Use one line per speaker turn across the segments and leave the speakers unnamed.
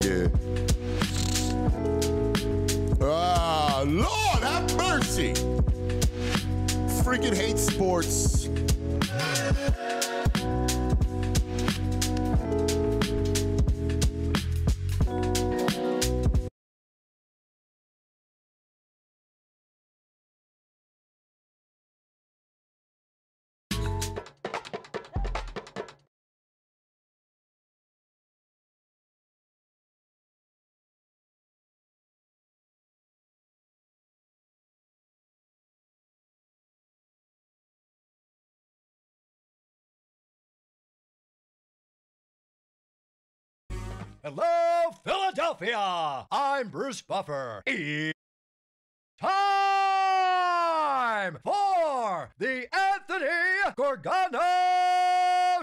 Yeah. Ah, Lord have mercy. Freaking hate sports.
Hello, Philadelphia! I'm Bruce Buffer. Time for the Anthony Gargano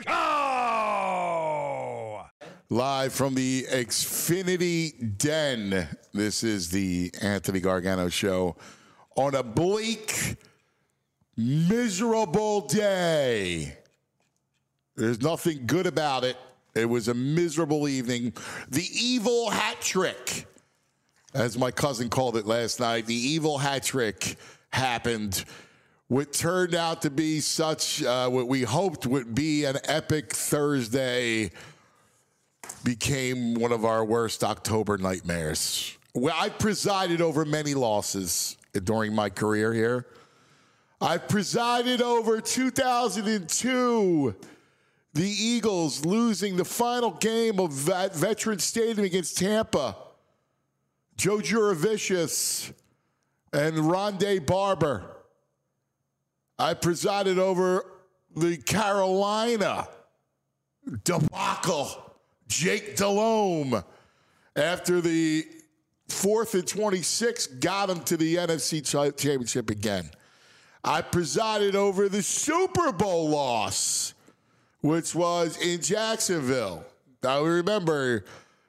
Show!
Live from the Xfinity Den. This is the Anthony Gargano Show on a bleak, miserable day. There's nothing good about it. It was a miserable evening. The evil hat trick, as my cousin called it last night, the evil hat trick happened. What turned out to be such, what we hoped would be an epic Thursday became one of our worst October nightmares. Well, I presided over many losses during my career here. I presided over 2002. The Eagles losing the final game of Veterans Stadium against Tampa. Joe Juravicius and Rondé Barber. I presided over the Carolina debacle. Jake Delhomme, after the 4th and 26, got him to the NFC Championship again. I presided over the Super Bowl loss, which was in Jacksonville. I remember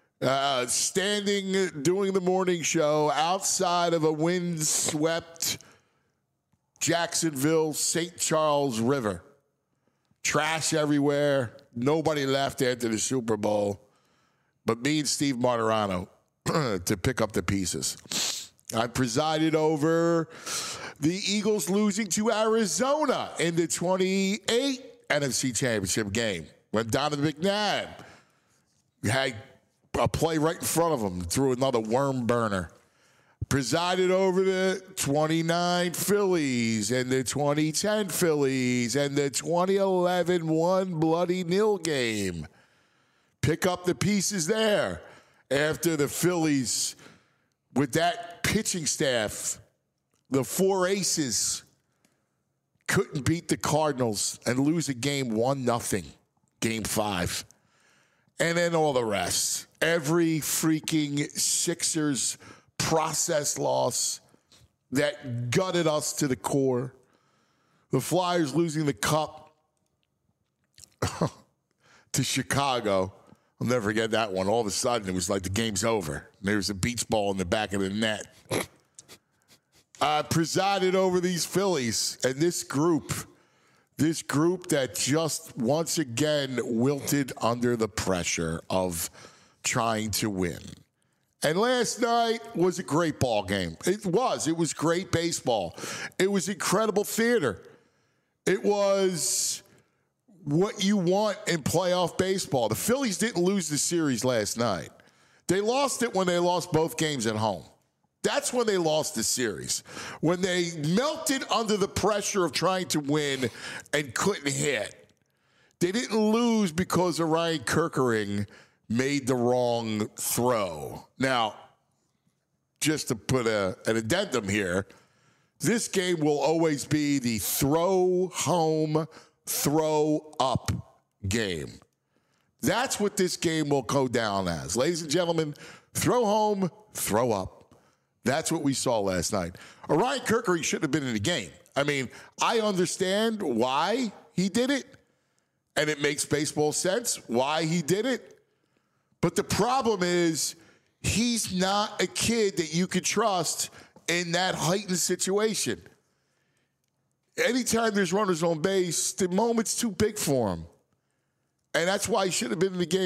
standing, doing the morning show outside of a windswept Jacksonville, St. Charles River. Trash everywhere. Nobody left after the Super Bowl but me and Steve Martirano to pick up the pieces. I presided over the Eagles losing to Arizona in the 28 NFC Championship game when Donovan McNabb had a play right in front of him, threw another worm burner. Presided over the 29 Phillies and the 2010 Phillies and the 2011 one bloody nil game. Pick up the pieces there after the Phillies, with that pitching staff, the four aces, couldn't beat the Cardinals and lose a game 1-0, game 5. And then all the rest. Every freaking Sixers process loss that gutted us to the core. The Flyers losing the cup to Chicago. I'll never forget that one. All of a sudden, it was like the game's over. There was a beach ball in the back of the net. I presided over these Phillies and this group that just once again wilted under the pressure of trying to win. And last night was a great ball game. It was great baseball. It was incredible theater. It was what you want in playoff baseball. The Phillies didn't lose the series last night. They lost it when they lost both games at home. That's when they lost the series. When they melted under the pressure of trying to win and couldn't hit. They didn't lose because Orion Kerkering made the wrong throw. Now, just to put an addendum here, this game will always be the throw home, throw up game. That's what this game will go down as. Ladies and gentlemen, throw home, throw up. That's what we saw last night. Orion Kerkering shouldn't have been in the game. I mean, I understand why he did it, and it makes baseball sense why he did it. But the problem is he's not a kid that you could trust in that heightened situation. Anytime there's runners on base, the moment's too big for him. And that's why he should have been in the game.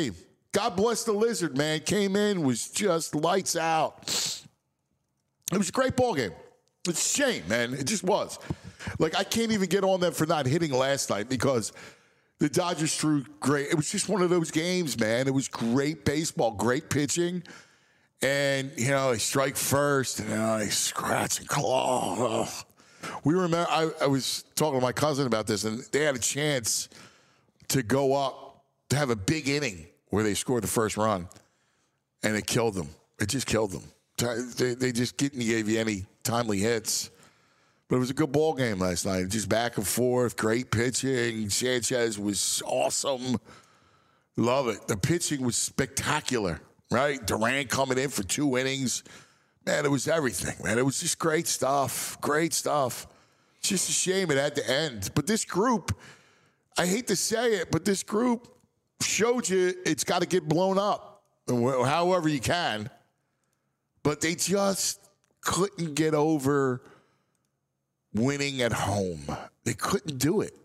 God bless the Lizard, man. Came in, was just lights out. It was a great ball game. It's a shame, man. It just was. Like, I can't even get on them for not hitting last night because the Dodgers threw great. It was just one of those games, man. It was great baseball, great pitching. And, they strike first, and they scratch and claw. Ugh. We remember, I was talking to my cousin about this, and they had a chance to go up, to have a big inning where they scored the first run, and it killed them. It just killed them. They just didn't give you any timely hits. But it was a good ball game last night. Just back and forth, great pitching. Sanchez was awesome. Love it. The pitching was spectacular, right? Durant coming in for 2 innings. Man, it was everything, man. It was just great stuff. Great stuff. It's just a shame it had to end. But this group, I hate to say it, but this group showed you it's got to get blown up, however you can. But they just couldn't get over winning at home. They couldn't do it.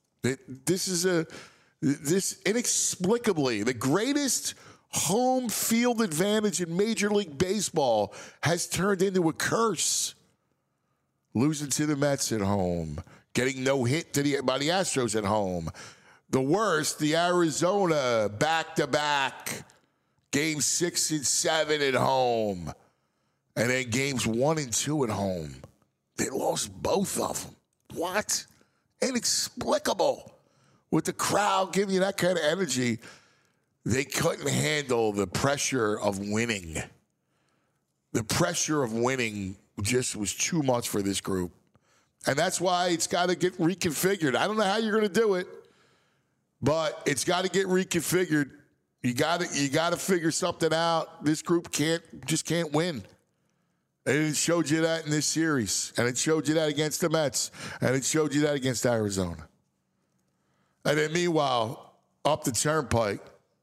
This inexplicably, the greatest home field advantage in Major League Baseball has turned into a curse. Losing to the Mets at home, getting no hit by the Astros at home. The worst, the Arizona back-to-back, games 6 and 7 at home, and then games 1 and 2 at home. They lost both of them. What? Inexplicable. With the crowd giving you that kind of energy, they couldn't handle the pressure of winning. The pressure of winning just was too much for this group. And that's why it's got to get reconfigured. I don't know how you're going to do it, but it's got to get reconfigured. You got to figure something out. This group can't win. And it showed you that in this series. And it showed you that against the Mets. And it showed you that against Arizona. And then meanwhile, up the turnpike,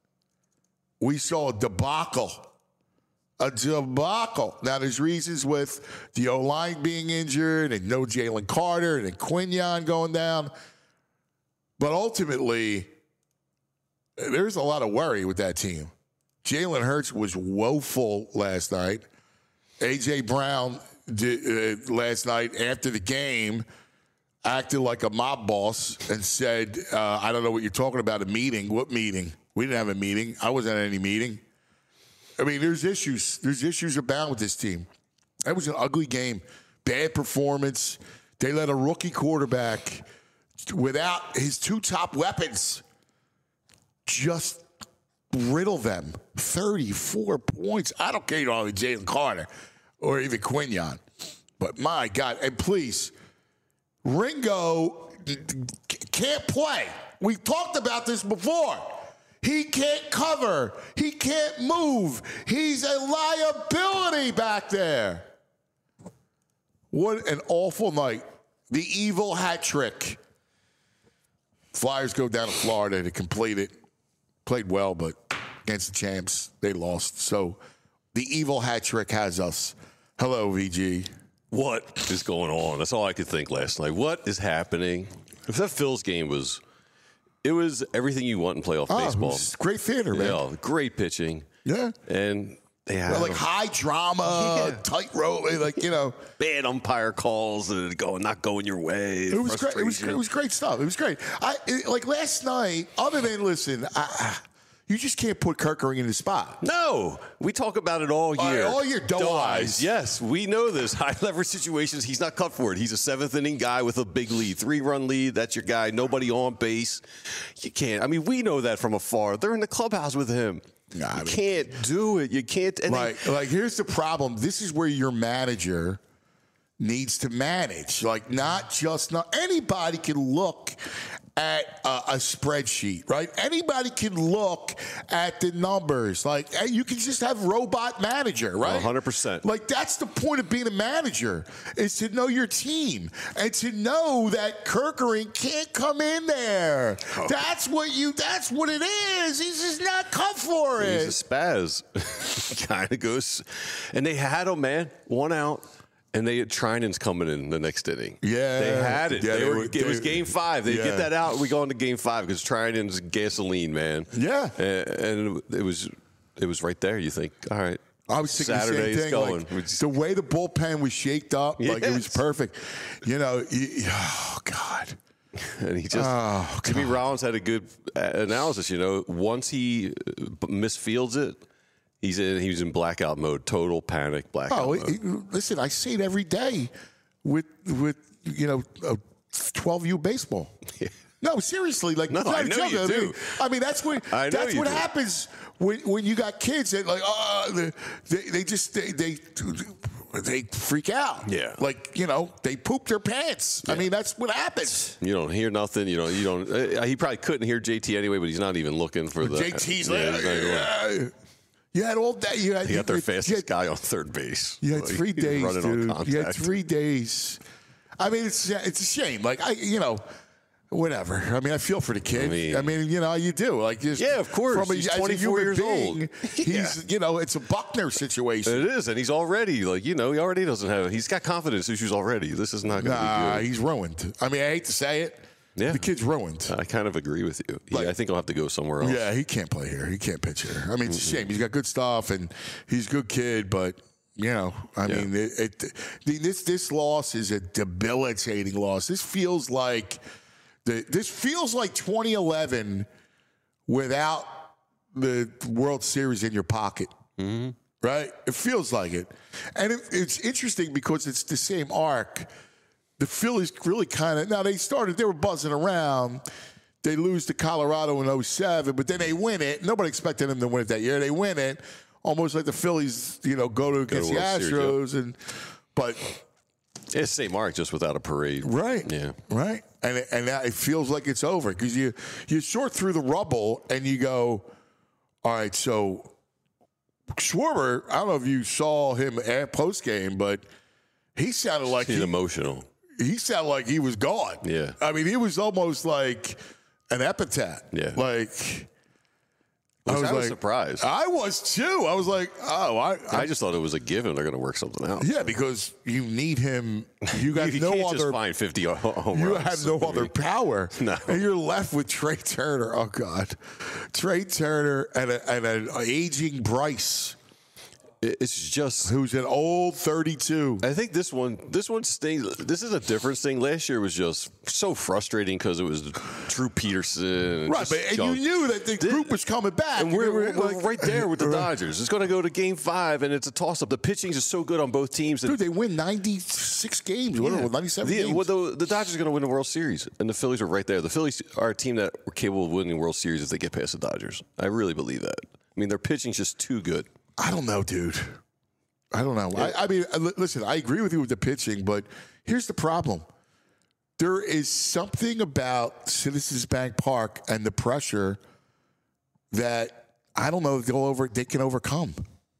we saw a debacle. A debacle. Now, there's reasons with the O-line being injured and no Jalen Carter and Quinyon going down. But ultimately, there's a lot of worry with that team. Jalen Hurts was woeful last night. A.J. Brown last night after the game acted like a mob boss and said, I don't know what you're talking about, a meeting. What meeting? We didn't have a meeting. I wasn't at any meeting. I mean, there's issues. There's issues abound with this team. That was an ugly game. Bad performance. They let a rookie quarterback without his 2 top weapons just riddle them. 34 points. I don't care, Jalen Carter or even Quinyon. But my God, and please, Ringo can't play. We've talked about this before. He can't cover. He can't move. He's a liability back there. What an awful night. The evil hat trick. Flyers go down to Florida to complete it. Played well, but against the champs, they lost. So the evil hat trick has us. Hello, VG.
What is going on? That's all I could think last night. What is happening? If that Phil's game was everything you want in playoff baseball.
It was great theater, man.
Yeah, great pitching.
Yeah.
And they had
like high drama, tightrope,
bad umpire calls and not going your way.
It was great. It was great stuff. It was great. Like last night, other than you just can't put Kerkering in the spot.
No, we talk about it all year.
All year, doe eyes.
Yes, we know this. High leverage situations, he's not cut for it. He's a 7th inning guy with a big lead, 3-run lead. That's your guy. Nobody on base. You can't. I mean, we know that from afar. They're in the clubhouse with him. You can't do it. You can't.
Like, here's the problem. This is where your manager needs to manage. Like, not anybody can look at a spreadsheet, right? Anybody can look at the numbers. Like, you can just have robot manager, right?
100%.
Like, that's the point of being a manager, is to know your team and to know that Kerkering can't come in there. Oh. That's what it is. He's just not cut for it.
He's a spaz. Kind of goes. And they had him, man. 1 out. And they had Trinan's coming in the next inning.
Yeah.
They had it.
Yeah,
It was game 5. They
Yeah.
get that out. We go into game 5 because Trinan's gasoline, man.
Yeah.
And it was right there. You think, all right.
I was thinking
Saturday's
the same thing.
going.
Like, the way the bullpen was shaped up, like it was
Yes.
perfect. You know, oh God.
And he just Jimmy Rollins had a good analysis. You know, once he misfields it, he was in blackout mode, total panic, blackout mode.
Listen, I see it every day with 12U baseball.
Yeah.
No, seriously, like
No,
it's not
I
a
know
joke.
you do.
I mean, that's what
I know you do.
happens when you got kids that like they freak out.
Yeah.
like they poop their pants. I mean, that's what happens.
You don't hear nothing. You don't. He probably couldn't hear JT anyway, but he's not even looking for the.
JT's
he's
like,
not even looking.
You had all day. You
He got their fastest
you had-
guy on third base.
You had 3
He was
days,
running on
dude. You had
contact.
3 days. I mean, it's a shame. Like whatever. I mean, I feel for the kid. I mean, you do. Like, just
Yeah, of course. He's
as a
24
human
years
being,
old.
He's, it's a Buckner situation.
It is, and he's already like he already doesn't have. He's got confidence issues already. This is not going to be good.
He's ruined. I mean, I hate to say it.
Yeah.
The kid's ruined.
I kind of agree with you. I think he'll have to go somewhere else.
Yeah, he can't play here. He can't pitch here. I mean, it's a shame. He's got good stuff, and he's a good kid, but I mean, this loss is a debilitating loss. This feels like 2011 without the World Series in your pocket. Mm-hmm. Right? It feels like it, and it's interesting because it's the same arc. The Phillies really they were buzzing around. They lose to Colorado in 07, but then they win it. Nobody expected them to win it that year. They win it, almost like the Phillies, go against the Astros, but
it's the same arc, just without a parade.
right,
Yeah.
right, and now it feels like it's over because you sort through the rubble and you go, all right, so Schwarber, I don't know if you saw him at post game, but he sounded like
He's emotional.
He sounded like he was gone.
Yeah.
I mean, he was almost like an epitaph.
Yeah.
Like,
I was surprised.
I was too. I was like,
I just thought it was a given. They're going to work something out.
yeah, because you need him. You got
You
no
can't
other.
just find 50 home
You
runs.
have no other power.
No.
And you're left with Trey Turner. Oh, God. Trey Turner and an aging Bryce,
It's just.
who's an old 32.
I think this one stings. This is a different thing. Last year was just so frustrating because it was Drew Peterson.
Right, and you knew that the group was coming back.
And we're
like,
right there with the Dodgers. It's going to go to Game 5, and it's a toss-up. The pitching is so good on both teams.
Dude, they win 96 games. What, 97 games.
The Dodgers are going to win the World Series, and the Phillies are right there. The Phillies are a team that are capable of winning the World Series if they get past the Dodgers. I really believe that. I mean, their pitching's just too good.
I don't know, dude. I don't know. Yeah. I mean, listen, I agree with you with the pitching, but here's the problem. There is something about Citizens Bank Park and the pressure that I don't know if they can overcome.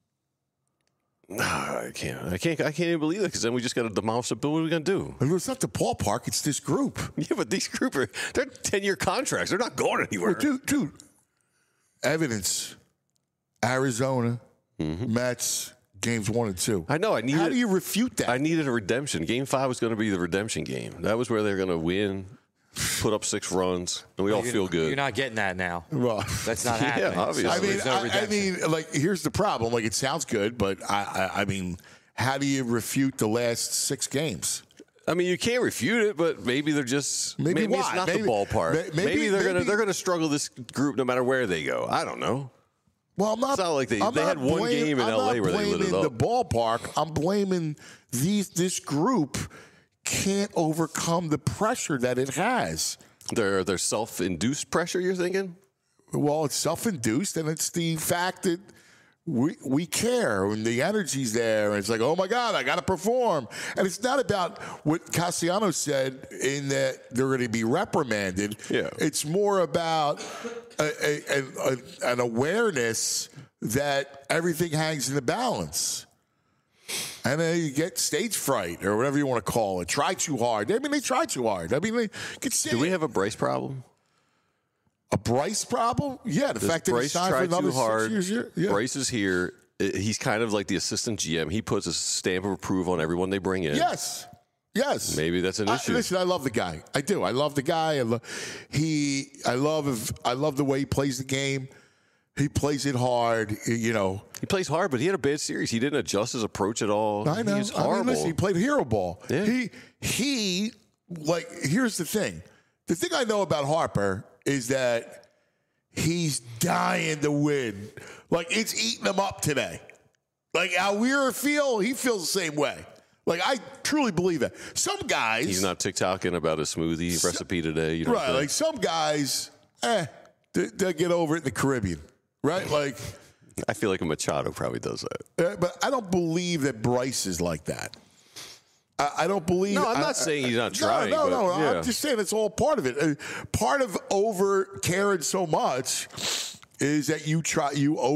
No, I can't even believe that because then we just got to demolish the bill. What are we going to do?
And it's not the ballpark; it's this group.
Yeah, but these group they're 10-year contracts. They're not going anywhere.
Well, dude. Evidence: Arizona, Mets. Games 1 and 2.
I know.
How do you refute that?
I needed a redemption. Game 5 was going to be the redemption game. That was where they're going to win, put up 6 runs, and we all feel good.
You're not getting that now.
Well,
That's not happening.
obviously.
I mean,
there's no redemption.
like, here's the problem. Like, it sounds good, but I mean, how do you refute the last 6 games?
I mean, you can't refute it, but maybe they're just maybe
why?
it's not
Maybe-
the ballpark.
maybe
They're gonna struggle this group no matter where they go. I don't know.
Well, I'm not.
It's not like they
I'm
had
not
one game in
I'm
LA
not
where they lit it
blaming
up.
the ballpark. I'm blaming this group can't overcome the pressure that it has.
Their self-induced pressure. You're thinking?
Well, it's self-induced, and it's the fact that we care, and the energy's there, and it's like, oh my God, I got to perform. And it's not about what Castellanos said in that they're going to be reprimanded.
Yeah.
It's more about an awareness that everything hangs in the balance. And then you get stage fright or whatever you want to call it. Try too hard. I mean, they try too hard. I mean, they could say
Do we have a Bryce problem?
a Bryce problem. Yeah, the
Does
fact that he
Bryce
signed for
try
another
too hard?
6 years. Yeah.
Bryce is here. he's kind of like the assistant GM. He puts a stamp of approval on everyone they bring in.
Yes.
Maybe that's an issue.
Listen, I love the guy. I do. I love the guy. I love the way he plays the game. He plays it hard. You know,
he plays hard, but he had a bad series. He didn't adjust his approach at all.
I know.
He was horrible.
I mean, listen, he played hero ball.
Yeah.
He like. Here's the thing. The thing I know about Harper is that he's dying to win. Like, it's eating him up today. Like, how we feel, he feels the same way. Like, I truly believe that. Some guys...
He's not TikToking about a smoothie recipe today. You know,
right, like some guys, they'll get over it in the Caribbean. Right? Like...
I feel like a Machado probably does that.
But I don't believe that Bryce is like that. I don't believe...
No, I'm not saying he's not trying.
No.
Yeah.
I'm just saying it's all part of it. Part of over caring so much is that you try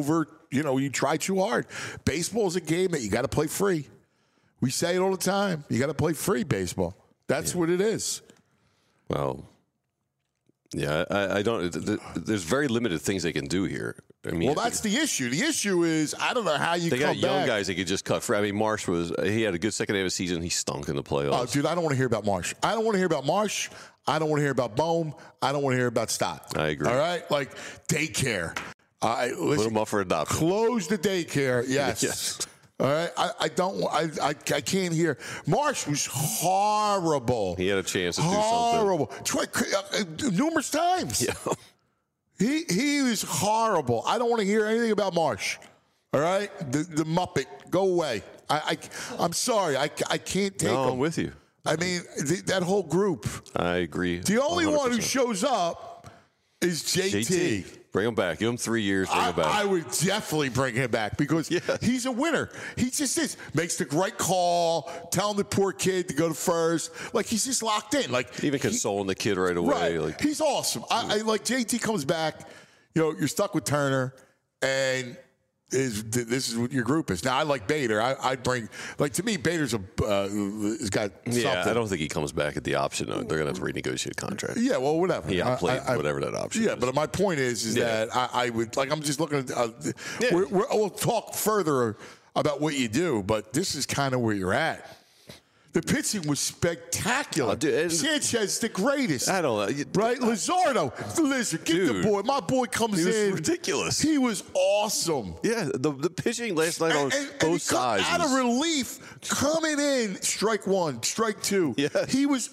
too hard. Baseball is a game that you got to play free. We say it all the time. You got to play free baseball. That's what it is.
Well, yeah, I don't. There's very limited things they can do here. I mean,
well, that's the issue. The issue is I don't know how you
they
come
got young
back.
guys they could just cut free. I mean, Marsh he had a good second half of the season. He stunk in the playoffs.
Oh, dude, I don't want to hear about Marsh. I don't want to hear about Marsh. I don't want to hear about Bohm. I don't want to hear about Stott.
I agree.
All right? Like, daycare.
Put them up for adoption.
Close the daycare. Yes.
Yes.
All right? I can't hear. Marsh was horrible.
He had a chance to do
horrible. Numerous times.
something. Yeah.
He was horrible. I don't want to hear anything about Marsh. All right? The Muppet. Go away. I'm sorry. I can't take him.
I'm with you.
I mean, that whole group.
I agree.
The only
100%.
one who shows up is JT.
Bring him back. Give him 3 years. Bring him back.
I would definitely bring him back because he's a winner. He just is. Makes the right call, telling the poor kid to go to first. Like, he's just locked in. Like,
Even consoling the kid right away.
Right.
Like,
He's awesome. I like JT comes back. You know, you're stuck with Turner, and this is what your group is. Now, I like Bader. I'd bring, like, to me, Bader's has got something.
I don't think he comes back at the option. They're going to have to renegotiate a contract.
Yeah, well, whatever.
He outplayed whatever that option is.
But my point is that I would, like, I'm just looking at, we'll talk further about what you do, but this is kind of where you're at. The pitching was spectacular. Sanchez, the greatest.
I don't know.
Right? Lizardo, listen, get the boy. My boy comes in.
He was ridiculous.
He was awesome.
Yeah, the pitching last night on both sides.
Out of relief, coming in, strike one, strike two.
Yeah.
He was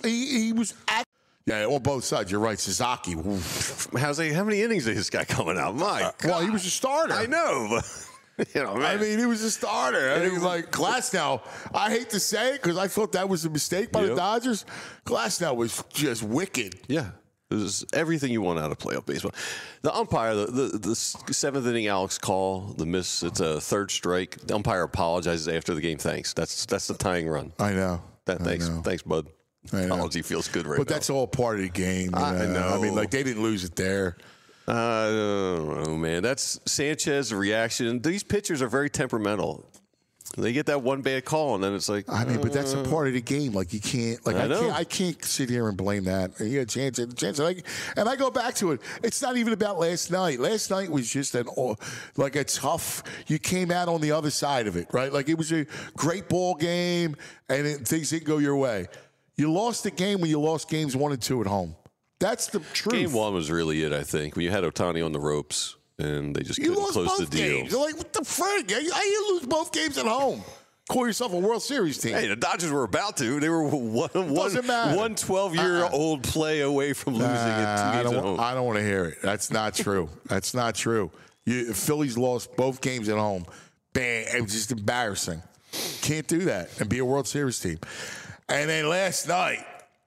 Yeah, on both sides. You're right. Sasaki.
How many innings is this guy coming out? My God.
Well, he was a starter.
I know, but man.
I mean, he was a starter. I mean, like Glasnow. I hate to say it because I thought that was a mistake by the Dodgers. Glasnow was just wicked.
Yeah. It was everything you want out of playoff baseball. The umpire, the seventh inning Alex call, the miss, it's a third strike. The umpire apologizes after the game. Thanks. That's the tying run.
I know.
Thanks, bud. Apology feels good right now.
But that's all part of the game.
I know.
I mean, like, they didn't lose it there.
I don't know, man. That's Sanchez's reaction. These pitchers are very temperamental. They get that one bad call, and then it's like.
I mean, but that's a part of the game. Like, you can't. Like, I can't sit here and blame that. He had chance. And I go back to it. It's not even about last night. Last night was just a tough. You came out on the other side of it, right? Like, it was a great ball game, and things didn't go your way. You lost the game when you lost games 1 and 2 at home. That's the truth.
Game 1 was really it, I think, when you had Ohtani on the ropes and they just couldn't close the deal.
Games. They're like, what the frick? How you lose both games at home? Call yourself a World Series team.
Hey, the Dodgers were about to. They were one 12-year-old play away from losing at 2 games at home.
I don't want to hear it. That's not true. That's not true. Phillies lost both games at home. Bang. It was just embarrassing. Can't do that and be a World Series team. And then last night,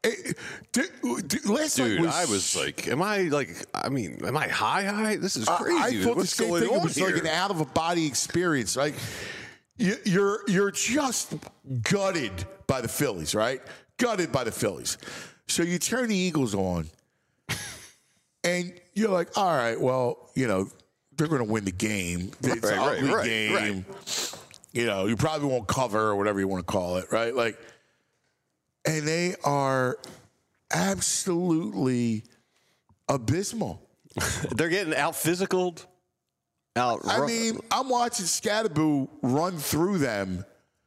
I was like, am I high? This is crazy.
I thought the same thing. It was like an out of a body experience. Like, you're just gutted by the Phillies, right? Gutted by the Phillies. So you turn the Eagles on, and you're like, all right, well, they're going to win the game. It's an ugly game. Right. You probably won't cover or whatever you want to call it, right? Like. And they are absolutely abysmal.
They're getting out-physicaled
I mean, I'm watching Scatterboo run through them.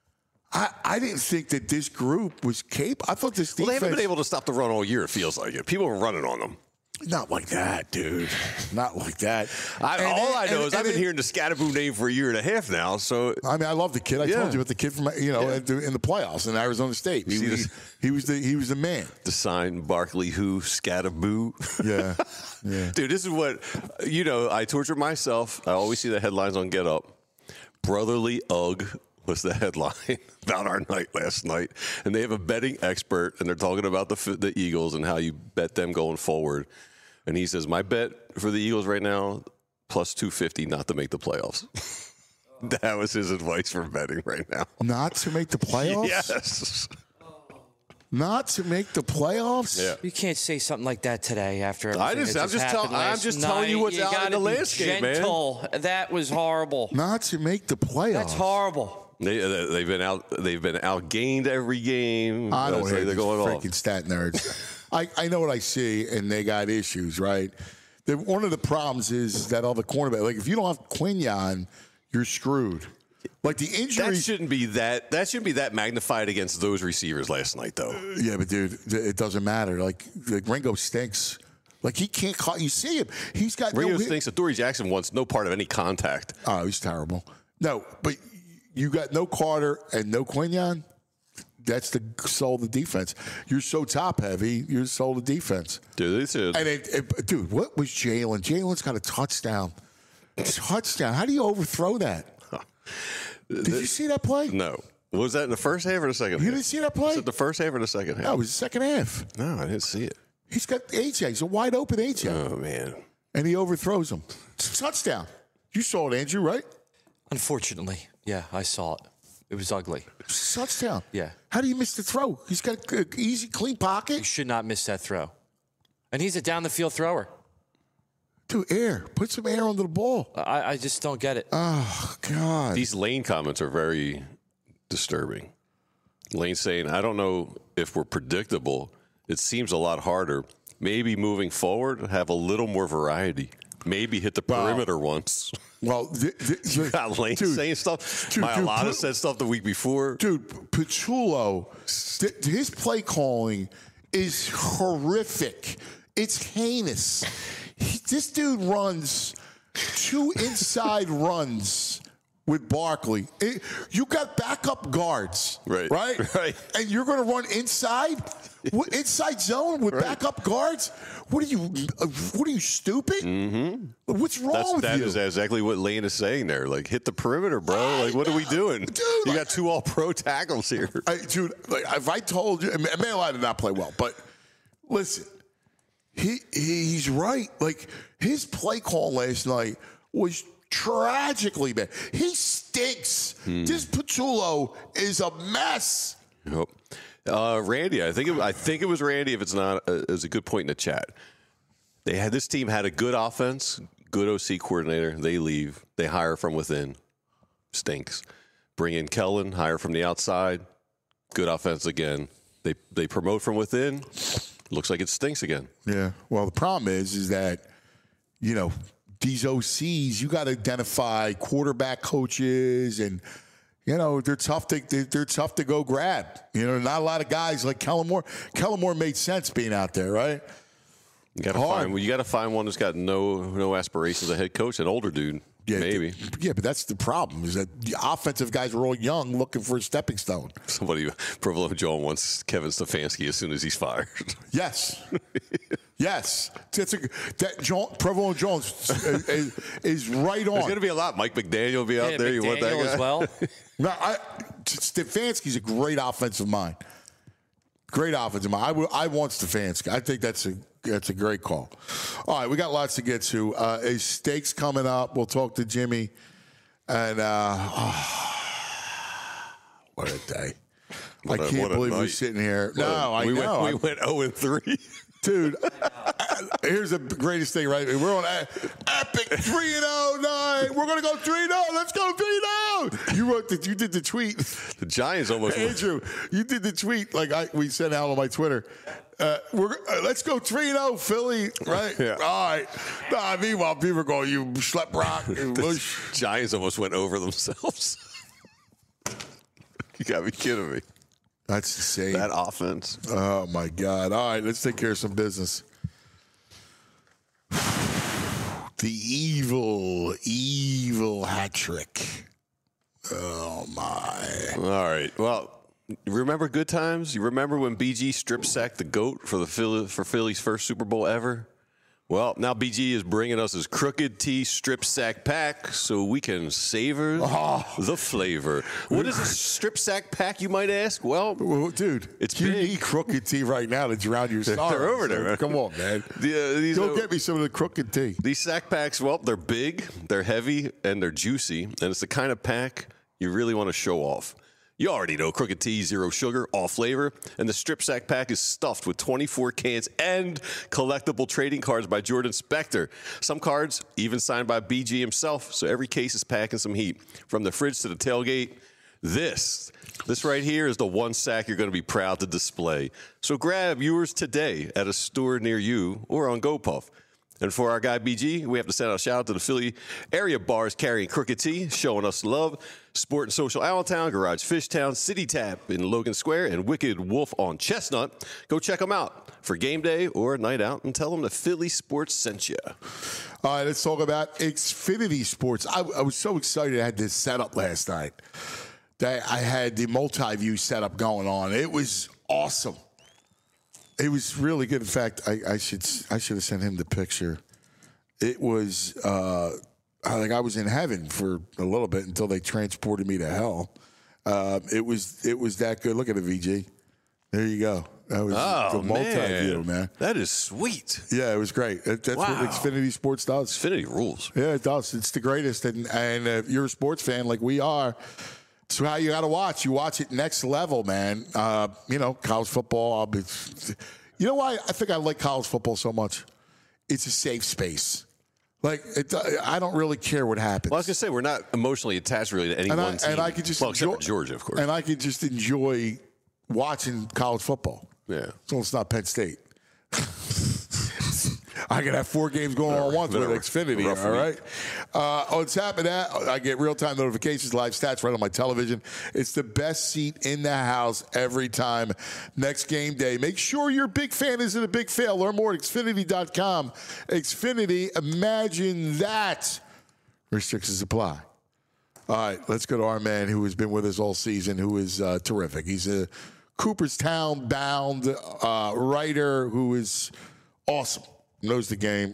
I didn't think that this group was capable. I thought this defense...
Well, they haven't been able to stop the run all year, it feels like it. People are running on them.
Not like that, dude. Not like that.
All I know is I've been hearing the Scatterboo name for a year and a half now. So
I mean, I love the kid. I told you about the kid from in the playoffs in Arizona State. He was the man.
The sign Barkley who Scatterboo.
Yeah.
Dude, this is what I torture myself. I always see the headlines on Get Up. Brotherly Ugg was the headline about our night last night, and they have a betting expert, and they're talking about the Eagles and how you bet them going forward. And he says, my bet for the Eagles right now, plus 250 not to make the playoffs. That was his advice for betting right now.
Not to make the playoffs?
Yes.
Not to make the playoffs?
Yeah.
You can't say something like that today after everything
I'm just telling you what's out in the landscape,
gentle. Man. That was horrible.
Not to make the playoffs.
That's horrible.
They've been outgained every game.
I don't hate
they're going
freaking stat nerds. I know what I see, and they got issues, right? One of the problems is that all the cornerbacks, like if you don't have Quinyon, you're screwed. Like the injuries
shouldn't be that magnified against those receivers last night, though.
Yeah, but dude, it doesn't matter. Like Ringo stinks. Like he can't call. You see him. He's got
Ringo stinks. Adoree Jackson wants no part of any contact.
Oh, he's terrible. No, but you got no Carter and no Quinyon. That's the soul of the defense. You're so top heavy. You're the soul of the defense.
Dude,
dude, what was Jalen? Jalen's got a touchdown. Touchdown. How do you overthrow that? Did you see that play?
No. Was that in the first half or the second half?
You didn't see that play?
Was it the first half or the second half?
No, it was the second half.
No, I didn't see it.
He's got AJ. He's a wide open AJ.
Oh, man.
And he overthrows him. It's a touchdown. You saw it, Andrew, right?
Unfortunately. Yeah, I saw it. It was ugly.
It's a touchdown.
Yeah.
How do you miss the throw? He's got an easy, clean pocket.
You should not miss that throw. And he's a down-the-field thrower.
Dude, air. Put some air under the ball.
I just don't get it.
Oh, God.
These Lane comments are very disturbing. Lane saying, I don't know if we're predictable. It seems a lot harder. Maybe moving forward, have a little more variety. Maybe hit the perimeter once.
Well,
you got Lane saying stuff. Mailata said stuff the week before.
Dude, Petrullo, his play calling is horrific. It's heinous. This dude runs 2 inside runs with Barkley. You got backup guards, right? And you're going to run inside zone with backup guards? What are you stupid? Mm-hmm. What's wrong with you?
That is exactly what Lane is saying there. Like, hit the perimeter, bro. Like, what are we doing?
Dude,
you got 2 all-pro tackles here.
Dude, if I told you, Mailata did not play well, but listen, he's right. Like, his play call last night was tragically bad. He stinks. This Petrullo is a mess.
Yep. Randy, I think it was Randy. If it's not, it was a good point in the chat. This team had a good offense, good OC coordinator. They leave. They hire from within. Stinks. Bring in Kellen. Hire from the outside. Good offense again. They promote from within. Looks like it stinks again. Yeah.
Well, the problem is that these OCs, you got to identify quarterback coaches, and they're tough to go grab. Not a lot of guys like Kellen Moore. Kellen Moore made sense being out there, right?
You got to find one that's got no aspirations as a head coach, an older dude.
Yeah,
maybe.
Yeah, but that's the problem, is that the offensive guys are all young looking for a stepping stone.
Somebody, Provolone John wants Kevin Stefanski as soon as he's fired.
Yes. Yes. Provolone Jones is right on.
There's going to be a lot. Mike McDaniel will be out there. You want that guy?
As well?
No, Stefanski's a great offensive mind. Great offensive mind. I want Stefanski. I think that's a great call. All right, we got lots to get to. Steaks coming up. We'll talk to Jimmy. And what a day. I can't believe we're sitting here. We
went 0-3.
Dude, here's the greatest thing, right? We're on Epic 3-0 night. We're going to go 3-0. Let's go 3-0. No, you wrote that. You did the tweet.
The Giants almost won.
Andrew, you did the tweet we sent out on my Twitter. Let's go 3-0 Philly, right?
Yeah.
All right. Nah, meanwhile, people go, you schlep rock.
The Giants almost went over themselves. You got to be kidding me.
That's insane.
That offense.
Oh, my God. All right, let's take care of some business. The evil hat trick. Oh, my.
All right. Well, remember good times? You remember when BG strip sacked the GOAT for Philly's first Super Bowl ever? Well, now BG is bringing us his Crooked T strip sack pack so we can savor the flavor. What is a strip sack pack, you might ask? Well,
dude,
it's
you
big.
need Crooked T right now to drown your sorrows.
They're over there, man.
Come on, man. Go get me some of the Crooked T.
These sack packs, well, they're big, they're heavy, and they're juicy. And it's the kind of pack you really want to show off. You already know Crooked T, zero sugar, all flavor. And the strip sack pack is stuffed with 24 cans and collectible trading cards by Jordan Spector. Some cards even signed by BG himself. So every case is packing some heat. From the fridge to the tailgate, this right here is the one sack you're going to be proud to display. So grab yours today at a store near you or on GoPuff. And for our guy BG, we have to send out a shout out to the Philly area bars carrying Crooked T, showing us love. Sport and Social Allentown, Garage Fishtown, City Tap in Logan Square, and Wicked Wolf on Chestnut. Go check them out for game day or a night out and tell them the Philly Sports sent you.
All right, let's talk about Xfinity Sports. I was so excited I had this setup last night. That I had the multi-view setup going on. It was awesome. It was really good. In fact, I should have sent him the picture. It was like I was in heaven for a little bit until they transported me to hell. It was that good. Look at it, VG. There you go. That was the multi-view, man.
That is sweet.
Yeah, it was great. That's what Xfinity Sports does.
Xfinity rules.
Yeah, it does. It's the greatest. And if you're a sports fan like we are, it's how you got to watch. You watch it next level, man. College football. You know why I think I like college football so much? It's a safe space. I don't really care what happens.
Well, I was going to say, we're not emotionally attached really to any one team.
And I could just
except for Georgia, of course.
And I could just enjoy watching college football.
Yeah.
So it's not Penn State. I can have 4 games going on once with Xfinity, all right? On top of that, I get real-time notifications, live stats right on my television. It's the best seat in the house every time. Next game day. Make sure your big fan isn't a big fail. Learn more at Xfinity.com. Xfinity, imagine that. Restrictions apply. All right, let's go to our man who has been with us all season, who is terrific. He's a Cooperstown-bound writer who is awesome. Knows the game.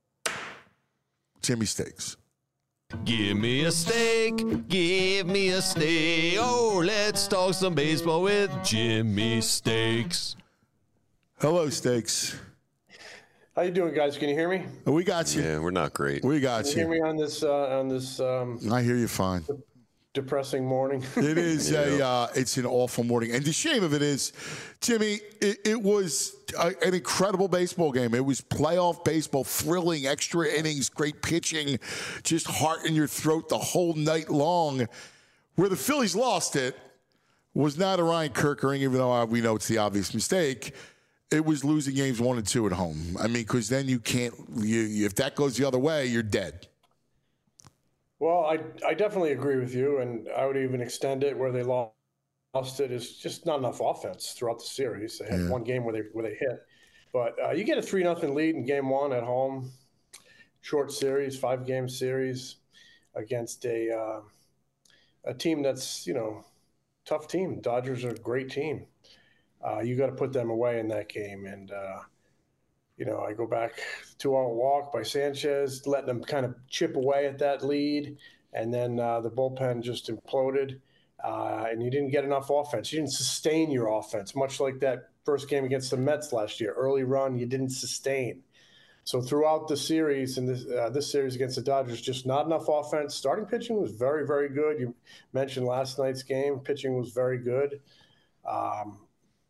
Jimmy Steaks.
Give me a steak, give me a steak. Oh, let's talk some baseball with Jimmy Steaks.
Hello, Steaks.
How you doing, guys? Can you hear me?
We got you.
Yeah, we're not great.
We got
Can you hear me on this
I hear you fine.
depressing morning?
It is it's an awful morning. And the shame of it is, Jimmy, it was an incredible baseball game. It was playoff baseball, thrilling, extra innings, great pitching, just heart in your throat the whole night long. Where the Phillies lost it was not a Ryan Kirkering, even though we know it's the obvious mistake. It was losing games 1 and 2 at home. I mean, because then you can't, if that goes the other way, you're dead.
Well, I definitely agree with you, and I would even extend it where they lost it is just not enough offense throughout the series. They had one game where they hit, but you get a 3-0 lead in game 1 at home, short series, 5-game series against a team that's tough team. Dodgers are a great team. You got to put them away in that game, and I go back 2-out walk by Sanchez, letting them kind of chip away at that lead. And then the bullpen just imploded. And you didn't get enough offense. You didn't sustain your offense, much like that first game against the Mets last year. Early run, you didn't sustain. So throughout the series, and this series against the Dodgers, just not enough offense. Starting pitching was very, very good. You mentioned last night's game. Pitching was very good.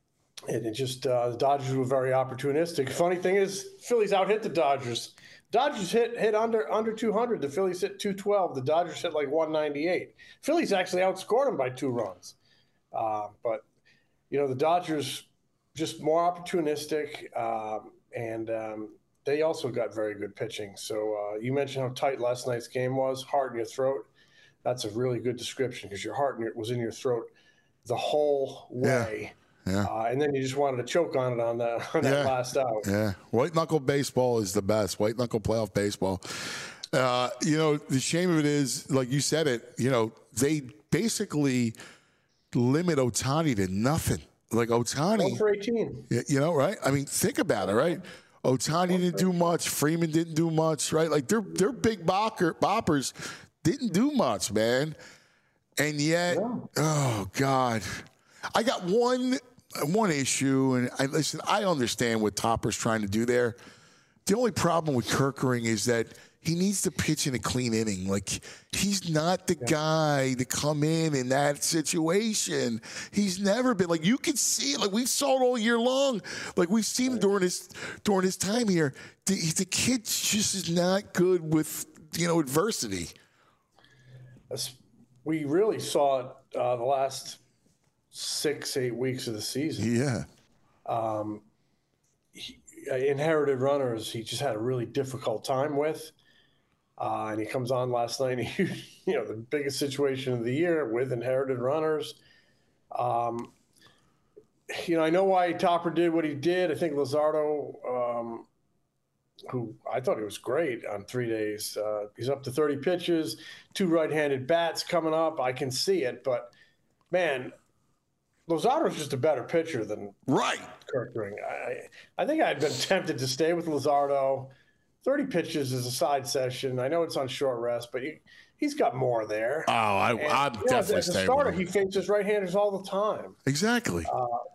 And it just the Dodgers were very opportunistic. Funny thing is, Phillies out-hit the Dodgers. Dodgers hit under 200. The Phillies hit 212. The Dodgers hit like 198. Phillies actually outscored them by 2 runs. But, the Dodgers just more opportunistic, and they also got very good pitching. So you mentioned how tight last night's game was, heart in your throat. That's a really good description because your heart was in your throat the whole way.
Yeah.
And then you just wanted to choke on it on that last out.
Yeah. White knuckle baseball is the best. White knuckle playoff baseball. The shame of it is, like you said it, they basically limit Ohtani to nothing. Like Ohtani.
1 for 18.
Right? I mean, think about it, right? Ohtani didn't do much. Freeman didn't do much, right? Like their big boppers didn't do much, man. And yet, oh, God. I got one issue, and I understand what Topper's trying to do there. The only problem with Kerkering is that he needs to pitch in a clean inning. Like, he's not the guy to come in that situation. He's never been. Like, you can see it. Like, we saw it all year long. Like, we've seen him during his time here. The kid just is not good with, adversity.
We really saw it the last 6-8 weeks of the season.
Yeah.
Inherited runners, he just had a really difficult time with. And he comes on last night, and the biggest situation of the year with inherited runners. I know why Topper did what he did. I think Luzardo, who I thought he was great on 3 days. He's up to 30 pitches, 2 right-handed bats coming up. I can see it, but, man, Luzardo's just a better pitcher than Kerkering. I think I'd been tempted to stay with Luzardo. 30 pitches is a side session. I know it's on short rest, but he's got more there.
Oh, I'm definitely
as a
staying
starter,
with him.
he faces right-handers all the time.
Exactly.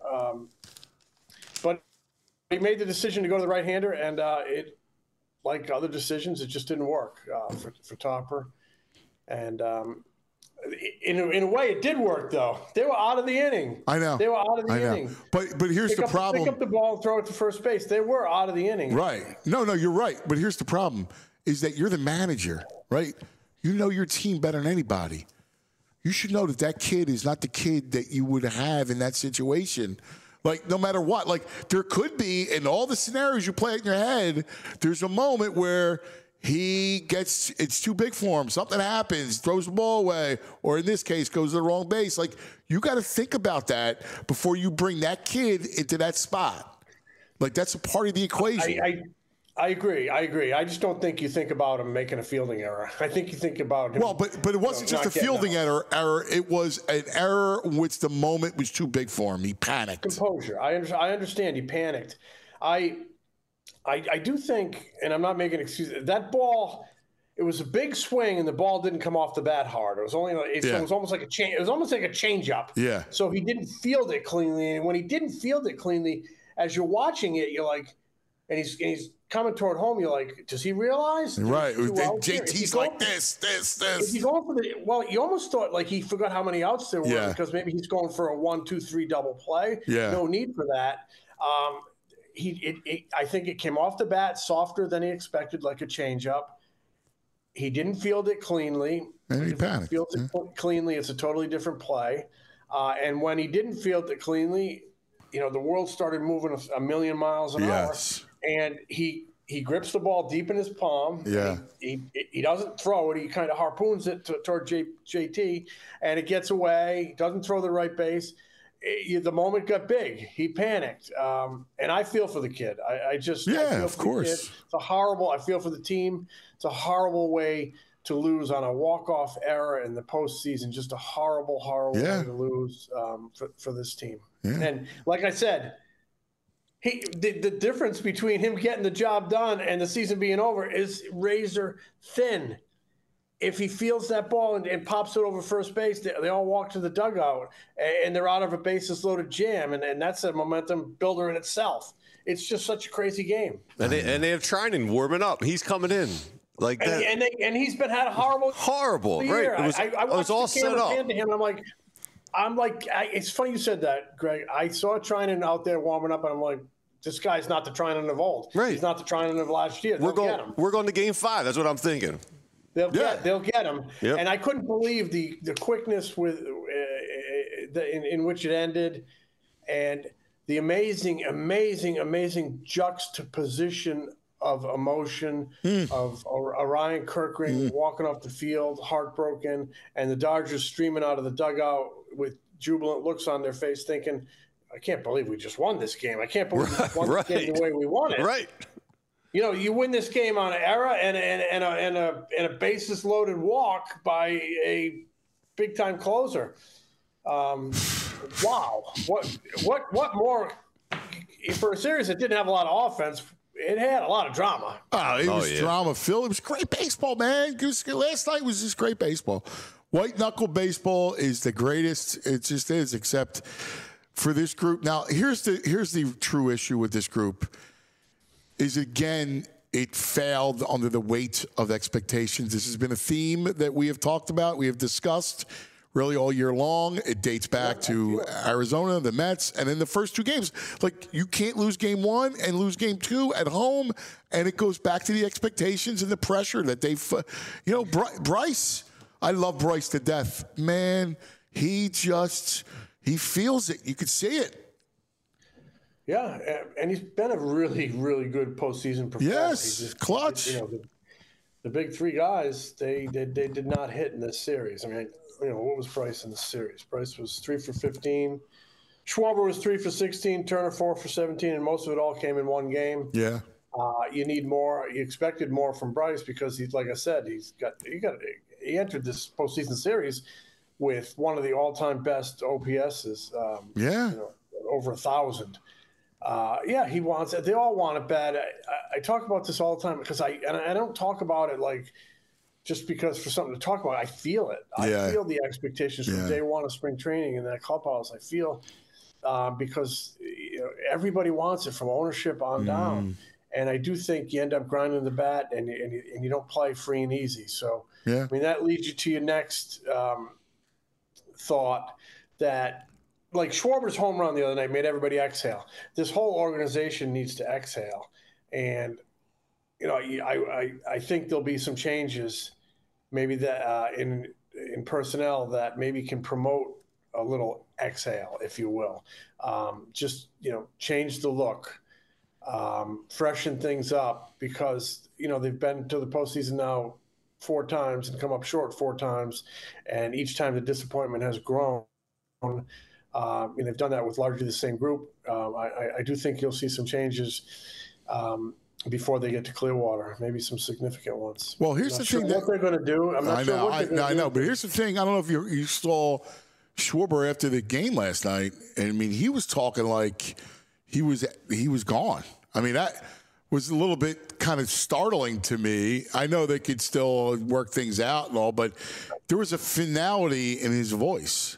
But he made the decision to go to the right-hander, and it, like other decisions, it just didn't work for Topper. And in a way, it did work, though. They were out of the inning.
I know.
They were out of the inning.
But here's the problem.
Pick up the ball and throw it to first base. They were out of the inning.
Right. No, you're right. But here's the problem is that you're the manager, right? You know your team better than anybody. You should know that kid is not the kid that you would have in that situation. Like, no matter what. Like, there could be, in all the scenarios you play in your head, there's a moment where it's too big for him. Something happens, throws the ball away, or in this case, goes to the wrong base. Like, you got to think about that before you bring that kid into that spot. Like, that's a part of the equation.
I agree. I just don't think you think about him making a fielding error. I think you think about him.
Well, but it wasn't just a fielding error. It was an error in which the moment was too big for him. He panicked.
Composure. I understand. He panicked. I do think, and I'm not making excuses, that ball, it was a big swing and the ball didn't come off the bat hard. It was almost like a change. It was almost like a change-up.
Yeah.
So he didn't field it cleanly, and when he didn't field it cleanly, as you're watching it, you're like, and he's coming toward home. You're like, does he realize?
Right. JT's like this.
If you going for you almost thought like he forgot how many outs there were because maybe he's going for a 1-2-3 double play.
Yeah.
No need for that. I think it came off the bat softer than he expected, like a changeup. He didn't field it cleanly.
And he panicked.
Fields it cleanly, it's a totally different play. And when he didn't field it cleanly, the world started moving a million miles an hour. And he grips the ball deep in his palm.
Yeah.
He doesn't throw it. He kind of harpoons it toward JT, and it gets away. He doesn't throw the right base. The moment got big. He panicked. And I feel for the kid. I feel
of course.
It's I feel for the team. It's a horrible way to lose on a walk-off error in the postseason. Just a horrible, horrible way to lose for this team. Yeah. And like I said, the difference between him getting the job done and the season being over is razor thin. If he fields that ball and pops it over first base, they all walk to the dugout, and they're out of a bases-loaded jam, and that's a momentum builder in itself. It's just such a crazy game.
And they have Trinan warming up. He's coming in like that.
And he's had a horrible
year. Right.
I was all set up. To him, I'm like, I'm like, it's funny you said that, Greg. I saw Trinan out there warming up, and I'm like, this guy's not the Trinan of old.
Right.
He's not the Trinan of last year.
We're
Get him.
going to Game 5. That's what I'm thinking.
They'll get him.
Yep.
And I couldn't believe the quickness with in which it ended, and the amazing juxtaposition of emotion of Orion Kirkring walking off the field, heartbroken, and the Dodgers streaming out of the dugout with jubilant looks on their face, thinking, I can't believe we just won this game. I can't believe we just won this game the way we won it.
Right.
You know, you win this game on an error and a bases loaded walk by a big time closer. Wow. What more for a series that didn't have a lot of offense? It had a lot of drama.
Oh, it was drama filled. It was great baseball, man. Last night was just great baseball. White knuckle baseball is the greatest. It just is, except for this group. Now, here's the true issue with this group. Is again, it failed under the weight of expectations. This has been a theme that we have talked about, we have discussed really all year long. It dates back to Arizona, the Mets, and in the first two games. Like, you can't lose game one and lose game two at home, and it goes back to the expectations and the pressure that they've, Bryce, I love Bryce to death. Man, he feels it. You could see it.
Yeah, and he's been a really, really good postseason performer.
Yes, clutch.
The big three guys, they did not hit in this series. I mean, what was Bryce in the series? Bryce was 3 for 15. Schwarber was 3 for 16. Turner 4 for 17, and most of it all came in one game.
Yeah.
You need more. You expected more from Bryce because he's, like I said, he entered this postseason series with one of the all-time best OPSs. Over 1,000. He wants it. They all want it bad. I talk about this all the time because I don't talk about it like just because for something to talk about. I feel it. I feel the expectations from day one of spring training in that clubhouse. I feel because everybody wants it from ownership on down. And I do think you end up grinding the bat and you don't play free and easy. So, I mean, that leads you to your next thought that, like Schwarber's home run the other night made everybody exhale. This whole organization needs to exhale. And, I think there'll be some changes maybe that in personnel that maybe can promote a little exhale, if you will. Change the look, freshen things up because, they've been to the postseason now 4 times and come up short 4 times. And each time the disappointment has grown. And they've done that with largely the same group. I do think you'll see some changes before they get to Clearwater, maybe some significant ones.
Well, here's the thing.
What they're going to do, I'm not sure what they're going to do.
I know, but here's the thing. I don't know if you saw Schwarber after the game last night. And I mean, he was talking like he was gone. I mean, that was a little bit kind of startling to me. I know they could still work things out and all, but there was a finality in his voice.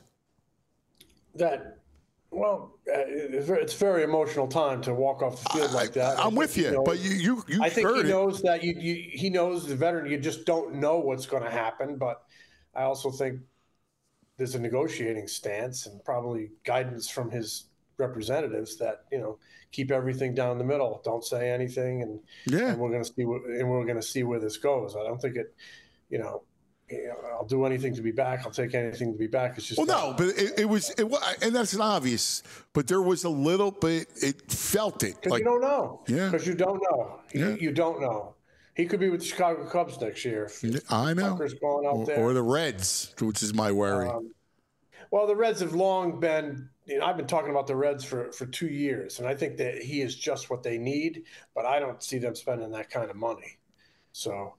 It's a very emotional time to walk off the field like that.
I'm with you, but you
I think
heard
he knows that he knows the veteran. You just don't know what's going to happen. But I also think there's a negotiating stance and probably guidance from his representatives that keep everything down the middle. Don't say anything, and we're going to see where this goes. I don't think it. I'll do anything to be back. I'll take anything to be back. It's just
but it was, and that's an obvious. But there was a little bit. It felt it.
Because you don't know.
Yeah.
Because you don't know. You don't know. He could be with the Chicago Cubs next year.
I know.
Tucker's going out there.
Or the Reds, which is my worry.
Well, the Reds have long been. I've been talking about the Reds for 2 years, and I think that he is just what they need. But I don't see them spending that kind of money. So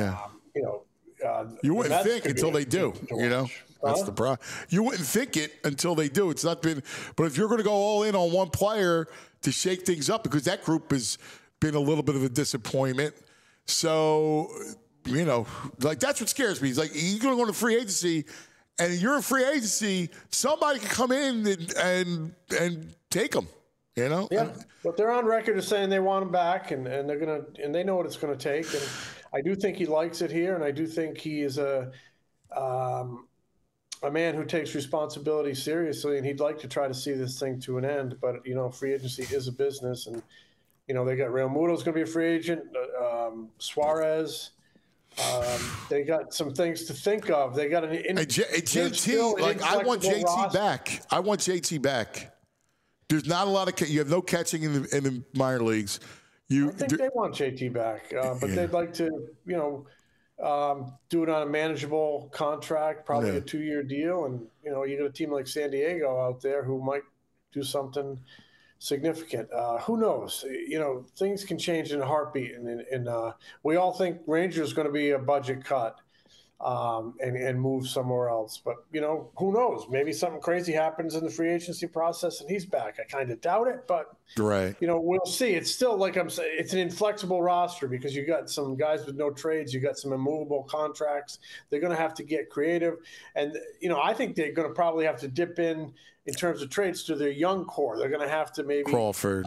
you wouldn't think until they do. That's the problem. You wouldn't think it until they do. It's not been. But if you're going to go all in on one player to shake things up, because that group has been a little bit of a disappointment. So that's what scares me. It's like you're going to go to free agency, and you're a free agency. Somebody can come in and take them.
Yeah, but they're on record as saying they want him back, and they're gonna and they know what it's going to take. And I do think he likes it here, and I do think he is a man who takes responsibility seriously, and he'd like to try to see this thing to an end. But free agency is a business, and they got Real Muto's going to be a free agent. Suarez. They got some things to think of. They got
JT. Like I want JT
roster.
back. I want JT back. There's not a lot of. You have no catching in the minor leagues.
I think they want JT back, but they'd like to, do it on a manageable contract, probably a 2-year deal. And, you got a team like San Diego out there who might do something significant. Who knows? Things can change in a heartbeat. And we all think Rangers is going to be a budget cut and move somewhere else. But, who knows? Maybe something crazy happens in the free agency process and he's back. I kind of doubt it, but, we'll see. It's still, like I'm saying, it's an inflexible roster because you got some guys with no trades. You got some immovable contracts. They're going to have to get creative. And, I think they're going to probably have to dip in terms of trades to their young core. They're going to have to maybe
Crawford.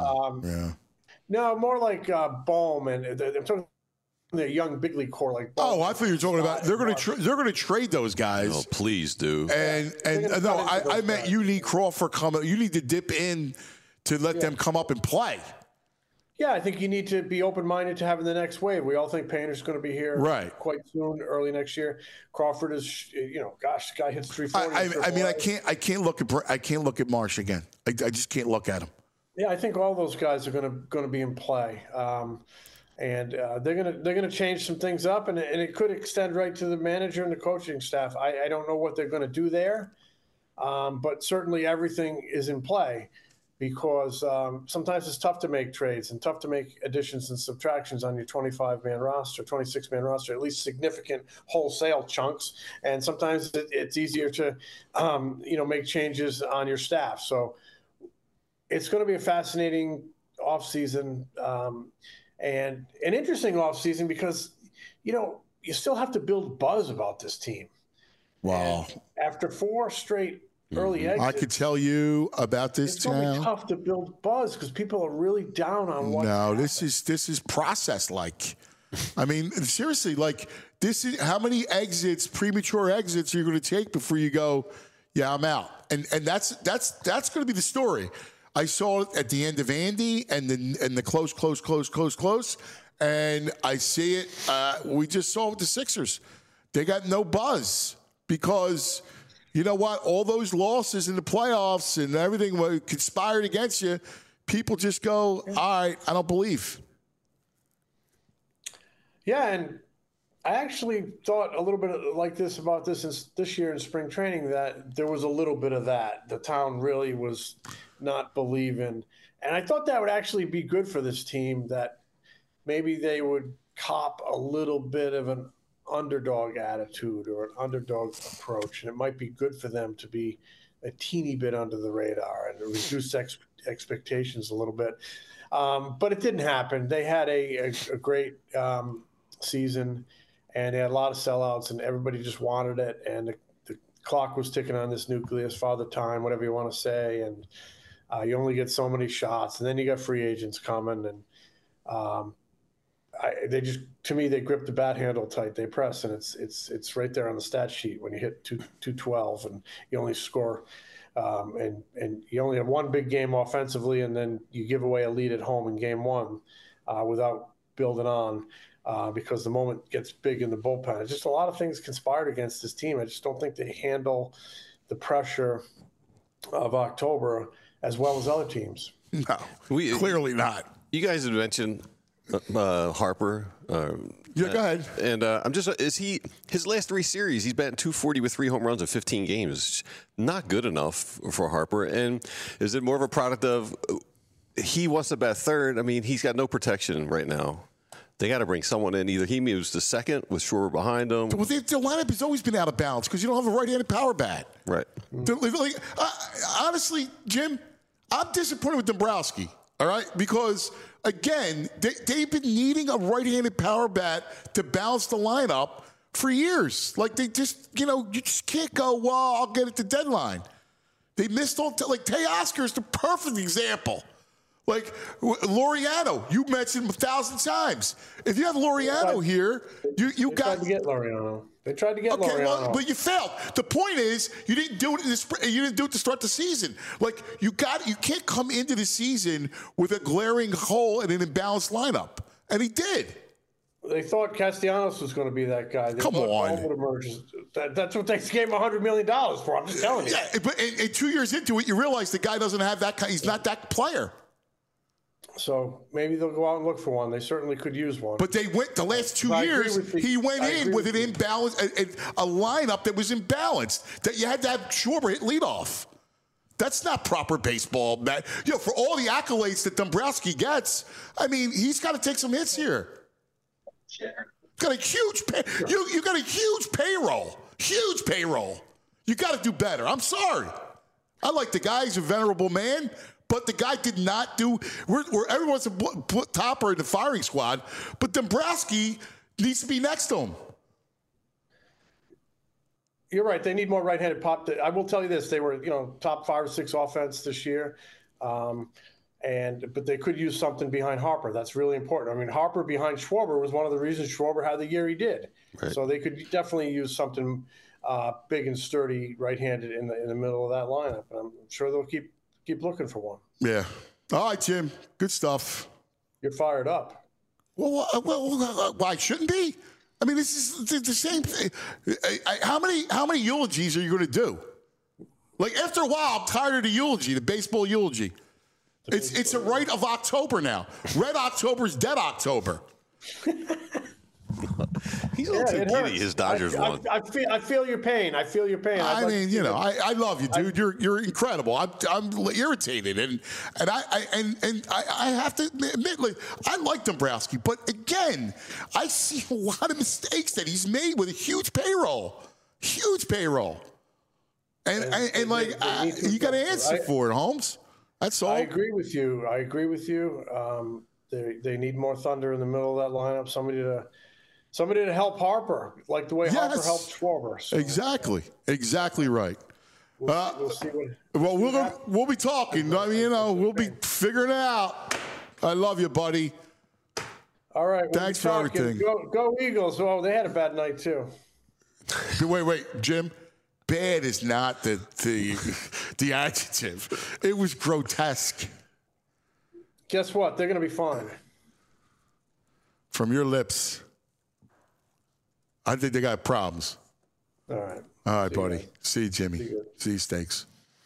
No, more like Bohm and I'm talking their young big league core like Bohm.
Oh, I thought you were talking about they're going to trade those guys.
Oh, please do.
And no, I meant you need Crawford coming. You need to dip in to let them come up and play.
Yeah, I think you need to be open-minded to having the next wave. We all think Painter's going to be here quite soon, early next year. Crawford is, gosh, the guy hits 340.
I mean, I can't look at Marsh again. I just can't look at him.
Yeah, I think all those guys are going to be in play, and they're going to change some things up, and it could extend right to the manager and the coaching staff. I don't know what they're going to do there, but certainly everything is in play. Because sometimes it's tough to make trades and tough to make additions and subtractions on your 25-man roster, 26-man roster, at least significant wholesale chunks. And sometimes it's easier to, make changes on your staff. So it's going to be a fascinating offseason and an interesting offseason because, you still have to build buzz about this team.
Wow.
And after 4 straight early exits,
I could tell you about this
it's
town.
It's only tough to build buzz because people are really down on what.
No, this is process like. I mean, seriously, like this is how many premature exits you're going to take before you go, yeah, I'm out. And that's going to be the story. I saw it at the end of Andy and the close. And I see it. We just saw it with the Sixers. They got no buzz because. You know what? All those losses in the playoffs and everything conspired against you, people just go, all right, I don't believe.
Yeah, and I actually thought a little bit like this about this year in spring training, that there was a little bit of that. The town really was not believing. And I thought that would actually be good for this team, that maybe they would cop a little bit of an underdog attitude or an underdog approach, and it might be good for them to be a teeny bit under the radar and reduce expectations a little bit. But it didn't happen. They had a great season, and they had a lot of sellouts, and everybody just wanted it. And the clock was ticking on this nucleus, Father Time, whatever you want to say. And you only get so many shots, and then you got free agents coming, and to me, they grip the bat handle tight. They press, and it's right there on the stat sheet when you hit 212 and you only score, and you only have one big game offensively, and then you give away a lead at home in game 1 without building on because the moment gets big in the bullpen. It's just a lot of things conspired against this team. I just don't think they handle the pressure of October as well as other teams.
No, clearly not.
You guys had mentioned Harper.
Yeah, go ahead.
And his last 3 series, he's batting .240 with 3 home runs in 15 games. Not good enough for Harper. And is it more of a product of he wants to bat third? I mean, he's got no protection right now. They got to bring someone in. Either he moves to second with Schwarber behind him.
Well, the lineup has always been out of balance because you don't have a right-handed power bat.
Right.
Honestly, Jim, I'm disappointed with Dombrowski. All right, because again, they've been needing a right-handed power bat to balance the lineup for years. Like they just, you just can't go, well, I'll get it to deadline. They missed all, like Teoscar is the perfect example. Like Laureano, you mentioned him 1,000 times. If you have Laureano here, you got
tried to get Laureano. They tried to get
okay,
Laureano.
well, but you failed. The point is, you didn't do it in the spring. You didn't do it to start the season. Like you can't come into the season with a glaring hole and an imbalanced lineup, and he did.
They thought Castellanos was going to be that guy. They
Come
thought
on.
Paul would emerge. That's what they gave him $100 million for. I'm just telling you.
Yeah, but and 2 years into it, you realize the guy doesn't have that kind. He's not that player.
So maybe they'll go out and look for one. They certainly could use one.
But they went the last 2 years. He went in with an imbalance, a lineup that was imbalanced. That you had to have Schwarber hit leadoff. That's not proper baseball, Matt. You know, for all the accolades that Dombrowski gets, I mean, he's got to take some hits here. Got a huge you got a huge payroll. Huge payroll. You got to do better. I'm sorry. I like the guy. He's a venerable man. But the guy did not do. Everyone's a topper in the firing squad, but Dombrowski needs to be next to him.
You're right. They need more right-handed pop. I will tell you this: they were, top 5 or 6 offense this year, but they could use something behind Harper. That's really important. I mean, Harper behind Schwarber was one of the reasons Schwarber had the year he did. Right. So they could definitely use something big and sturdy, right-handed in the middle of that lineup. And I'm sure they'll keep looking for one.
Yeah. All right, Jim. Good stuff.
You're fired up.
Well, why shouldn't be? I mean, this is the same thing. How many eulogies are you going to do? Like, after a while, I'm tired of the eulogy, the baseball eulogy. It's a rite of October now. Red October is dead October.
He's a little too giddy. His Dodgers won.
I feel your pain. I feel your pain.
I mean, I love you, dude. You're incredible. I'm irritated, and I have to admit, like, I like Dombrowski, but again, I see a lot of mistakes that he's made with a huge payroll, and you got to answer for it, Holmes. That's all.
I agree with you. They need more thunder in the middle of that lineup. Somebody to help Harper, like the way Harper helped Schwarber. So.
Exactly right.
We'll see what.
We'll be talking. I mean, we'll be figuring it out. I love you, buddy.
All right.
Thanks for everything.
Go Eagles. Oh, they had a bad night too.
Wait, Jim. Bad is not the adjective. It was grotesque.
Guess what? They're going to be fine.
From your lips. I think they got problems.
All right.
All right, buddy. See you, Jimmy. See you, Steaks.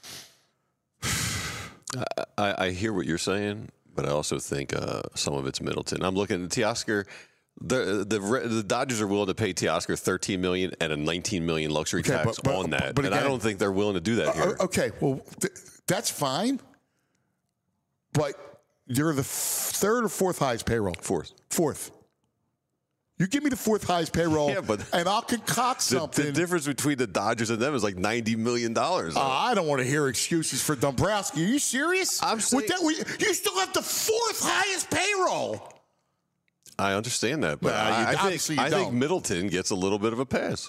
I hear what you're saying, but I also think some of it's Middleton. I'm looking at Teoscar. The Dodgers are willing to pay Teoscar $13 million and a $19 million luxury tax on that, but again, I don't think they're willing to do that here.
Okay, well, that's fine, but you're the third or fourth highest payroll. Fourth. You give me the fourth highest payroll, and I'll concoct something.
The difference between the Dodgers and them is like $90 million.
I don't want to hear excuses for Dombrowski. Are you serious?
I'm saying,
you still have the fourth highest payroll.
I understand that, but I think Middleton gets a little bit of a pass.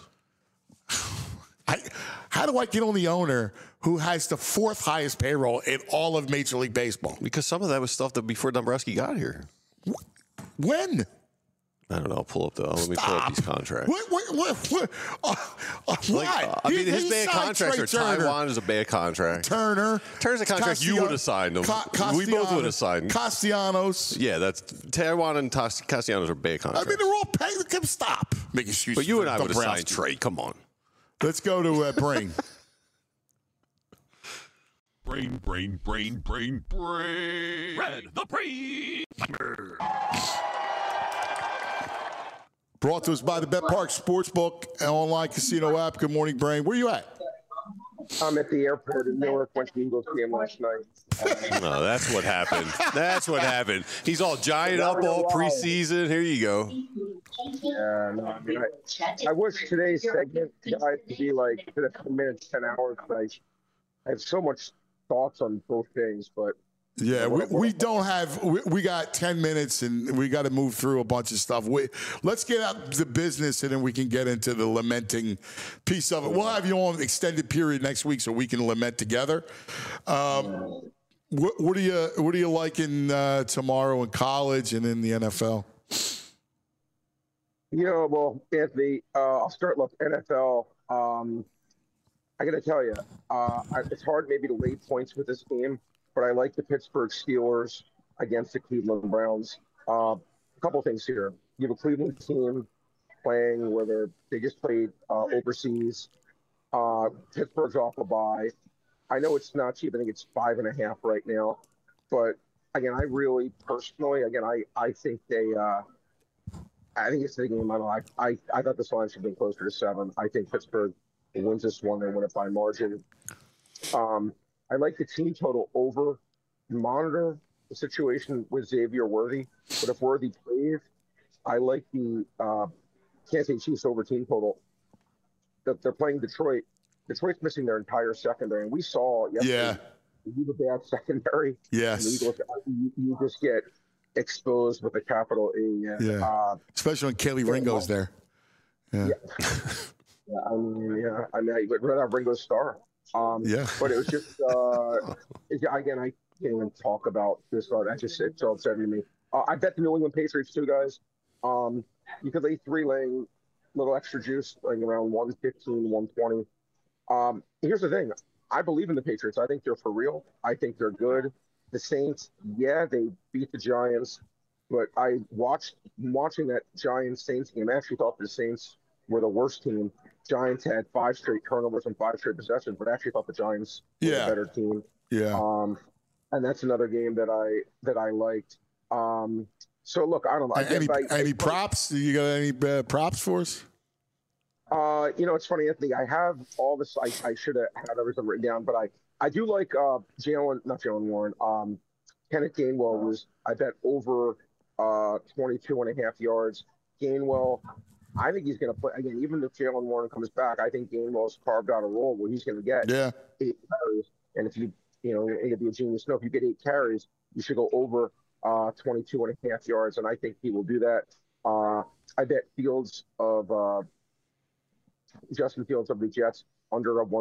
How do I get on the owner who has the fourth highest payroll in all of Major League Baseball?
Because some of that was stuff that before Dombrowski got here.
When?
I don't know. Let me pull up these contracts.
What? Why?
I mean, his bad contracts are Taiwan is a bad contract.
Turner's
a contract you would have signed him. We both would have signed.
Castellanos.
Yeah, that's Taiwan and Castellanos are bad contracts.
I mean, they're all paying. Stop making excuses.
But you and I would have signed Trey. Come on.
Let's go to Brain.
Brain. Red the Brain.
Brought to us by the Bet Park Sportsbook and online casino app. Good morning, Brain. Where you at?
I'm at the airport in Newark. Went to the Eagles game last night.
No, that's what happened. He's all giant up all preseason. Here you go.
Yeah, no, I mean, I wish today's segment, guys, to be like 10 minutes, 10 hours. But I have so much thoughts on both things, but.
Yeah, we don't have. We got 10 minutes, and we got to move through a bunch of stuff. Let's get out the business, and then we can get into the lamenting piece of it. We'll have you on extended period next week so we can lament together. What are you liking tomorrow in college and in the NFL?
Well, Anthony, I'll start with NFL. I got to tell you, it's hard maybe to lay points with this game, but I like the Pittsburgh Steelers against the Cleveland Browns. A couple things here. You have a Cleveland team playing where they just played overseas. Pittsburgh's off a bye. I know it's not cheap. I think it's 5.5 right now. But, again, I really personally, I think I think it's the game. I thought this line should have been closer to 7. I think Pittsburgh wins this one. They win it by margin. I like the team total over. Monitor the situation with Xavier Worthy. But if Worthy plays, I like the Kansas City Chiefs over team total. They're playing Detroit. Detroit's missing their entire secondary. And we saw yesterday, you have a bad secondary.
Yes.
You just get exposed with a capital E.
Especially when Kelly Ringo's there. Yeah.
I mean, but right out Ringo's star. But it was just, again, I can't even talk about this. It's all upsetting me. I bet the New England Patriots too, guys. You could lay 3 laying little extra juice, like around 115, 120. Here's the thing. I believe in the Patriots. I think they're for real. I think they're good. The Saints, they beat the Giants, but watching that Giants-Saints game, I actually thought the Saints were the worst team. Giants had 5 straight turnovers and 5 straight possessions, but I actually thought the Giants were the better team. Yeah. And that's another game that I liked. So look, I don't know.
Any props? You got any props for us?
It's funny, Anthony. I have all this. I should have had everything written down, but I do like not Jalen Warren. Kenneth Gainwell I bet over 22.5 yards. Gainwell, I think he's going to play again. Even if Jalen Warren comes back, I think Gainwell's carved out a role where he's going to get 8 carries. And if it'd be a genius. No, if you get 8 carries, you should go over 22.5 yards, and I think he will do that. I bet Justin Fields of the Jets under a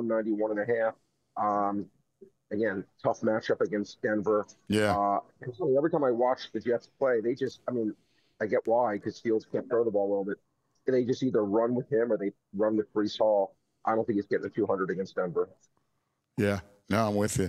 191.5. Again, tough matchup against Denver. Yeah. Every time I watch the Jets play, I get why, because Fields can't throw the ball a little bit. They just either run with him or they run with Breece Hall. I don't think he's getting a 200 against Denver. Yeah.
No, I'm with you.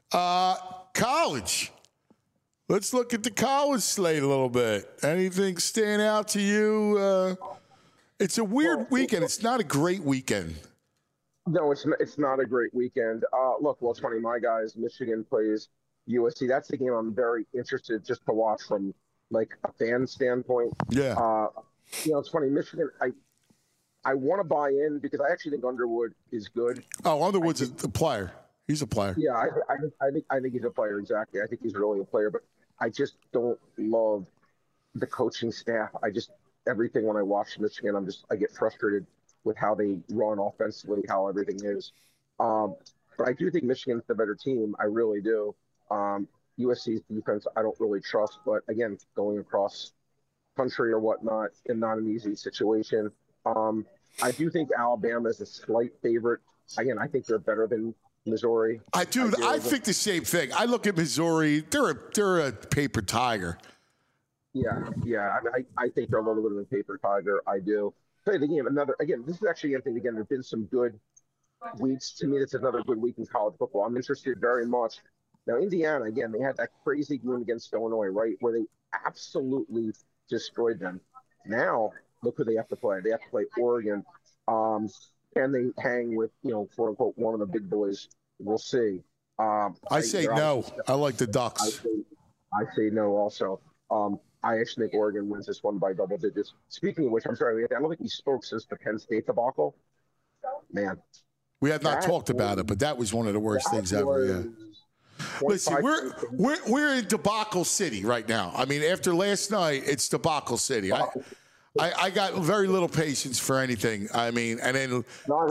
College. Let's look at the college slate a little bit. Anything stand out to you? It's a weird weekend. It's not a great weekend.
No, it's not a great weekend. It's funny. My guys, Michigan plays USC. That's the game I'm very interested just to watch from like a fan standpoint. Yeah. It's funny. Michigan, I want to buy in because I actually think Underwood is good.
Oh, Underwood's a player. He's a player.
Yeah, I think he's a player, exactly. I think he's really a player, but I just don't love the coaching staff. Everything when I watch Michigan, I get frustrated with how they run offensively, how everything is. But I do think Michigan's the better team. I really do. USC's defense, I don't really trust, but again, going across country or whatnot, and not an easy situation. I do think Alabama is a slight favorite. Again, I think they're better than Missouri.
I think the same thing. I look at Missouri; they're a paper tiger.
Yeah. I think they're a little bit of a paper tiger. I do. Play the game. This is actually something. Again, there's been some good weeks. To me, it's another good week in college football. I'm interested very much. Now, Indiana, again, they had that crazy game against Illinois, right, where they absolutely destroyed them. Now, look who they have to play. They have to play Oregon. And they hang with, quote unquote, one of the big boys. We'll see.
I say no. I like the Ducks.
I say no also. I actually think Oregon wins this one by double digits. Speaking of which, I'm sorry, I don't think we spoke since the Penn State debacle. Man.
We have not talked about it, but that was one of the worst things ever. Yeah. Listen, we're in debacle city right now. I mean, after last night, it's debacle city. I got very little patience for anything. I mean, and then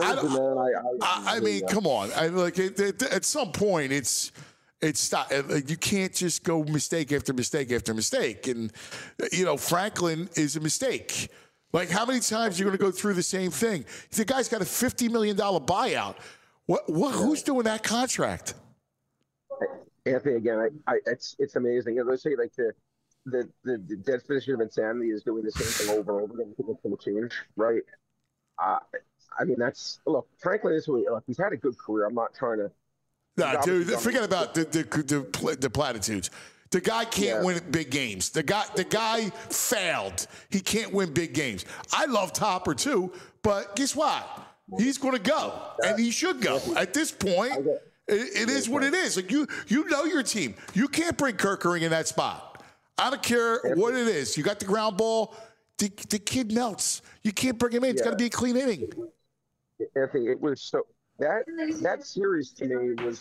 come on. At some point, it's stop. You can't just go mistake after mistake after mistake. And Franklin is a mistake. Like, how many times are you going to go through the same thing? The guy's got a $50 million buyout. Who's doing that contract?
Anthony, again, it's amazing. You know, they say like the definition of insanity is doing the same thing over and over again. People can change, right? I mean, look. Frankly, look, he's had a good career. I'm not trying to.
Nah, dude, forget about the platitudes. The guy can't win big games. The guy failed. He can't win big games. I love Topper too, but guess what? He's going to go, and he should go. At this point, it is what it is. Like you know your team. You can't bring Kerkering in that spot. I don't care what it is. You got the ground ball. The kid melts. You can't bring him in. It's got to be a clean inning.
Anthony, it was so. That series to me was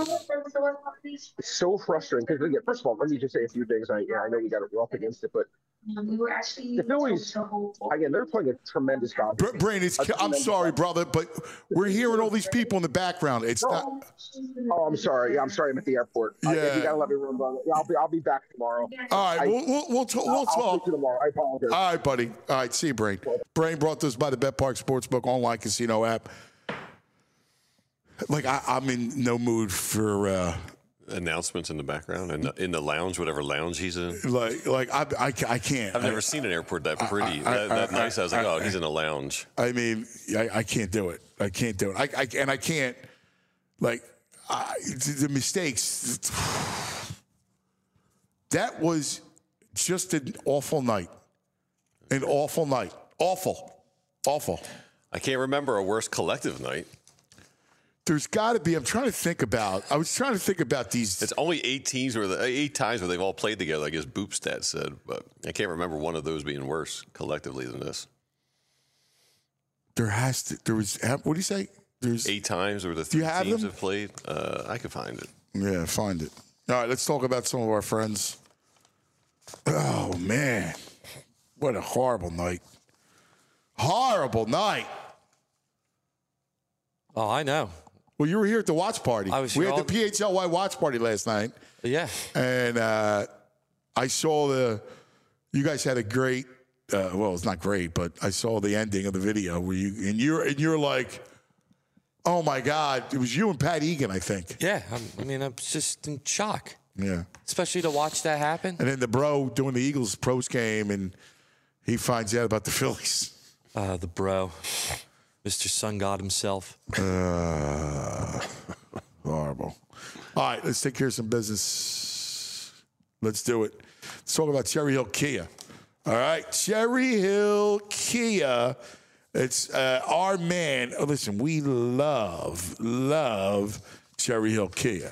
so frustrating because again, first of all, let me just say a few things. I know we got up against it, but the Phillies again, they're playing a tremendous job.
Brain, I'm sorry, brother, but we're hearing all these people in the background. It's not.
Oh, I'm sorry. Yeah, I'm sorry. I'm at the airport.
Yeah,
you gotta let me run, brother. I'll be back tomorrow.
All right, we'll talk.
I'll talk to you tomorrow. I apologize.
All right, buddy. All right, see you, Brain. Brain brought this by the Bet Park Sportsbook online casino app. Like I'm in no mood for
announcements in the background and in the lounge, whatever lounge he's in.
Like I can't.
I've never seen an airport that pretty, that nice. I was like, oh, he's in a lounge.
I mean, I can't do it. I can't do it. I can't. Like the mistakes. That was just an awful night. An awful night. Awful.
I can't remember a worse collective night.
There's got to be. I was trying to think about these.
It's only 8 times where they've all played together. I guess Boopstat said, but I can't remember one of those being worse collectively than this.
There was. What do you say? There's
8 times where the 3 teams have played. I could find it.
Yeah, find it. All right, let's talk about some of our friends. Oh man, what a horrible night! Horrible night.
Oh, I know.
Well, you were here at the watch party. We had the PHLY watch party last night.
Yeah.
And I saw you guys had a great, well, it's not great, but I saw the ending of the video where you're like, oh my God, it was you and Pat Egan, I think.
Yeah. I'm just in shock.
Yeah.
Especially to watch that happen.
And then the bro doing the Eagles pros game and he finds out about the Phillies.
The bro. Mr. Sun God himself.
Horrible. All right, let's take care of some business. Let's do it. Let's talk about Cherry Hill Kia. All right, Cherry Hill Kia. It's our man. Oh, listen, we love Cherry Hill Kia.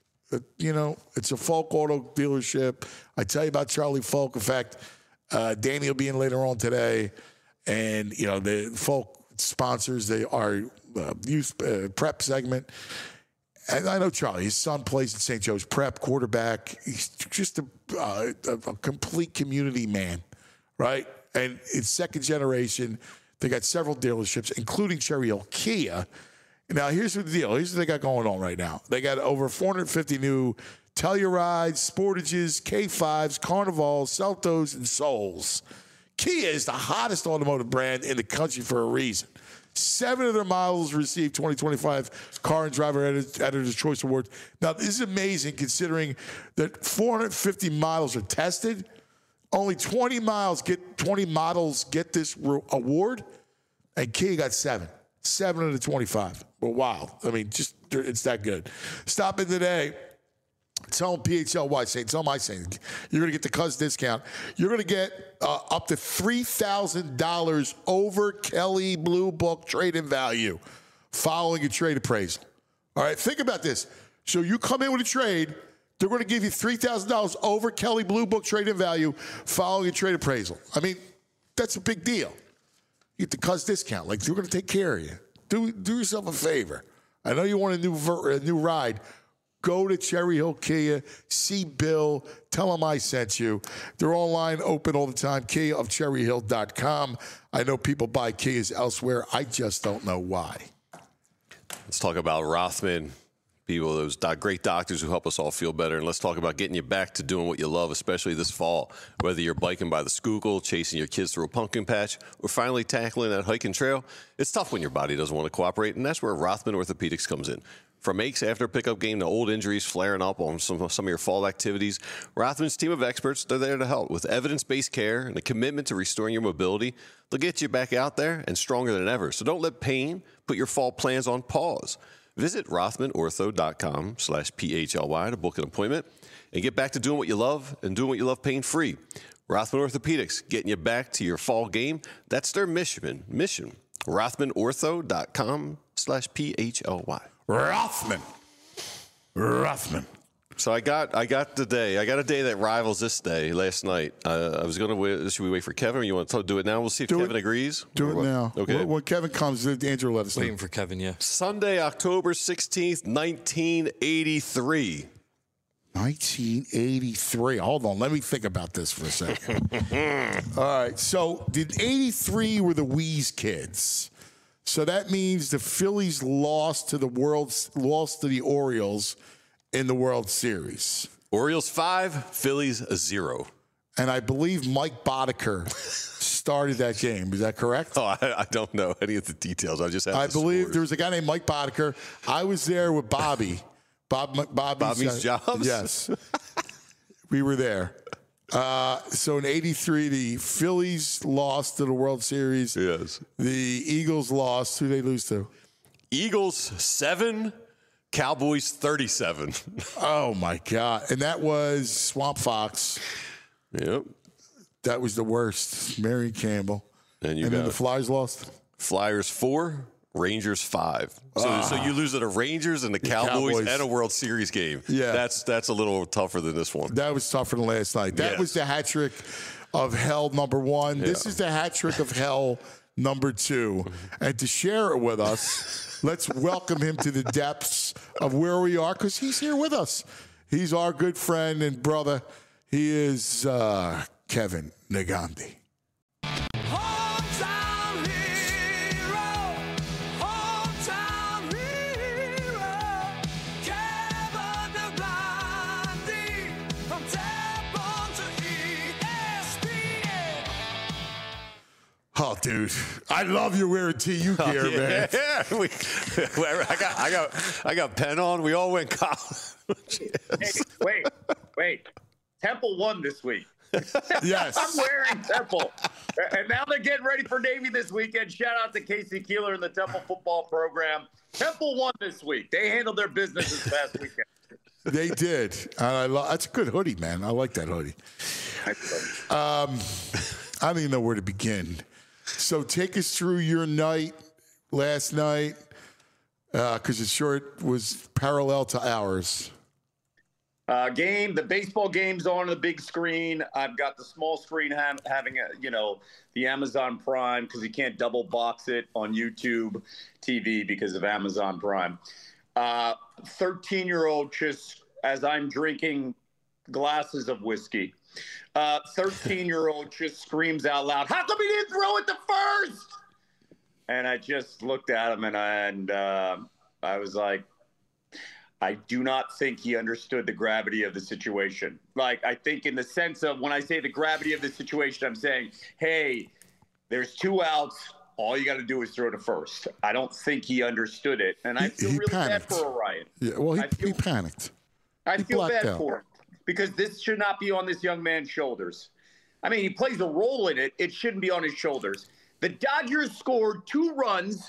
It's a Folk auto dealership. I tell you about Charlie Folk. In fact, Danny will be in later on today. And, the Folk sponsors, they are youth prep segment. And I know Charlie, his son plays at St. Joe's Prep, quarterback. He's just a complete community man, right? And it's second generation. They got several dealerships, including Cherry Hill Kia. Now, here's the deal. Here's what they got going on right now. They got over 450 new Tellurides, Sportages, K5s, Carnivals, Celtos, and Souls. Kia is the hottest automotive brand in the country for a reason. 7 of their models received 2025 Car and Driver Editor's Choice Award. Now, this is amazing considering that 450 models are tested. Only 20 models get this award, and Kia got 7. 7 of the 25. Well, wow. I mean, it's that good. Stop in today. Tell them PHLY, tell them I say, you're going to get the Cuz discount. You're going to get up to $3,000 over Kelley Blue Book trade-in value following a trade appraisal. All right, think about this. So you come in with a trade, they're going to give you $3,000 over Kelley Blue Book trade-in value following a trade appraisal. I mean, that's a big deal. You get the Cuz discount. Like, they're going to take care of you. Do yourself a favor. I know you want a new ride. Go to Cherry Hill Kia, see Bill, tell him I sent you. They're online, open all the time, KiaofCherryHill.com. I know people buy Kias elsewhere. I just don't know why.
Let's talk about Rothman, people, those great doctors who help us all feel better. And let's talk about getting you back to doing what you love, especially this fall. Whether you're biking by the Schuylkill, chasing your kids through a pumpkin patch, or finally tackling that hiking trail, it's tough when your body doesn't want to cooperate, and that's where Rothman Orthopedics comes in. From aches after a pickup game to old injuries flaring up on some of your fall activities, Rothman's team of experts, they're there to help. With evidence-based care and a commitment to restoring your mobility, they'll get you back out there and stronger than ever. So don't let pain put your fall plans on pause. Visit RothmanOrtho.com/PHLY to book an appointment and get back to doing what you love and doing what you love pain-free. Rothman Orthopedics, getting you back to your fall game. That's their mission. RothmanOrtho.com/PHLY.
Rothman.
So I got a day that rivals this day last night. I was going to wait. Should we wait for Kevin, or you want to do it now? We'll see if Kevin agrees.
Do it now.
Okay.
When Kevin comes, Andrew let us know.
Waiting for Kevin, yeah.
Sunday, October 16th, 1983.
1983. Hold on. Let me think about this for a second. All right. So, did 83 were the Wheeze kids? So that means the Phillies lost to the Orioles in the World Series.
Orioles 5, Phillies 0.
And I believe Mike Boddicker started that game. Is that correct?
Oh, I don't know any of the details. I just have
I
the
believe
scores.
there was a guy named Mike Boddicker. I was there with Bobby. Bobby's
Jobs?
Yes. We were there. So in 83, the Phillies lost to the World Series.
Yes.
The Eagles lost. Who they lose to?
Eagles 7, Cowboys 37.
Oh, my God. And that was Swamp Fox.
Yep.
That was the worst. Mary Campbell.
And
then the Flyers lost?
Flyers 4, Rangers 5. So you lose to the Rangers and the Cowboys and a World Series game.
Yeah.
That's a little tougher than this one.
That was tougher than last night. That was the hat trick of hell number 1. Yeah. This is the hat trick of hell number 2. And to share it with us, let's welcome him to the depths of where we are, because he's here with us. He's our good friend and brother. He is Kevin Negandhi. Oh, dude, I love you wearing TU gear, man.
Yeah, I got pen on. We all went college.
Hey, wait. Temple won this week.
Yes.
I'm wearing Temple. And now they're getting ready for Navy this weekend. Shout out to Casey Keeler and the Temple football program. Temple won this week. They handled their business this past weekend.
They did. That's a good hoodie, man. I like that hoodie. I don't even know where to begin. So take us through your night last night, because it sure was parallel to ours.
The baseball game's on the big screen. I've got the small screen having the Amazon Prime, because you can't double box it on YouTube TV because of Amazon Prime. 13-year-old, just as I'm drinking glasses of whiskey, 13-year-old just screams out loud, "How come he didn't throw it to first?" And I just looked at him and I was like, I do not think he understood the gravity of the situation. Like, I think in the sense of, when I say the gravity of the situation, I'm saying, hey, there's 2 outs. All you got to do is throw to first. I don't think he understood it. And I feel really
panicked.
bad for Orion.
Yeah, well, he panicked.
I feel bad
out.
for him, because this should not be on this young man's shoulders. I mean, he plays a role in it. It shouldn't be on his shoulders. The Dodgers scored 2 runs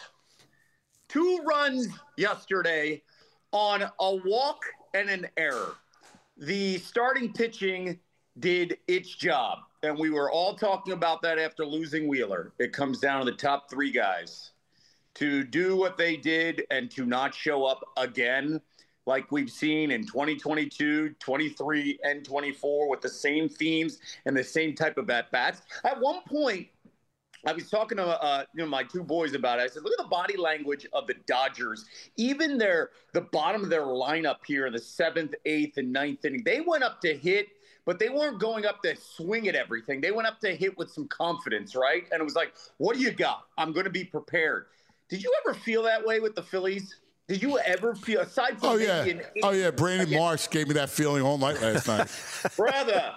yesterday on a walk and an error. The starting pitching did its job, and we were all talking about that after losing Wheeler. It comes down to the top 3 guys to do what they did and to not show up again, like we've seen in 2022, 23, and 24, with the same themes and the same type of at-bats. At one point, I was talking to my 2 boys about it. I said, look at the body language of the Dodgers. Even the bottom of their lineup here in the 7th, 8th, and 9th inning, they went up to hit, but they weren't going up to swing at everything. They went up to hit with some confidence, right? And it was like, what do you got? I'm going to be prepared. Did you ever feel that way with the Phillies? Did you ever feel, aside from
Brandon Marsh gave me that feeling all night last night.
Brother,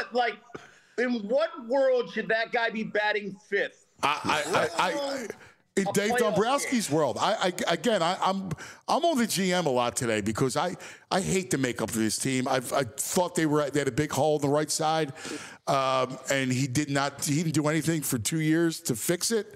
in what world should that guy be batting 5th?
in Dave Dombrowski's world. I'm on the GM a lot today because I hate the makeup of this team. I thought they had a big hole in the right side, and he didn't do anything for 2 years to fix it.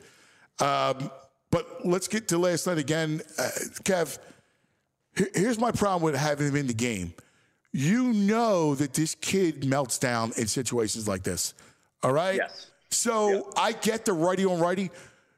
But let's get to last night again, Kev. Here's my problem with having him in the game. You know that this kid melts down in situations like this. All right?
Yes.
So I get the righty on righty.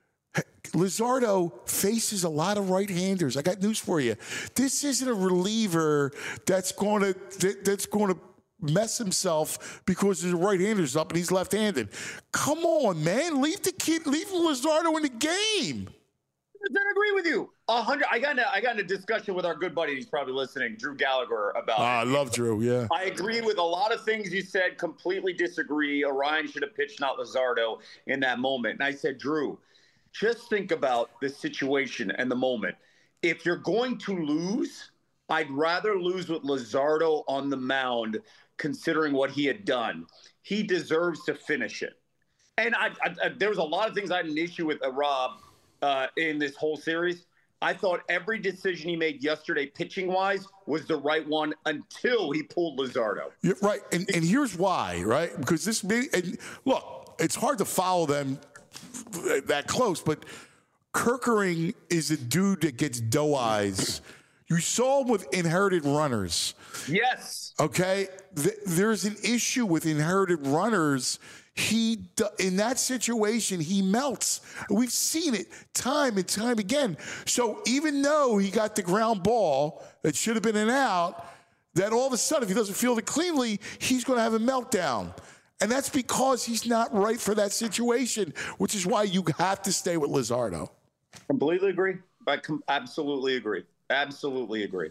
Luzardo faces a lot of right-handers. I got news for you. This isn't a reliever that's going to mess himself because his right-hander's up and he's left-handed. Come on, man. Leave Luzardo in the game.
I agree with you. 100. I got in a discussion with our good buddy. He's probably listening, Drew Gallagher, about.
I love Drew. Yeah.
I agree with a lot of things you said. Completely disagree. Orion should have pitched, not Luzardo, in that moment. And I said, Drew, just think about the situation and the moment. If you're going to lose, I'd rather lose with Luzardo on the mound, considering what he had done. He deserves to finish it. And there was a lot of things I had an issue with Rob. In this whole series, I thought every decision he made yesterday, pitching-wise, was the right one until he pulled Luzardo.
You're right, and here's why, right? Because look, it's hard to follow them that close, but Kerkering is a dude that gets doe eyes. You saw him with inherited runners.
Yes.
Okay? There's an issue with inherited runners. In that situation, he melts. We've seen it time and time again. So even though he got the ground ball that should have been an out, that all of a sudden, if he doesn't field it cleanly, he's going to have a meltdown. And that's because he's not right for that situation, which is why you have to stay with Luzardo.
Completely agree. Absolutely agree. Absolutely agree.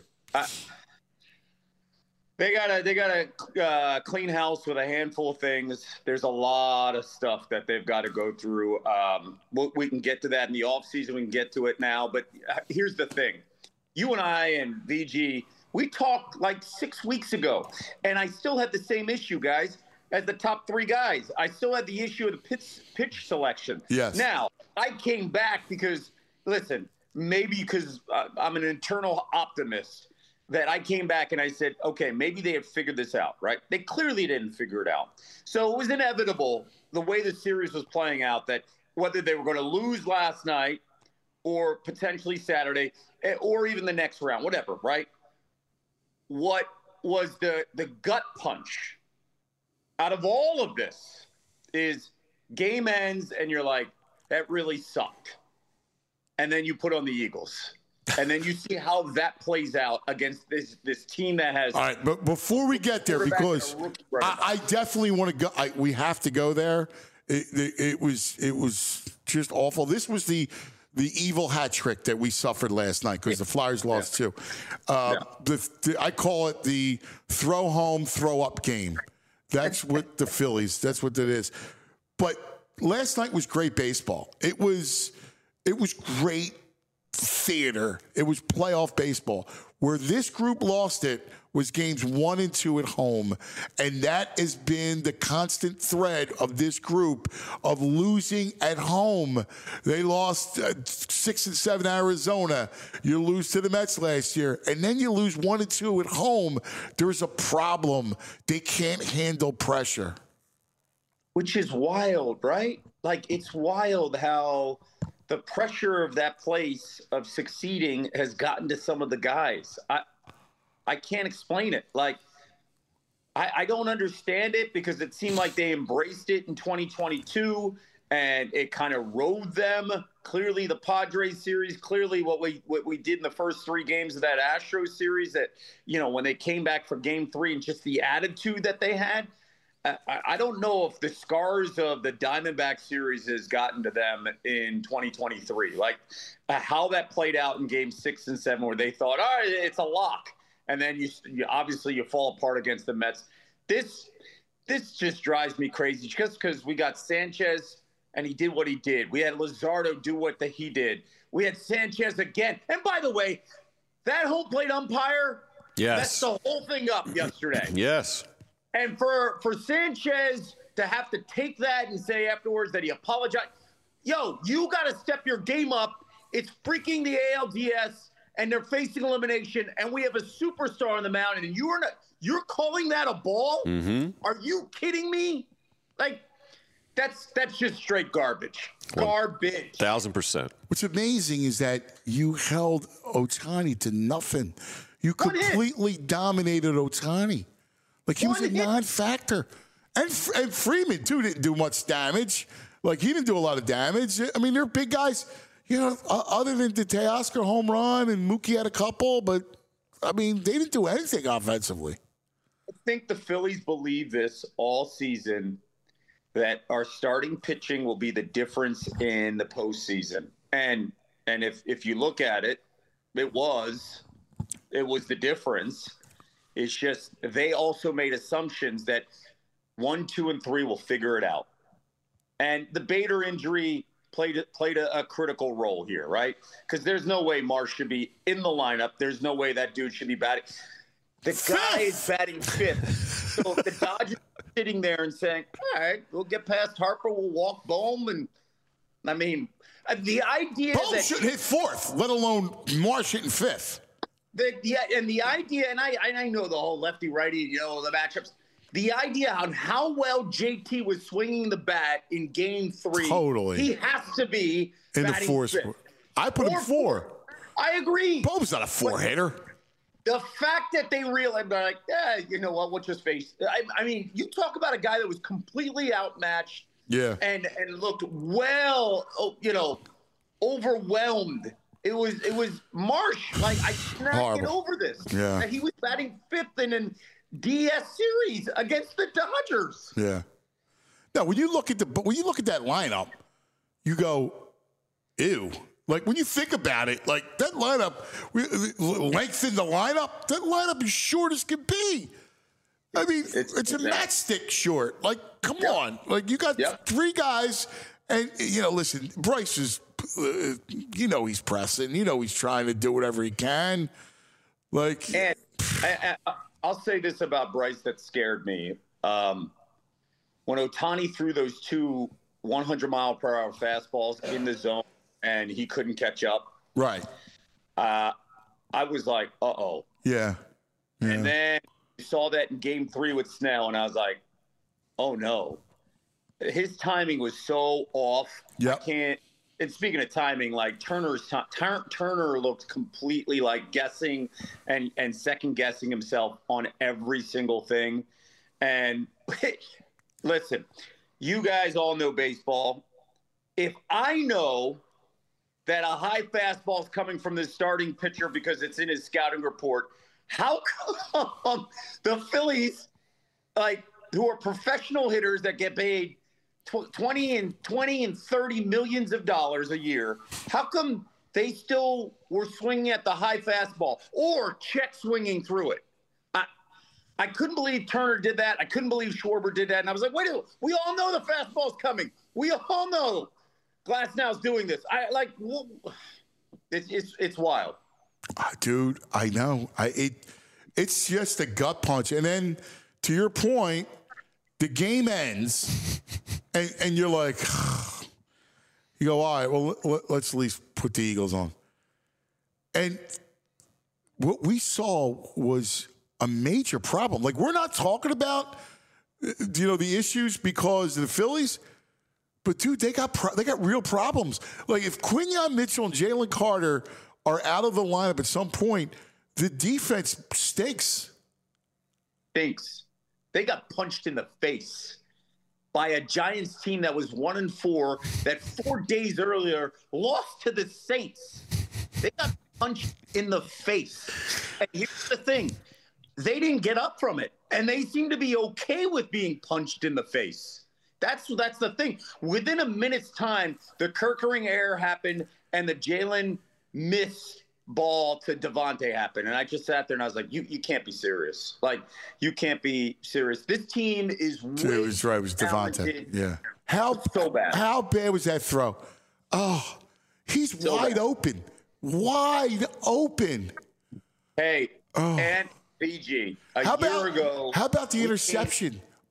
They got a clean house with a handful of things. There's a lot of stuff that they've got to go through. We can get to that in the offseason. We can get to it now. But here's the thing. You and I and VG, we talked like 6 weeks ago, and I still had the same issue, guys, as the top three guys. I still had the issue of the pitch selection.
Yes.
Now, I came back because, listen, maybe because I'm an internal optimist, that I came back and I said, okay, maybe they have figured this out, right? They clearly didn't figure it out. So it was inevitable, the way the series was playing out, that whether they were going to lose last night or potentially Saturday or even the next round, whatever, right? What was the gut punch out of all of this is game ends and you're like, that really sucked. And then you put on the Eagles. And then you see how that plays out against this team that has.
All right, but before we get there, because I definitely want to go. We have to go there. It was just awful. This was the evil hat trick that we suffered last night because the Flyers lost too. I call it the throw home, throw up game. That's what the Phillies. That's what it is. But last night was great baseball. It was great theater. It was playoff baseball. Where this group lost it was games 1 and 2 at home. And that has been the constant thread of this group of losing at home. They lost 6 and 7 Arizona. You lose to the Mets last year. And then you lose 1 and 2 at home. There's a problem. They can't handle pressure.
Which is wild, right? Like, it's wild how the pressure of that place of succeeding has gotten to some of the guys. I can't explain it. Like, I don't understand it because it seemed like they embraced it in 2022 and it kind of rode them. Clearly the Padres series, clearly what we did in the first 3 games of that Astros series, that, you know, when they came back for game 3 and just the attitude that they had. I don't know if the scars of the Diamondback series has gotten to them in 2023. Like how that played out in game 6 and 7, where they thought, all right, it's a lock. And then you obviously you fall apart against the Mets. This just drives me crazy just because we got Sanchez and he did what he did. We had Luzardo do what he did. We had Sanchez again. And by the way, that home plate umpire, that's the whole thing up yesterday.
Yes.
And for Sanchez to have to take that and say afterwards that he apologized, yo, you got to step your game up. It's freaking the ALDS, and they're facing elimination, and we have a superstar on the mound, and you're calling that a ball?
Mm-hmm.
Are you kidding me? Like, that's just straight garbage. Garbage.
1,000%.
What's amazing is that you held Ohtani to nothing. You completely dominated Ohtani. Like, he was a non-factor. And Freeman, too, didn't do much damage. Like, he didn't do a lot of damage. I mean, they're big guys. You know, other than the Teoscar home run and Mookie had a couple, but, I mean, they didn't do anything offensively.
I think the Phillies believe this all season, that our starting pitching will be the difference in the postseason. And if you look at it, it was the difference. It's just they also made assumptions that 1, 2, and 3 will figure it out. And the Bader injury played a critical role here, right? Because there's no way Marsh should be in the lineup. There's no way that dude should be batting. The guy is batting 5th. So if the Dodgers are sitting there and saying, all right, we'll get past Harper, we'll walk Bohm. And I mean, the idea
Bohm
that
shouldn't hit 4th, let alone Marsh hitting 5th.
And the idea, and I know the whole lefty-righty, the matchups. The idea on how well JT was swinging the bat in Game 3.
Totally.
He has to be
in the 4th. I put him 4.
I agree.
Bohm's not a 4-hitter.
The fact that they realized, like, you know what, we'll just face. I mean, you talk about a guy that was completely outmatched.
Yeah.
And looked well, overwhelmed. It was Marsh. Like, I cannot get over this.
Yeah.
That he was batting 5th in an DS series against the Dodgers.
Yeah. Now, when you look at that lineup, you go, ew. Like, when you think about it, like, that lineup, lengthen the lineup, that lineup is short as can be. I mean, it's a matchstick short. Like, come on. Like, you got 3 guys, and, listen, Bryce is, he's pressing. He's trying to do whatever he can. Like,
and I'll say this about Bryce that scared me. When Ohtani threw those 2 100-mile-per-hour fastballs in the zone and he couldn't catch up.
Right.
I was like, uh-oh.
Yeah.
And then you saw that in Game 3 with Snell, and I was like, oh, no. His timing was so off.
Yep.
I can't. And speaking of timing, like Turner looked completely like guessing and second guessing himself on every single thing. And listen, you guys all know baseball. If I know that a high fastball is coming from the starting pitcher because it's in his scouting report, how come the Phillies, like, who are professional hitters that get paid 20 and 30 millions of dollars a year, how come they still were swinging at the high fastball or check swinging through it? I couldn't believe Turner did that. I couldn't believe Schwarber did that. And I was like, wait, we all know the fastball's coming. We all know Glasnow's doing this. It's wild.
Dude, I know. It's just a gut punch. And then, to your point, the game ends, and you're like, you go, all right, well, let's at least put the Eagles on. And what we saw was a major problem. Like, we're not talking about, the issues because of the Phillies, but, dude, they got real problems. Like, if Quinyon Mitchell and Jalen Carter are out of the lineup at some point, the defense stinks.
They got punched in the face by a Giants team that was 1-4 that 4 days earlier lost to the Saints. They got punched in the face. And here's the thing. They didn't get up from it. And they seem to be okay with being punched in the face. That's the thing. Within a minute's time, the Kerkering error happened and the Jalen missed ball to Devontae happened. And I just sat there and I was like, you can't be serious. Like, you can't be serious. This team is way
It was Devontae. Yeah.
So bad.
How bad was that throw? Oh, he's so wide open. Wide open.
Hey, and BG, a year ago.
How about the interception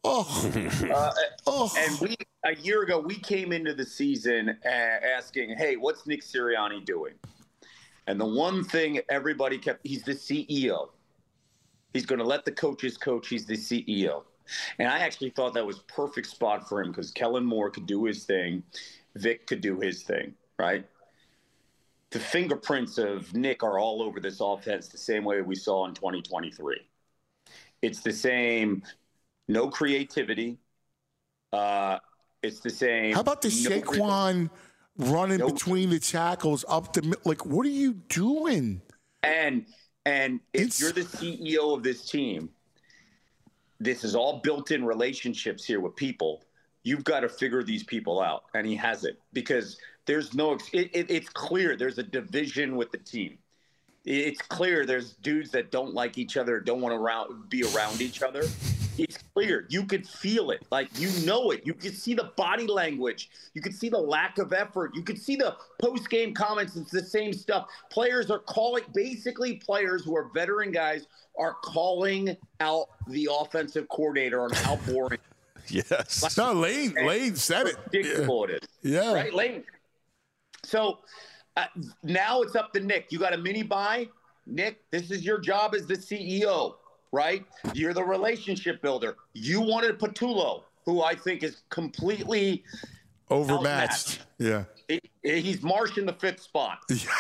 And a year ago, we came into the season asking, hey, what's Nick Sirianni doing? And the one thing everybody kept, he's the CEO. He's going to let the coaches coach. He's the CEO. And I actually thought that was perfect spot for him because Kellen Moore could do his thing. Vic could do his thing, right? The fingerprints of Nick are all over this offense the same way we saw in 2023. It's the same, no creativity. It's the same.
How about the Saquon running between the tackles up the like? What are you doing?
And if you're the CEO of this team, this is all built-in relationships here with people. You've got to figure these people out, and he hasn't because there's no. It's clear there's a division with the team. It's clear there's dudes that don't like each other, don't want to be around each other. It's clear. You could feel it. Like, you know it. You could see the body language. You could see the lack of effort. You could see the post-game comments. It's the same stuff. Players are calling, basically players who are veteran guys are calling out the offensive coordinator on how boring.
Yes.
No, Lane said it.
Ridiculous it is.
Yeah.
Right, Lane? So now it's up to Nick. You got a mini buy? Nick, this is your job as the CEO, right? You're the relationship builder. You wanted Patullo, who I think is completely
overmatched. Yeah.
He's Marsh in the fifth spot.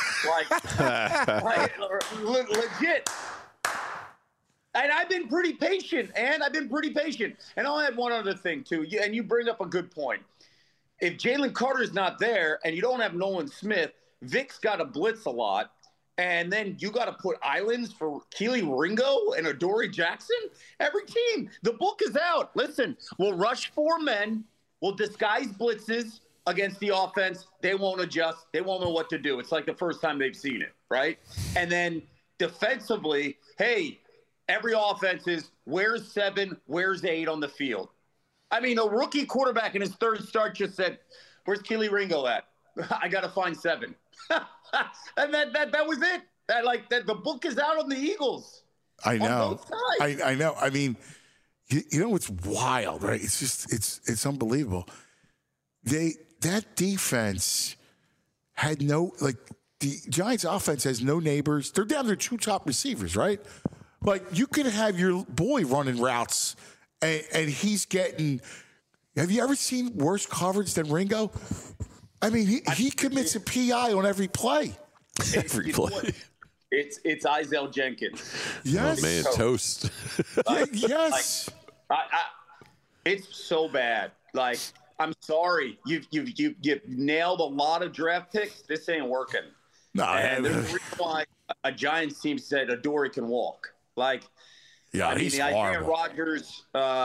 like legit. And I've been pretty patient, and I'll add one other thing, too. And you bring up a good point. If Jalen Carter's not there and you don't have Nolan Smith, Vic's got to blitz a lot. And then you got to put islands for Keely Ringo and Adoree Jackson. Every team, the book is out. Listen, we'll rush 4 men. We'll disguise blitzes against the offense. They won't adjust. They won't know what to do. It's like the first time they've seen it, right? And then defensively, hey, every offense is where's 7, where's 8 on the field. I mean, a rookie quarterback in his third start just said, where's Keely Ringo at? I got to find 7. And that was it. The book is out on the Eagles.
I know.
On both sides.
I know. I mean, you know what's wild, right? It's just it's unbelievable. That defense had no the Giants offense has no neighbors. They're down to their 2 top receivers, right? Like, you could have your boy running routes and he's getting. Have you ever seen worse coverage than Ringo? I mean, he commits a PI on every play.
Every play.
It's Isaiah Jenkins.
Yes.
Oh, man, toast.
Yes.
It's so bad. Like, I'm sorry. You've nailed a lot of draft picks. This ain't working.
No,
and there's a reason why a Giants team said Adoree can walk. Like,
yeah, he's
the Isaiah
horrible.
Rodgers,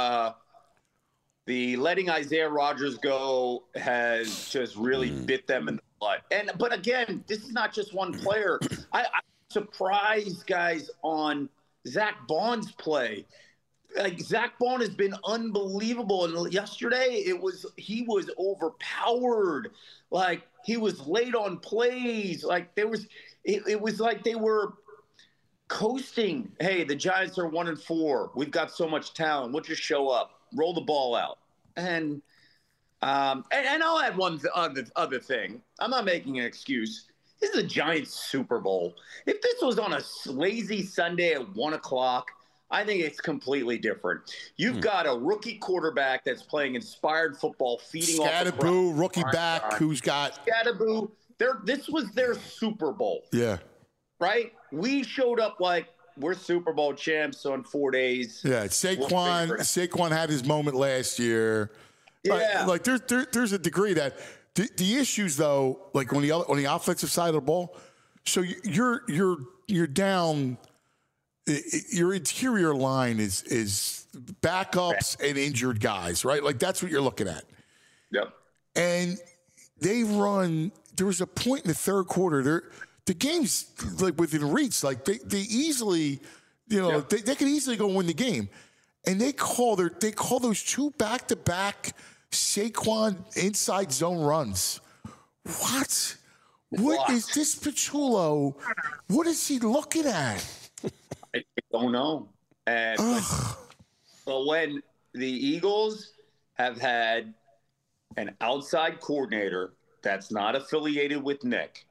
the letting Isaiah Rodgers go has just really bit them in the butt. But again, this is not just one player. I'm surprised, guys, on Zach Bond's play. Like, Zach Bond has been unbelievable, and yesterday he was overpowered. Like, he was late on plays. Like, it was like they were coasting. Hey, the Giants are 1-4. We've got so much talent. We'll just show up, roll the ball out, and I'll add one other thing. I'm not making an excuse. This is a Giants Super Bowl. If this was on a lazy Sunday at 1:00, I think it's completely different. You've got a rookie quarterback that's playing inspired football, feeding off the
Scatterboo, rookie back, who's got
Scatterboo. This was their Super Bowl.
Yeah.
Right? We showed up like we're Super Bowl champs on 4 days.
Yeah, Saquon had his moment last year.
Yeah.
Like there's a degree that the issues though, like on the offensive side of the ball, so you're down. Your interior line is backups and injured guys, right? Like, that's what you're looking at.
Yep.
And they run. There was a point in the third quarter. The game's like within reach. Like, they easily, they could easily go win the game. And they call those 2 back-to-back Saquon inside zone runs. What? What is this Patullo? What is he looking at?
I don't know. And but when the Eagles have had an outside coordinator that's not affiliated with Nick.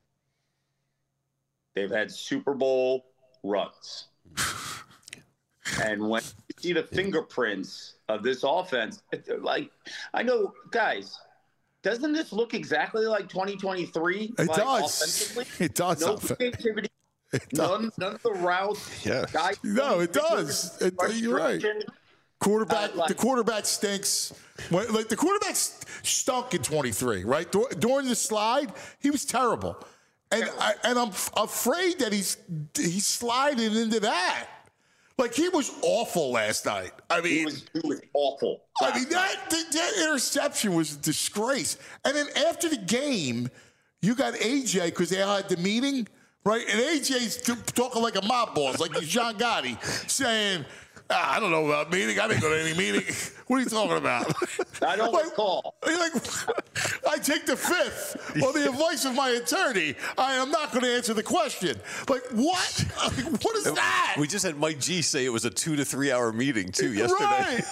They've had Super Bowl runs. And when you see the fingerprints of this offense, like, I know, guys, doesn't this look exactly like 2023?
It
like,
does.
Offensively?
It does.
No creativity. None of the routes.
Yeah.
Guys,
No, it does. You're right. Quarterback, the quarterback stinks. Like the quarterback stunk in 23, right? During the slide, he was terrible, and I'm afraid that he's sliding into that. Like he was awful last night. I mean,
he was awful.
I mean that interception was a disgrace. And then after the game, you got AJ because they had the meeting, right? And AJ's talking like a mob boss, like he's John Gotti, saying, I don't know about meeting. I didn't go to any meeting. What are you talking about?
I don't recall.
Like, I take the fifth on the advice of my attorney. I am not going to answer the question. Like, what? What is that?
We just had Mike G say it was a 2 to 3 hour meeting, too, yesterday.
Right.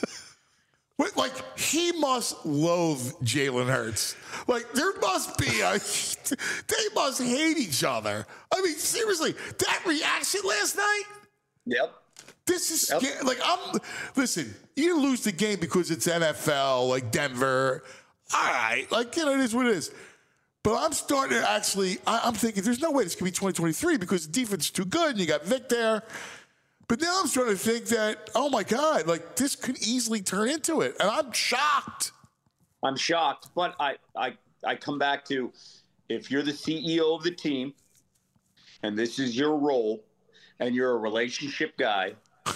Like, he must loathe Jalen Hurts. Like, there must be they must hate each other. I mean, seriously, that reaction last night?
Yep.
This is like listen, you lose the game because it's NFL, like Denver. All right, like, it is what it is. But I'm starting to actually, I'm thinking there's no way this could be 2023 because the defense is too good and you got Vic there. But now I'm starting to think that, oh my God, like this could easily turn into it. And I'm shocked.
I'm shocked. But I come back to, if you're the CEO of the team and this is your role and you're a relationship guy,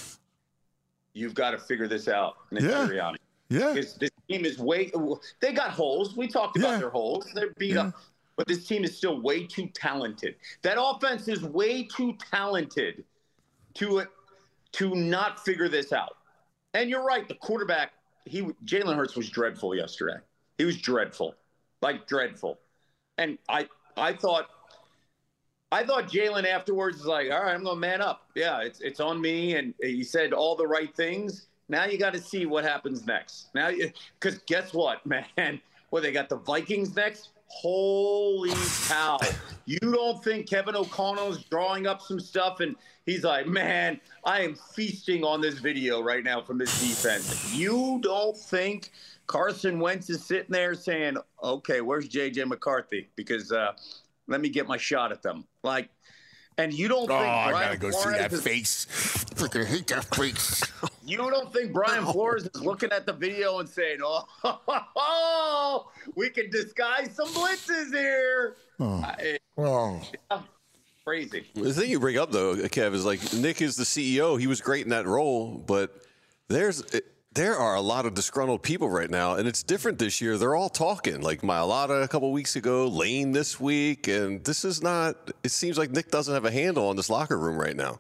you've got to figure this out, Nick Sirianni.
Yeah.
Because this team is they got holes. We talked about their holes. They're beat up. But this team is still way too talented. That offense is way too talented to not figure this out. And you're right. The quarterback, Jalen Hurts was dreadful yesterday. He was dreadful. Like, dreadful. And I thought Jalen afterwards was like, all right, I'm going to man up. Yeah, it's on me. And he said all the right things. Now you got to see what happens next. Now, because guess what, man? Well, they got the Vikings next. Holy cow. You don't think Kevin O'Connell's drawing up some stuff and he's like, man, I am feasting on this video right now from this defense. You don't think Carson Wentz is sitting there saying, okay, where's J.J. McCarthy? Because let me get my shot at them. Like, and you don't think
I
Brian
gotta go
Flores
see that face. Freaking hate that face.
You don't think Brian Flores is looking at the video and saying, oh, we can disguise some blitzes here. Crazy.
The thing you bring up, though, Kev, is like Nick is the CEO. He was great in that role, but there are a lot of disgruntled people right now, and it's different this year. They're all talking, like Mailata a couple weeks ago, Lane this week, and this is not – it seems like Nick doesn't have a handle on this locker room right now.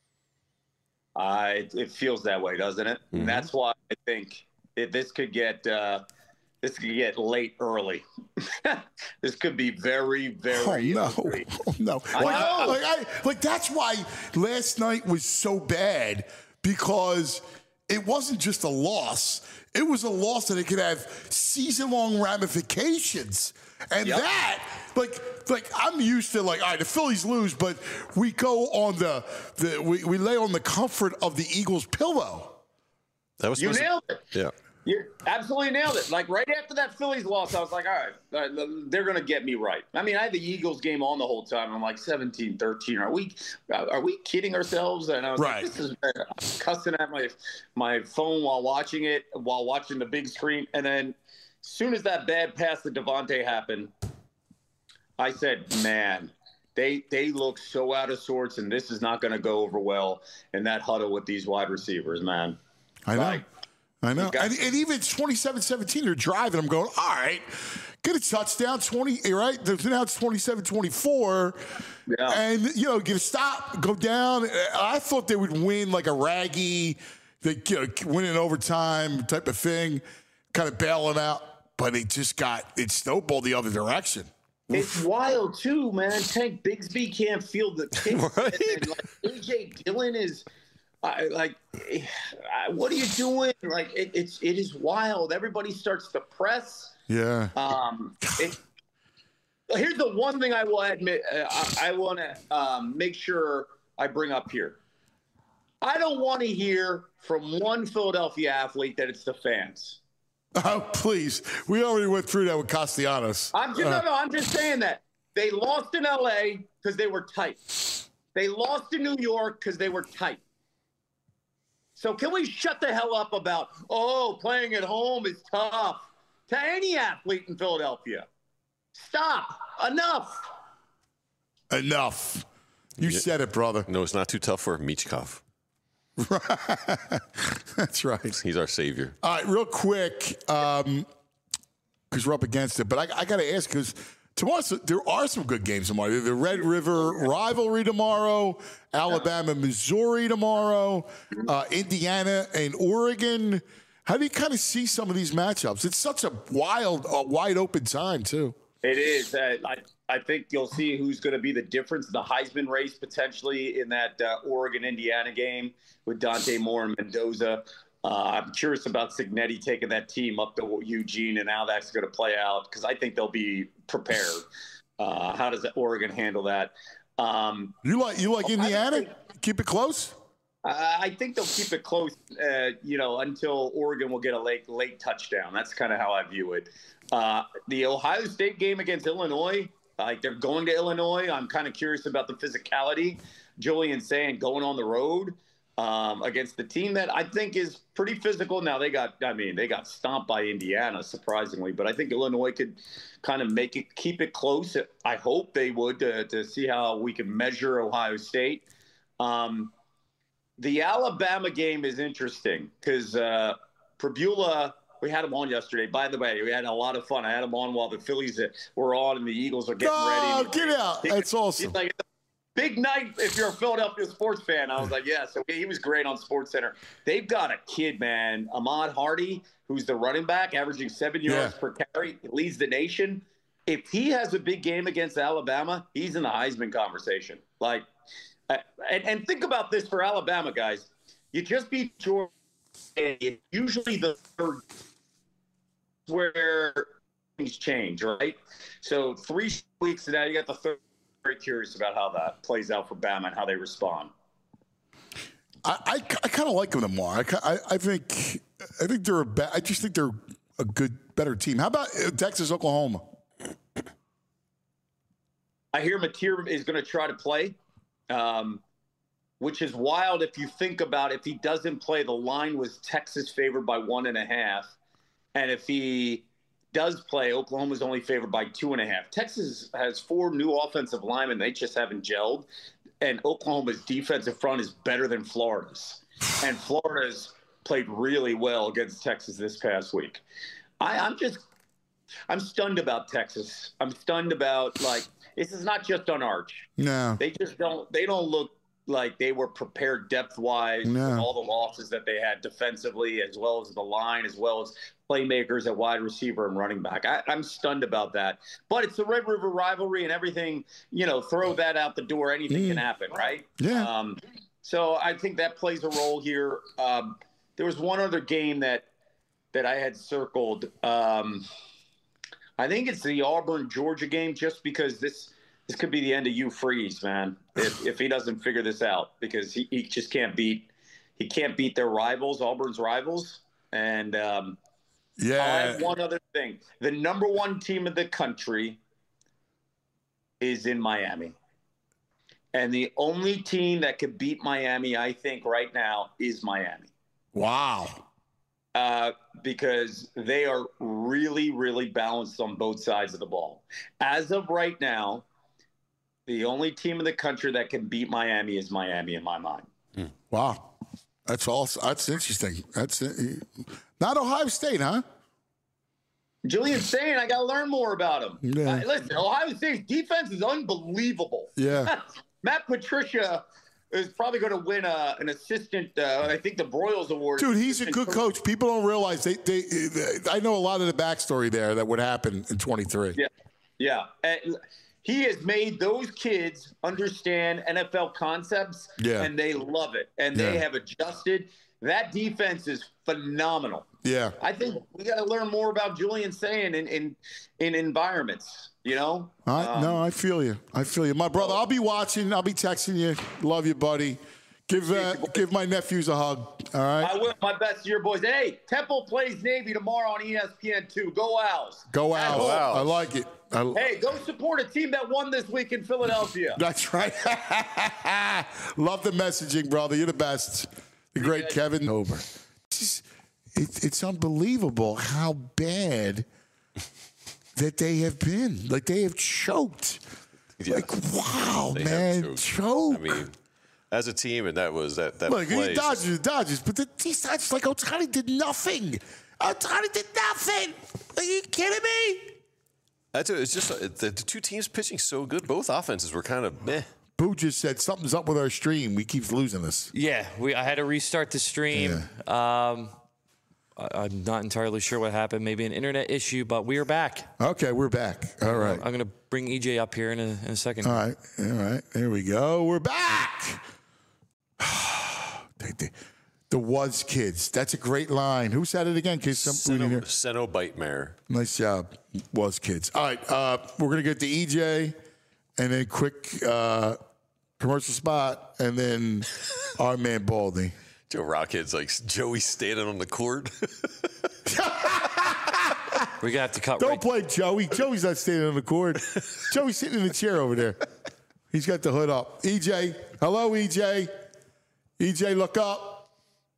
It feels that way, doesn't it? Mm-hmm. And that's why I think this could get late early. This could be very, very early.
Oh, no. Like that's why last night was so bad, because it wasn't just a loss. It was a loss that it could have season-long ramifications. And that, like I'm used to, like, all right, the Phillies lose, but we go on we lay on the comfort of the Eagles' pillow.
That was
you nailed it.
Yeah.
You absolutely nailed it. Like, right after that Phillies loss, I was like, all right, they're going to get me right. I mean, I had the Eagles game on the whole time. I'm like 17-13. Are we kidding ourselves? And I was like, this is cussing at my phone while watching the big screen. And then as soon as that bad pass to Devontae happened, I said, man, they look so out of sorts, and this is not going to go over well in that huddle with these wide receivers, man.
I know. And even 27-17, they're driving. I'm going, all right, get a touchdown, 20, right? Now it's 27-24. Yeah. And, get a stop, go down. I thought they would win like a raggy, win in overtime type of thing, kind of bail them out. But it snowballed the other direction.
It's wild, too, man. Tank Bigsby can't field the kick.
Right?
And A.J. Dillon is What are you doing? Like, it is wild. Everybody starts to press.
Yeah.
Here's the one thing I will admit. I want to make sure I bring up here. I don't want to hear from one Philadelphia athlete that it's the fans.
Oh, please. We already went through that with Castellanos.
I'm just saying that. They lost in L.A. because they were tight. They lost in New York because they were tight. So can we shut the hell up about, playing at home is tough to any athlete in Philadelphia? Stop. Enough.
You said it, brother.
No, it's not too tough for Michkov.
That's right.
He's our savior.
All right, real quick, because we're up against it, but I got to ask, because tomorrow there are some good games tomorrow. The Red River rivalry tomorrow, Alabama, Missouri tomorrow, Indiana and Oregon. How do you kind of see some of these matchups? It's such a wide open time, too.
It is. I think you'll see who's going to be the difference, the Heisman race potentially in that Oregon-Indiana game with Dante Moore and Mendoza. I'm curious about Cignetti taking that team up to Eugene and how that's going to play out, because I think they'll be prepared. How does Oregon handle that?
You like Indiana? Keep it close?
I think they'll keep it close, until Oregon will get a late touchdown. That's kind of how I view it. The Ohio State game against Illinois, they're going to Illinois. I'm kind of curious about the physicality. Julian saying going on the road against the team that I think is pretty physical. Now they got stomped by Indiana, surprisingly, but I think Illinois could kind of keep it close. I hope they would to see how we can measure Ohio State. The Alabama game is interesting because Pribula, we had him on yesterday. By the way, we had a lot of fun. I had him on while the Phillies were on and the Eagles are getting ready.
Oh, get out. That's awesome.
He's like, big night if you're a Philadelphia sports fan. I was like, yeah. So he was great on SportsCenter. They've got a kid, man, Ahmad Hardy, who's the running back, averaging 7 yards per carry, leads the nation. If he has a big game against Alabama, he's in the Heisman conversation. And think about this for Alabama, guys. You just beat Georgia, and usually the third where things change, right? So 3 weeks and now you got the third. Very curious about how that plays out for Bama and how they respond.
I kind of like them tomorrow. I think they're I just think they're a better team. How about Texas, Oklahoma?
I hear Mateer is going to try to play. Which is wild if you think about if he doesn't play. The line was Texas favored by 1.5, and if he does play, Oklahoma's only favored by 2.5. Texas has 4 new offensive linemen; they just haven't gelled, and Oklahoma's defensive front is better than Florida's, and Florida's played really well against Texas this past week. I'm stunned about Texas. I'm stunned about this is not just on Arch.
No,
they don't look like they were prepared depth-wise with all the losses that they had defensively, as well as the line, as well as playmakers at wide receiver and running back. I'm stunned about that. But it's the Red River rivalry and everything, throw that out the door. Anything can happen, right?
Yeah.
So I think that plays a role here. There was one other game that I had circled. I think it's the Auburn-Georgia game, just because this could be the end of Hugh Freeze, man, if he doesn't figure this out, because he just can't beat their rivals, Auburn's rivals. And I'll add one other thing. The number 1 team in the country is in Miami. And the only team that could beat Miami, I think, right now is Miami.
Wow.
Because they are really, really balanced on both sides of the ball. As of right now, the only team in the country that can beat Miami is Miami in my mind.
Wow. That's interesting. That's not Ohio State, huh?
Julian's saying I got to learn more about him.
Yeah.
Listen, Ohio State's defense is unbelievable.
Yeah.
Matt Patricia is probably going to win an assistant, I think the Broyles Award.
Dude, he's a good coach. People don't realize I know a lot of the backstory there that would happen in 23.
Yeah. And he has made those kids understand NFL concepts, and they love it, and they have adjusted. That defense is phenomenal.
Yeah.
I think we got to learn more about Julian Sayin in environments, you know?
No, I feel you. My brother, I'll be watching. I'll be texting you. Love you, buddy. Give my nephews a hug, all right?
I will. My best to your boys. Hey, Temple plays Navy tomorrow on ESPN2. Go Owls.
Go Owls. I like it.
Hey, go support a team that won this week in Philadelphia.
That's right. Love the messaging, brother. You're the best. The great Kevin Over. It's unbelievable how bad that they have been. Like, they have choked.
Yeah.
Like, wow, man. Choked.
I mean, as a team, and that
Look,
play.
Dodgers, but these Dodgers, like, Ohtani did nothing. Ohtani did nothing. Are you kidding me?
It's just the two teams pitching so good. Both offenses were kind of meh.
Boo just said something's up with our stream. We keep losing this.
Yeah, I had to restart the stream.
Yeah.
I'm not entirely sure what happened. Maybe an internet issue, but we are back.
Okay, we're back. All right.
I'm going to bring EJ up here in a second.
All right. There we go. We're back. The Was Kids. That's a great line. Who said it again?
Cenobite.
Nice job, Was Kids. All right. We're going to get to EJ and then quick commercial spot and then our man Baldy.
Joe Rockhead's like Joey standing on the court.
We're going to have to cut.
Don't play Joey. Joey's not standing on the court. Joey's sitting in the chair over there. He's got the hood up. EJ. Hello, EJ. EJ, look up.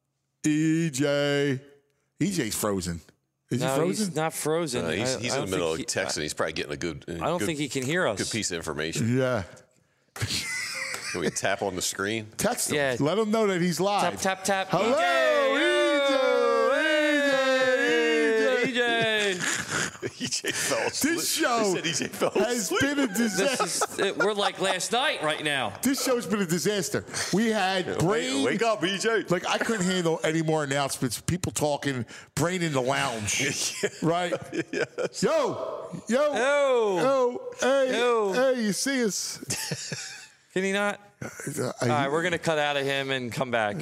EJ. EJ's frozen. Is he frozen?
He's not frozen.
He's in the middle of texting. He's probably getting a good.
I don't think he can hear us.
Good piece of information.
Yeah.
Can we tap on the screen?
Text him. Yeah. Let him know that he's live.
Tap.
Hello,
EJ.
EJ fell asleep.
This show has been a disaster.
We're like last night right now.
This show's been a disaster. We had Brain.
Wake up, EJ.
Like, I couldn't handle any more announcements. People talking, Brain in the lounge. Right?
Yes.
Yo. Hey, you see us.
Can he not? All right, we're going to cut out of him and come back.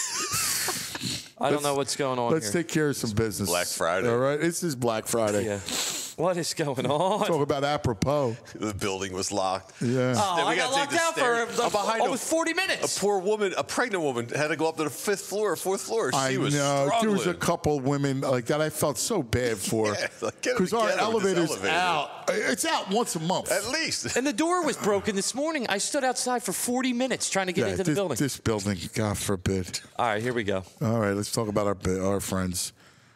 I don't know what's going on
Let's
here.
take care of some business.
Black Friday.
All right? This is Black Friday.
Yeah. What is going on?
Talk about apropos.
The building was locked.
Yeah.
Oh, I got locked out for almost 40
A
minutes.
poor woman, a pregnant woman, had to go up to the 5th floor or 4th floor. She was struggling.
There was a couple women like that I felt so bad for. Because our elevator's out. It's out once a month.
At least.
And the door was broken this morning. I stood outside for 40 minutes trying to get into the building.
This building, God forbid.
All right, here we go.
All right, let's talk about our friends.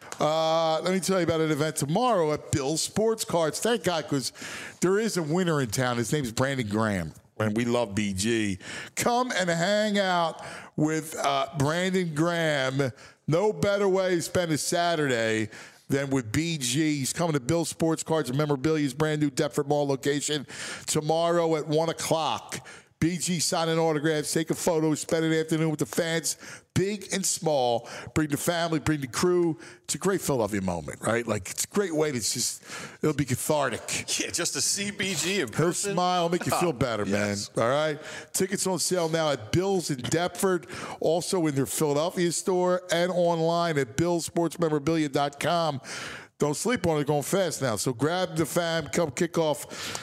Let me tell you about an event tomorrow at Bill's Sports Cards. Thank God, because there is a winner in town. His name's Brandon Graham, and we love BG. Come and hang out with Brandon Graham. No better way to spend a Saturday than with BG. He's coming to Bill's Sports Cards and Memorabilia's brand new Deptford Mall location tomorrow at 1 o'clock. BG signing autographs, taking photos, spend an afternoon with the fans, big and small. Bring the family, bring the crew. It's a great Philadelphia moment, right? Like, it's a great way to it'll be cathartic.
Yeah, just to see BG in person.
He'll smile, make you feel better, man. All right? Tickets on sale now at Bill's in Deptford, also in their Philadelphia store, and online at billsportsmemorabilia.com. Don't sleep on it, going fast now. So grab the fam, come kick off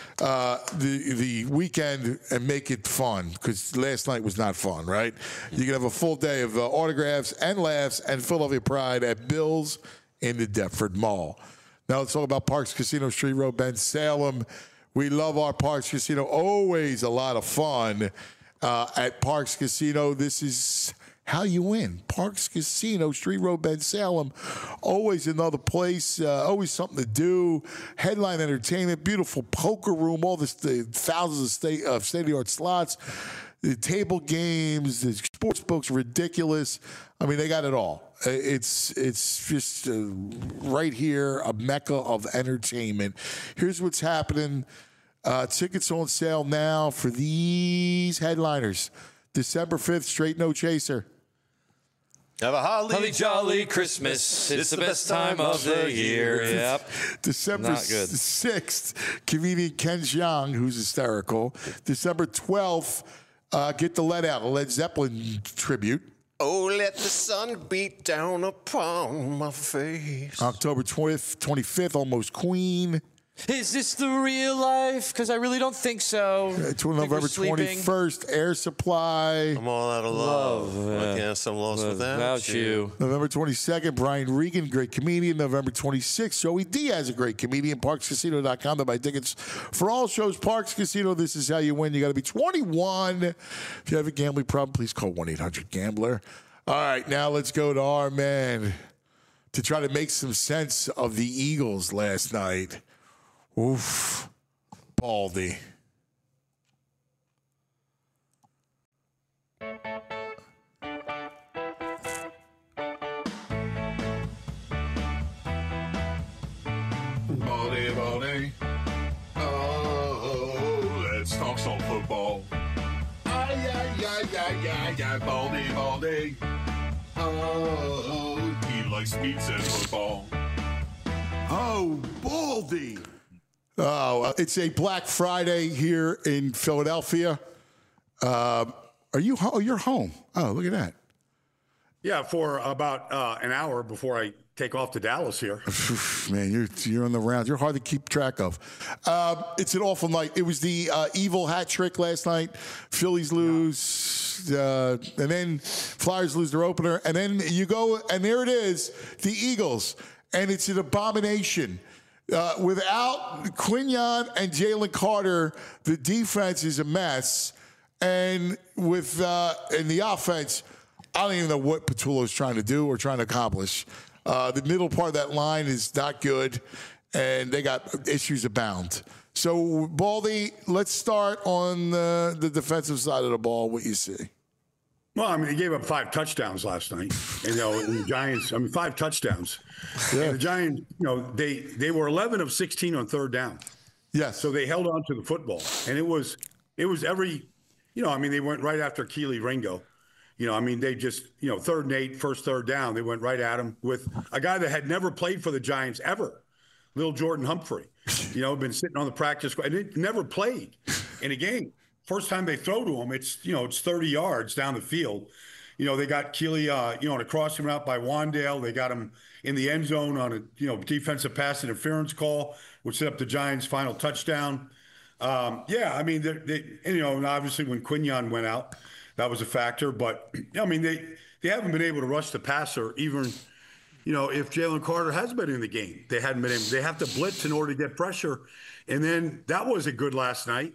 the weekend and make it fun, because last night was not fun, right? You can have a full day of autographs and laughs and Philadelphia pride at Bill's in the Deptford Mall. Now let's talk about Parks Casino, Street Road, Ben Salem. We love our Parks Casino. Always a lot of fun at Parks Casino. This is how you win. Parks Casino, Street Road, Ben Salem. Always another place. Always something to do. Headline entertainment. Beautiful poker room. All this, the thousands of state-of-the-art slots. The table games. The sports books. Ridiculous. I mean, they got it all. It's just right here, a mecca of entertainment. Here's what's happening. Tickets on sale now for these headliners. December 5th, Straight No Chaser.
Have a
Holly jolly Christmas. It's the best time of the year. Yep.
December 6th, comedian Ken Jeong, who's hysterical. December 12th, Get the Lead Out, a Led Zeppelin tribute.
Oh, let the sun beat down upon my face.
October 25th, Almost Queen.
Is this the real life? Because I really don't think so.
November 21st, Air Supply.
I'm all out of love. I guess I'm lost without you.
November 22nd, Brian Regan, great comedian. November 26th, Joey Diaz, a great comedian. ParksCasino.com to buy tickets for all shows. Parks Casino, this is how you win. You got to be 21. If you have a gambling problem, please call 1-800-GAMBLER. All right, now let's go to our man to try to make some sense of the Eagles last night. Oof, Baldy.
Baldy. Oh, let's talk some football. Ay, Baldy. Oh, he likes pizza and football.
Oh, Baldy. Oh, it's a Black Friday here in Philadelphia. Are you home? You're home. Oh, look at that.
Yeah, for about an hour before I take off to Dallas here.
Man, you're on the rounds. You're hard to keep track of. It's an awful night. It was the evil hat trick last night. Phillies lose, and then Flyers lose their opener, and then you go, and there it is, the Eagles, and it's an abomination. Without Quinyon and Jalen Carter, the defense is a mess. And with in the offense, I don't even know what Patullo's trying to do or trying to accomplish. The middle part of that line is not good, and they got issues abound. So, Baldy, let's start on the defensive side of the ball, what you see.
Well, I mean, they gave up 5 touchdowns last night. And, the Giants, 5 touchdowns. Yeah. And the Giants, they were 11 of 16 on third down.
Yes.
So they held on to the football. And it was every, they went right after Keely Ringo. They just, 3rd and 8, first third down, they went right at him with a guy that had never played for the Giants ever, little Jordan Humphrey. Been sitting on the practice squad. And it never played in a game. First time they throw to him, it's 30 yards down the field. They got Keely, on a crossing route by Wandale. They got him in the end zone on a, defensive pass interference call, which set up the Giants' final touchdown. And obviously when Quinyon went out, that was a factor. But, they haven't been able to rush the passer even, if Jalen Carter has been in the game. They haven't been able. They have to blitz in order to get pressure. And then that wasn't good last night.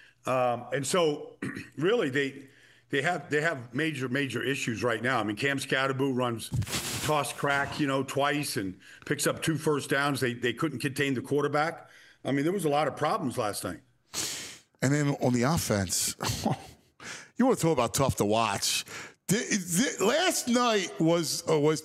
And so really they have major issues right now. Cam Scatterbo runs toss crack, twice and picks up 2 first downs. They couldn't contain the quarterback. There was a lot of problems last night.
And then on the offense, you want to talk about tough to watch. Last night was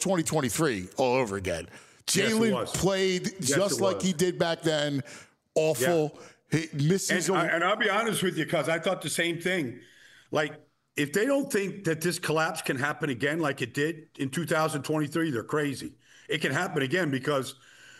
2023 all over again. Jalen played just like he did back then. Awful. Yeah. He misses.
And I'll be honest with you, because I thought the same thing. Like, if they don't think that this collapse can happen again like it did in 2023, they're crazy. It can happen again because,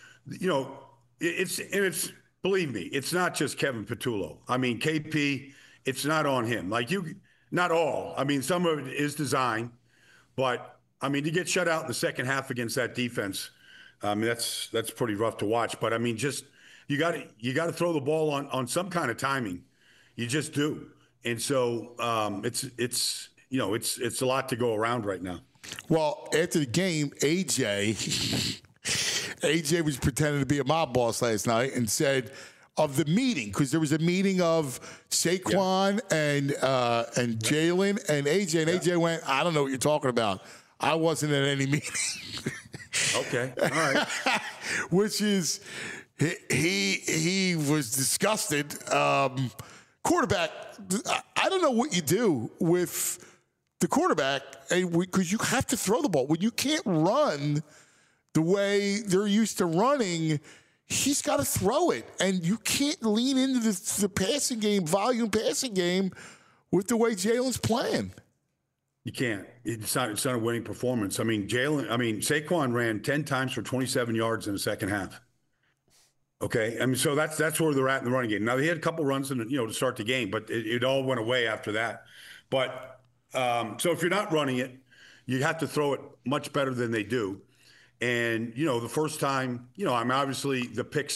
it's believe me, it's not just Kevin Patullo. KP, it's not on him. Not all. Some of it is design, but to get shut out in the second half against that defense, that's pretty rough to watch. But you got to throw the ball on some kind of timing. You just do. And so it's a lot to go around right now.
Well, after the game, AJ was pretending to be a mob boss last night and said of the meeting, because there was a meeting of Saquon and Jalen and AJ, and AJ went, I don't know what you're talking about. I wasn't at any meeting.
Okay. All right.
Which is... He was disgusted. Quarterback, I don't know what you do with the quarterback because you have to throw the ball. When you can't run the way they're used to running, he's got to throw it. And you can't lean into the passing game, volume passing game with the way Jalen's playing.
You can't. It's not a winning performance. I mean, Saquon ran 10 times for 27 yards in the second half. Okay, I mean, so that's where they're at in the running game. Now, they had a couple runs to start the game, but it all went away after that. But so if you're not running it, you have to throw it much better than they do. And, the first time, I'm obviously the pick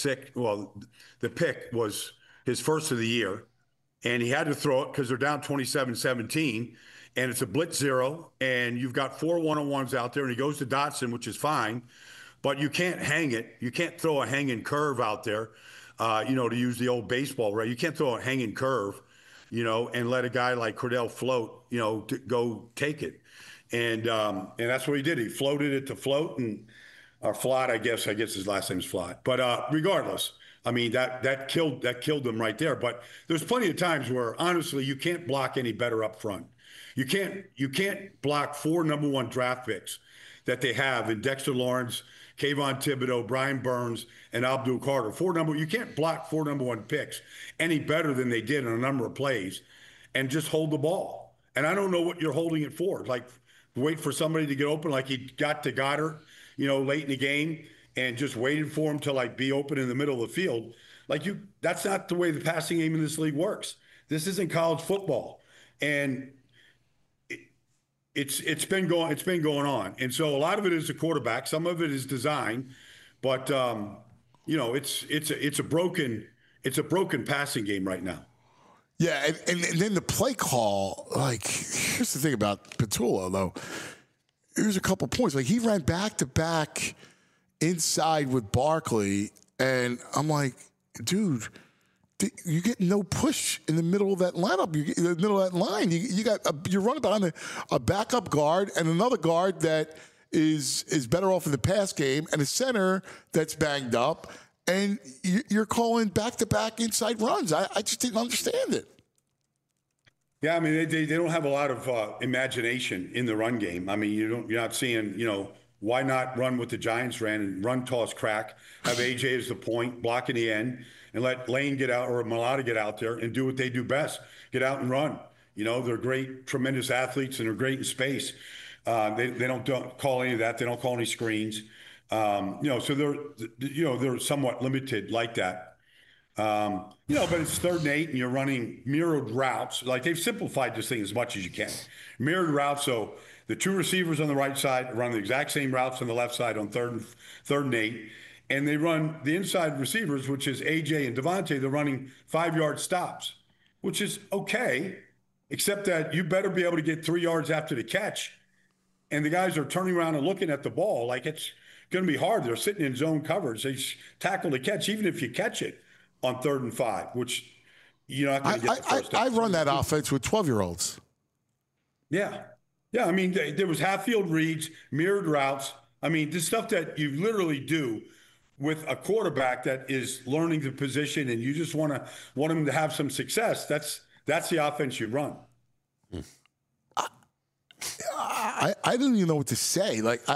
was his first of the year, and he had to throw it because they're down 27-17, and it's a blitz zero, and you've got 4 one-on-ones out there, and he goes to Dotson, which is fine, but you can't hang it. You can't throw a hanging curve out there, to use the old baseball, right? You can't throw a hanging curve, and let a guy like Cordell float, to go take it. And that's what he did. He floated it to float or Flott, I guess his last name's Flott. But regardless, I mean, that killed them right there. But there's plenty of times where, honestly, you can't block any better up front. You can't block 4 number 1 draft picks that they have in Dexter Lawrence, Kayvon Thibodeau, Brian Burns, and Abdul Carter. You can't block 4 number 1 picks any better than they did in a number of plays and just hold the ball. And I don't know what you're holding it for. Like, wait for somebody to get open like he got to Goddard, late in the game and just waited for him to be open in the middle of the field. That's not the way the passing game in this league works. This isn't college football. And it's been going on. And so a lot of it is the quarterback. Some of it is design, but it's a broken passing game right now.
Yeah, and then the play call, here's the thing about Petula, though. Here's a couple points. He ran back-to-back inside with Barkley, and I'm like, dude, you get no push in the middle of that lineup. You get in the middle of that line. You're running behind a backup guard and another guard that is better off in the pass game and a center that's banged up, and you're calling back-to-back inside runs. I just didn't understand it.
Yeah, I mean, they don't have a lot of imagination in the run game. I mean, you're not seeing, why not run what the Giants ran and run, toss, crack, have AJ as the point, blocking the end, and let Lane get out or Mailata get out there and do what they do best, get out and run. They're great, tremendous athletes, and they're great in space. They don't call any of that. They don't call any screens. So they're somewhat limited like that. But it's 3rd and 8 and you're running mirrored routes. They've simplified this thing as much as you can. Mirrored routes. So the 2 receivers on the right side run the exact same routes on the left side on 3rd and 8. And they run the inside receivers, which is AJ and Devontae. They're running 5-yard stops, which is okay, except that you better be able to get 3 yards after the catch. And the guys are turning around and looking at the ball it's going to be hard. They're sitting in zone coverage. They tackle the catch, even if you catch it on 3rd and 5, which you're not going to get the first down.
I run that offense with 12-year-olds.
Yeah. Yeah, I mean, there was half-field reads, mirrored routes. I mean, this stuff that you literally do with a quarterback that is learning the position and you just want him to have some success. That's the offense you run.
I don't even know what to say.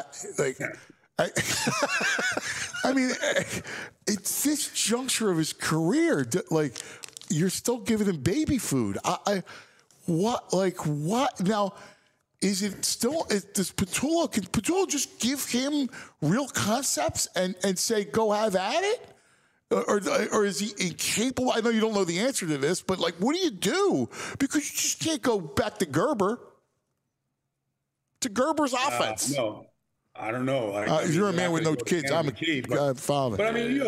I mean, it's this juncture of his career. You're still giving him baby food. What now? Is it still? Does Petula? Can Petula just give him real concepts and say, "Go have at it"? Or is he incapable? I know you don't know the answer to this, but what do you do? Because you just can't go back to Gerber. To Gerber's offense.
No. I don't know.
You're a man with no kids. I'm a father.
But I mean,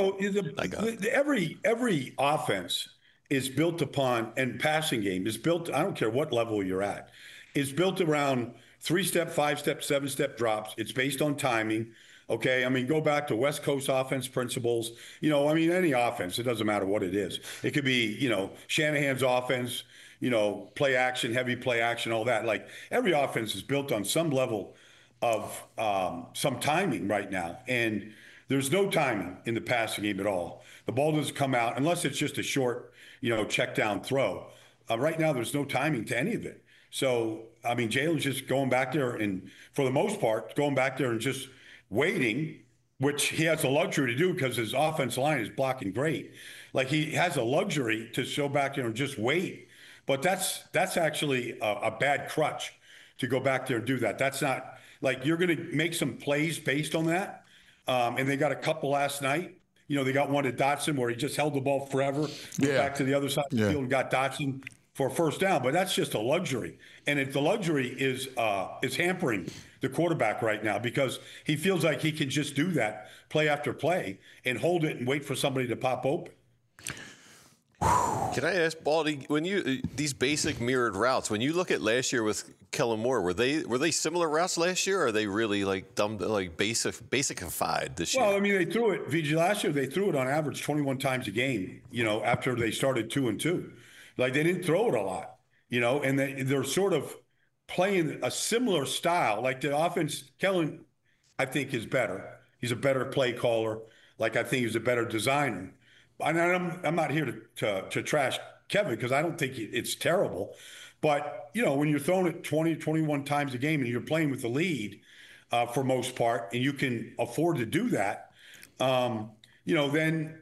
every offense is built upon, and passing game is built, I don't care what level you're at, is built around 3-step, 5-step, 7-step drops. It's based on timing. Okay. I mean, go back to West Coast offense principles. Any offense, it doesn't matter what it is. It could be, Shanahan's offense, play action, heavy play action, all that. Every offense is built on some level of some timing right now. And there's no timing in the passing game at all. The ball doesn't come out unless it's just a short, check down throw. Right now, there's no timing to any of it. So, I mean, Jalen's just going back there and, for the most part, going back there and just waiting, which he has the luxury to do because his offensive line is blocking great. He has a luxury to go back there and just wait. But that's actually a bad crutch to go back there and do that. That's not like you're going to make some plays based on that. And they got a couple last night. You know, they got one to Dotson where he just held the ball forever, went back to the other side of the field and got Dotson for a first down. But that's just a luxury. And if the luxury is hampering the quarterback right now because he feels like he can just do that play after play and hold it and wait for somebody to pop open.
Can I ask, Baldy, when you these basic mirrored routes, when you look at last year with Kellen Moore, were they similar routes last year, or are they really like basicified this year?
Well, I mean, they threw it, VG, last year, they threw it on average 21 times a game, you know, after they started 2-2. Like, they didn't throw it a lot, you know, and they're sort of playing a similar style. Like, the offense, Kellen, I think, is better. He's a better play caller. Like, I think he's a better designer. And I'm not here to trash Kevin because I don't think it's terrible. But, you know, when you're throwing it 20, 21 times a game and you're playing with the lead for most part, and you can afford to do that, you know, then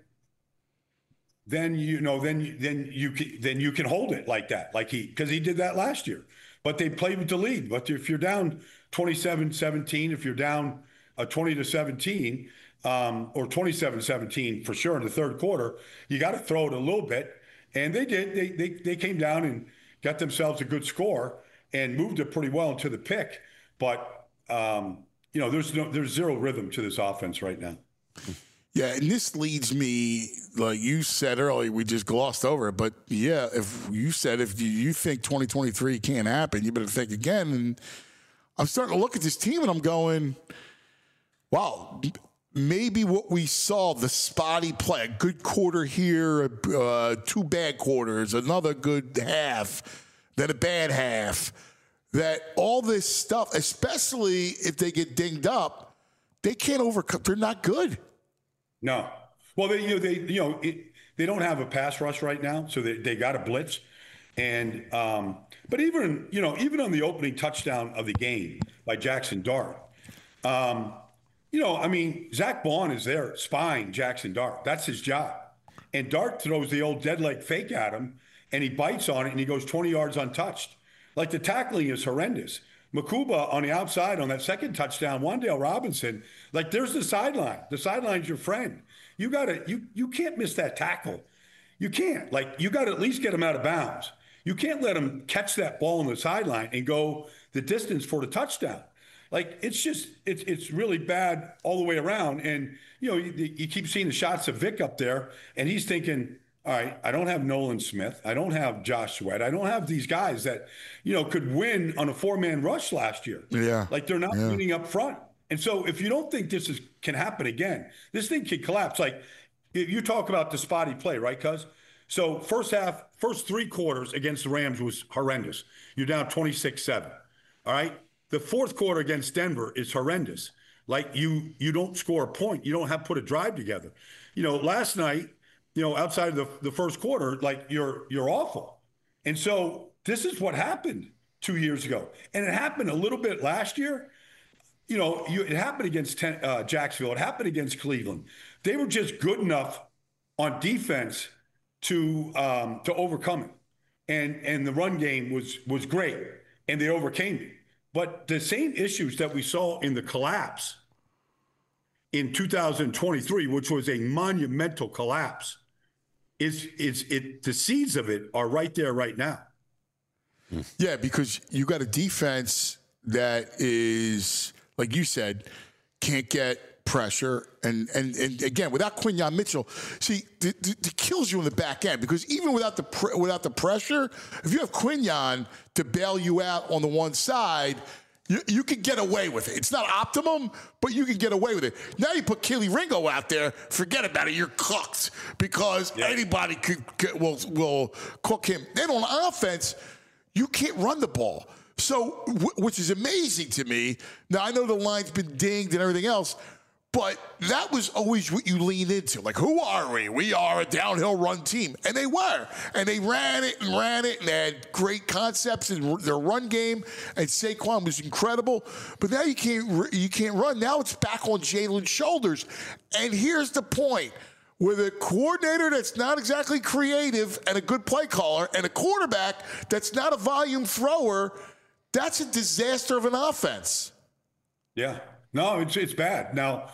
you can hold it like that, because he did that last year. But they played with the lead. But if you're down 27-17, if you're down 20-17, or 27-17 for sure in the third quarter, you got to throw it a little bit. And they did. They came down and got themselves a good score and moved it pretty well into the pick. But, you know, there's zero rhythm to this offense right now.
Yeah, and this leads me, like you said earlier, we just glossed over it. But, yeah, if you think 2023 can't happen, you better think again. And I'm starting to look at this team and I'm going, wow, maybe what we saw, the spotty play, a good quarter here, 2 bad quarters, another good half, then a bad half, that all this stuff, especially if they get dinged up, they can't overcome. They're not good.
No. Well, they don't have a pass rush right now, so they got a blitz. And but even on the opening touchdown of the game by Jackson Dart, you know, I mean, Zach Bond is there spying Jackson Dart. That's his job. And Dart throws the old dead leg fake at him, and he bites on it, and he goes 20 yards untouched. Like, the tackling is horrendous. Makuba on the outside on that second touchdown, Wan'Dale Robinson, like, there's the sideline. The sideline's your friend. You can't miss that tackle. You can't. Like, you got to at least get him out of bounds. You can't let him catch that ball on the sideline and go the distance for the touchdown. Like, it's really bad all the way around. And, you know, you keep seeing the shots of Vic up there, and he's thinking, all right, I don't have Nolan Smith. I don't have Josh Sweat. I don't have these guys that, you know, could win on a 4-man rush last year.
Yeah.
Like, they're not winning up front. And so if you don't think this can happen again, this thing can collapse. Like, you talk about the spotty play, right, cuz? So first 3 quarters against the Rams was horrendous. You're down 26-7, all right? The fourth quarter against Denver is horrendous. Like, you don't score a point. You don't have put a drive together. You know, last night, you know, outside of the first quarter, like, you're awful. And so this is what happened 2 years ago. And it happened a little bit last year. You know, it happened against Jacksonville. It happened against Cleveland. They were just good enough on defense to overcome it. And the run game was great, and they overcame it. But the same issues that we saw in the collapse in 2023, which was a monumental collapse, the seeds of it are right there right now.
Yeah, because you got a defense that is, like you said, can't get pressure. And again, without Quinyon Mitchell, see, it kills you in the back end, because even without the pressure, if you have Quinyon to bail you out on the one side, you can get away with it. It's not optimum, but you can get away with it. Now you put Kelee Ringo out there, forget about it. You're cooked, because anybody will cook him. Then on offense, you can't run the ball. So, which is amazing to me. Now, I know the line's been dinged and everything else, but that was always what you lean into. Like, who are we? We are a downhill run team. And they were. And they ran it, and they had great concepts in their run game. And Saquon was incredible. But now you can't run. Now it's back on Jalen's shoulders. And here's the point. With a coordinator that's not exactly creative and a good play caller, and a quarterback that's not a volume thrower, That's a disaster of an offense.
Yeah. No, it's bad. Now,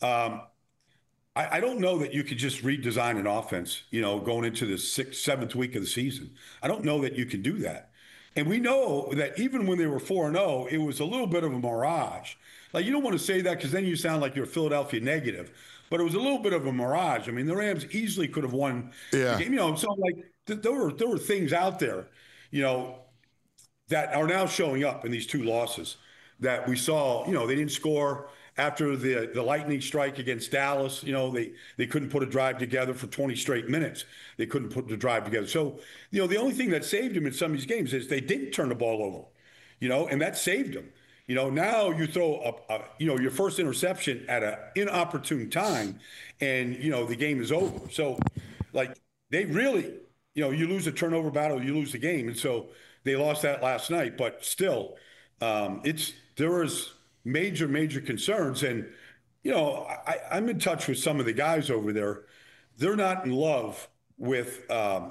I don't know that you could just redesign an offense, going into the 6th, 7th week of the season. I don't know that you can do that. And we know that even when they were 4-0, it was a little bit of a mirage. Like, you don't want to say that because then you sound like you're a Philadelphia negative. But it was a little bit of a mirage. I mean, the Rams easily could have won the game. So, like, there were things out there, that are now showing up in these 2 losses that we saw. They didn't score after the lightning strike against Dallas. They couldn't put a drive together for 20 straight minutes. They couldn't put the drive together. So, the only thing that saved them in some of these games is they didn't turn the ball over, and that saved them. Now you throw up, your first interception at an inopportune time and, the game is over. So, like, they really, you lose a turnover battle, you lose the game. And so they lost that last night. But still, there was major concerns. And, I'm in touch with some of the guys over there. They're not in love with,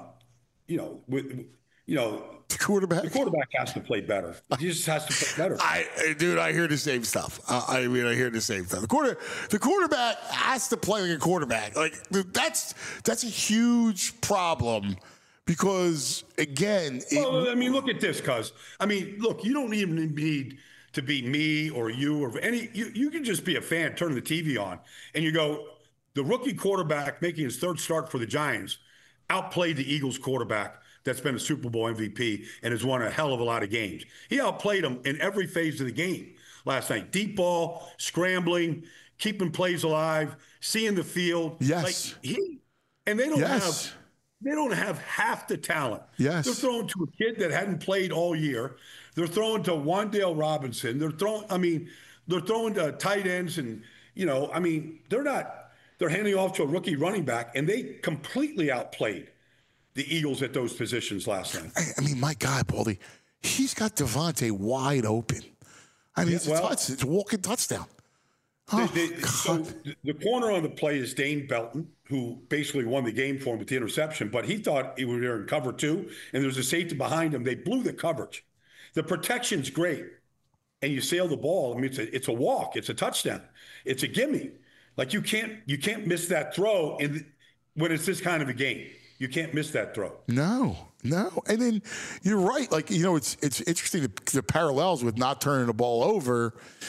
the quarterback.
The quarterback has to play better. He just has to play better.
I hear the same stuff. I hear the same stuff. The quarterback has to play like a quarterback. Like, that's a huge problem because, again,
look at this, cuz. Look, you don't even need to be me or you or any. You can just be a fan, turn the TV on, and you go, the rookie quarterback making his 3rd start for the Giants outplayed the Eagles quarterback that's been a Super Bowl MVP and has won a hell of a lot of games. He outplayed him in every phase of the game last night. Deep ball, scrambling, keeping plays alive, seeing the field.
Yes.
And they don't have half the talent.
Yes.
They're throwing to a kid that hadn't played all year. They're throwing to Wan'Dale Robinson. They're throwing to tight ends and, they're handing off to a rookie running back, and they completely outplayed the Eagles at those positions last night.
My God, Baldy, he's got Devontae wide open. It's a walking touchdown.
So the corner on the play is Dane Belton, who basically won the game for him with the interception, but he thought he was there in cover 2, and there's a safety behind him. They blew the coverage. The protection's great, and you sail the ball. It's a walk. It's a touchdown. It's a gimme. Like, you can't miss that throw when it's this kind of a game. You can't miss that throw.
No. And then you're right. Like, it's interesting the parallels with not turning the ball over,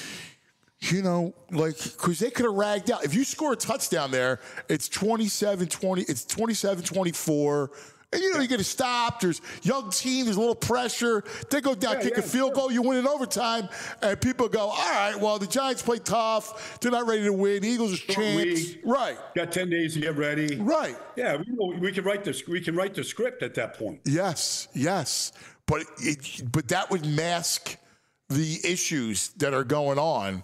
because they could have ragged out. If you score a touchdown there, it's 27-20, it's 27-24. And, you get a stop. There's young team. There's a little pressure. They go down, kick a field goal. You win in overtime. And people go, all right, well, the Giants play tough. They're not ready to win. The Eagles are champs. Right.
Got 10 days to get ready.
Right.
Yeah, we can write the script at that point.
Yes. But that would mask the issues that are going on.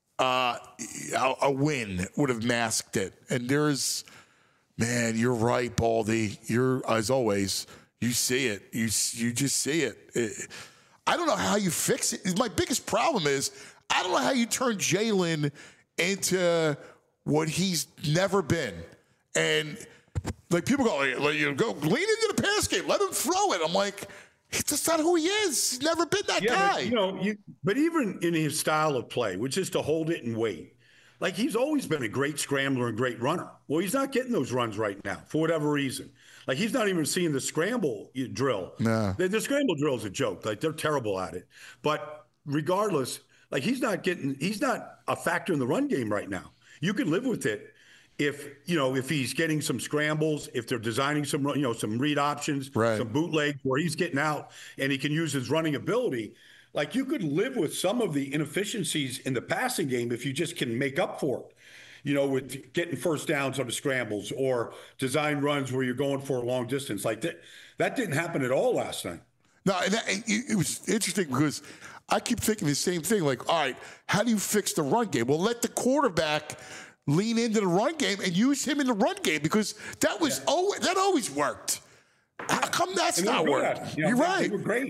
A win would have masked it. And there's... Man, you're right, Baldy. As always, you see it. You just see it. I don't know how you fix it. My biggest problem is I don't know how you turn Jalen into what he's never been. And like people go, go lean into the pass game. Let him throw it. I'm like, that's not who he is. He's never been that guy.
But even in his style of play, which is to hold it and wait. Like, he's always been a great scrambler and great runner. Well, he's not getting those runs right now for whatever reason. Like, he's not even seeing the scramble drill.
No.
The scramble drill is a joke. Like, they're terrible at it. But regardless, like, he's not a factor in the run game right now. You can live with it if he's getting some scrambles, if they're designing some read options, some bootlegs where he's getting out and he can use his running ability. Like, you could live with some of the inefficiencies in the passing game if you just can make up for it, with getting first downs on the scrambles or design runs where you're going for a long distance. Like, that didn't happen at all last night.
No, and it was interesting because I keep thinking the same thing. Like, all right, how do you fix the run game? Well, let the quarterback lean into the run game and use him in the run game because that always worked. How come that's not working?
You're right. They were great.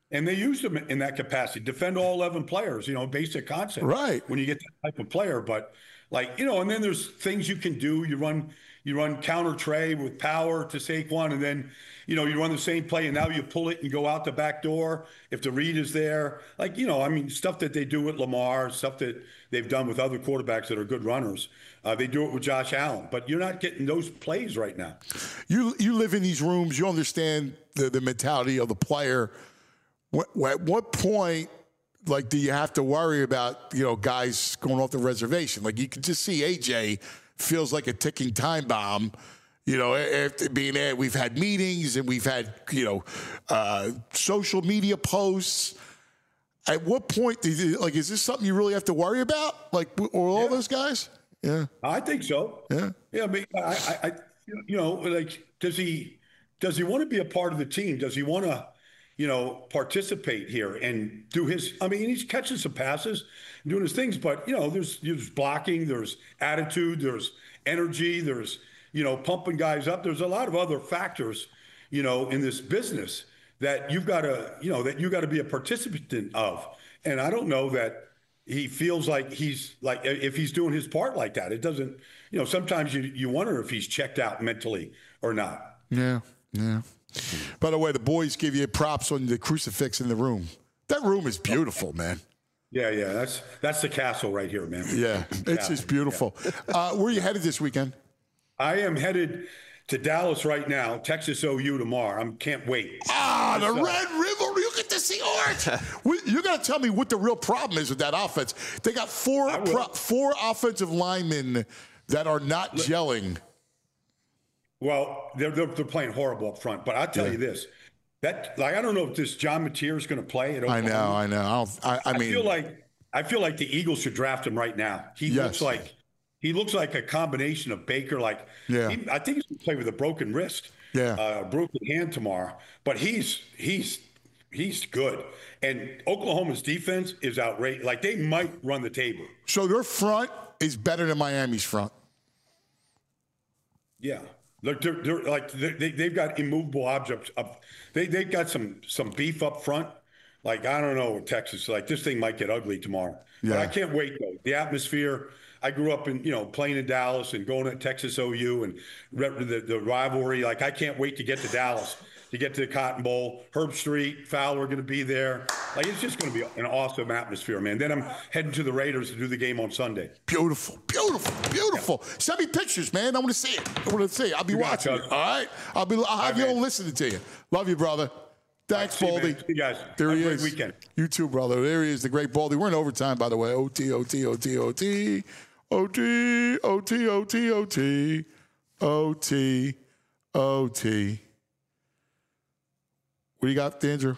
And they used him in that capacity, defend all 11 players, basic concept.
Right.
When you get that type of player. But and then there's things you can do. You run counter tray with power to Saquon, and then, you run the same play, and now you pull it and go out the back door if the read is there. Stuff that they do with Lamar, stuff that they've done with other quarterbacks that are good runners. They do it with Josh Allen, but you're not getting those plays right now.
You live in these rooms. You understand the mentality of the player. At what point, do you have to worry about, guys going off the reservation? You can just see AJ feels like a ticking time bomb. After being there, we've had meetings and we've had, social media posts. At what point, is this something you really have to worry about? Or all those guys? Yeah.
I think so.
Yeah.
Yeah. Does he want to be a part of the team? Does he want to, participate here and do his, he's catching some passes and doing his things, but, there's blocking, there's attitude, there's energy, there's, pumping guys up. There's a lot of other factors, in this business that you've got to be a participant of. And I don't know that he feels like if he's doing his part like that, it doesn't, sometimes you wonder if he's checked out mentally or not.
Yeah. Yeah. By the way, the boys give you props on the crucifix in the room. That room is beautiful, man.
Yeah. That's the castle right here, man.
Yeah, it's just beautiful. Yeah. Where are you headed this weekend?
I am headed to Dallas right now, Texas OU tomorrow. I can't wait.
The Red River. You get to see Art. You got to tell me what the real problem is with that offense. They got four offensive linemen that are not gelling.
Well, they're playing horrible up front, but I'll tell you this: that I don't know if this John Mateer is going to play at Oklahoma.
I know.
I feel like the Eagles should draft him right now. He looks like a combination of Baker. I think he's going to play with a broken wrist, broken hand tomorrow. But he's good, and Oklahoma's defense is outrageous. They might run the table.
So their front is better than Miami's front.
Yeah. Look, they've got immovable objects up. They've got some beef up front. I don't know with Texas. This thing might get ugly tomorrow. Yeah. But I can't wait though. The atmosphere. I grew up in playing in Dallas and going to Texas OU and the rivalry. I can't wait to get to Dallas, to get to the Cotton Bowl. Herb Street, Fowler going to be there. It's just going to be an awesome atmosphere, man. Then I'm heading to the Raiders to do the game on Sunday.
Beautiful. Yeah. Send me pictures, man. I want to see it. I'll be watching it. All right. I'll have you on listening to you. Love you, brother. Thanks, Baldy.
See you guys.
There he is.
Have a great weekend.
You too, brother. There he is, the great Baldy. We're in overtime, by the way. OT. What do you got, Andrew?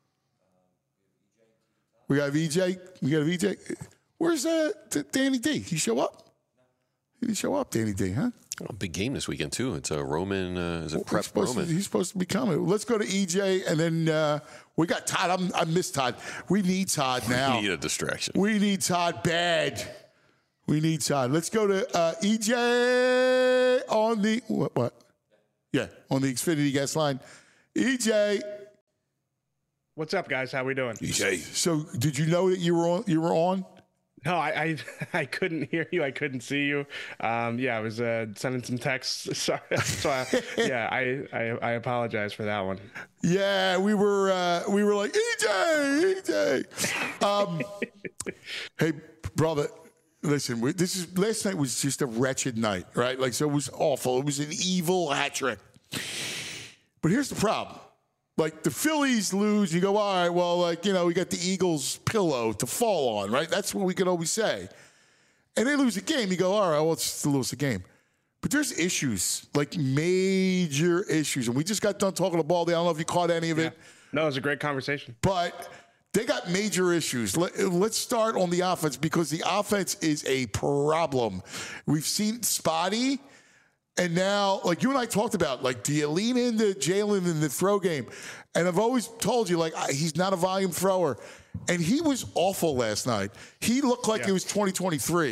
We got VJ. Where's Danny D? He show up? He didn't show up, Danny D, huh?
Oh, big game this weekend, too. It's a Roman. Is it Prep Roman?
He's supposed to be coming. Let's go to EJ, and then we got Todd. I miss Todd. We need Todd now.
We need a distraction.
We need Todd bad. We need Todd. Let's go to EJ on the what? Yeah, on the Xfinity guest line. EJ.
What's up, guys? How we doing?
EJ. So, did you know that you were on?
No, I couldn't hear you. I couldn't see you. I was sending some texts. Sorry. So I apologize for that one.
Yeah, we were like EJ. Hey, brother. Listen, last night was just a wretched night, right? So it was awful. It was an evil hat trick. But here's the problem. The Phillies lose, you go, all right, well, we got the Eagles' pillow to fall on, right? That's what we can always say. And they lose a game, you go, all right, well, it's just to lose a game. But there's issues, major issues. And we just got done talking to Baldy. I don't know if you caught any of it.
No, it was a great conversation.
But they got major issues. Let's start on the offense because the offense is a problem. We've seen spotty. And now, you and I talked about, do you lean into Jalen in the throw game? And I've always told you, he's not a volume thrower. And he was awful last night. He looked like it was 2023.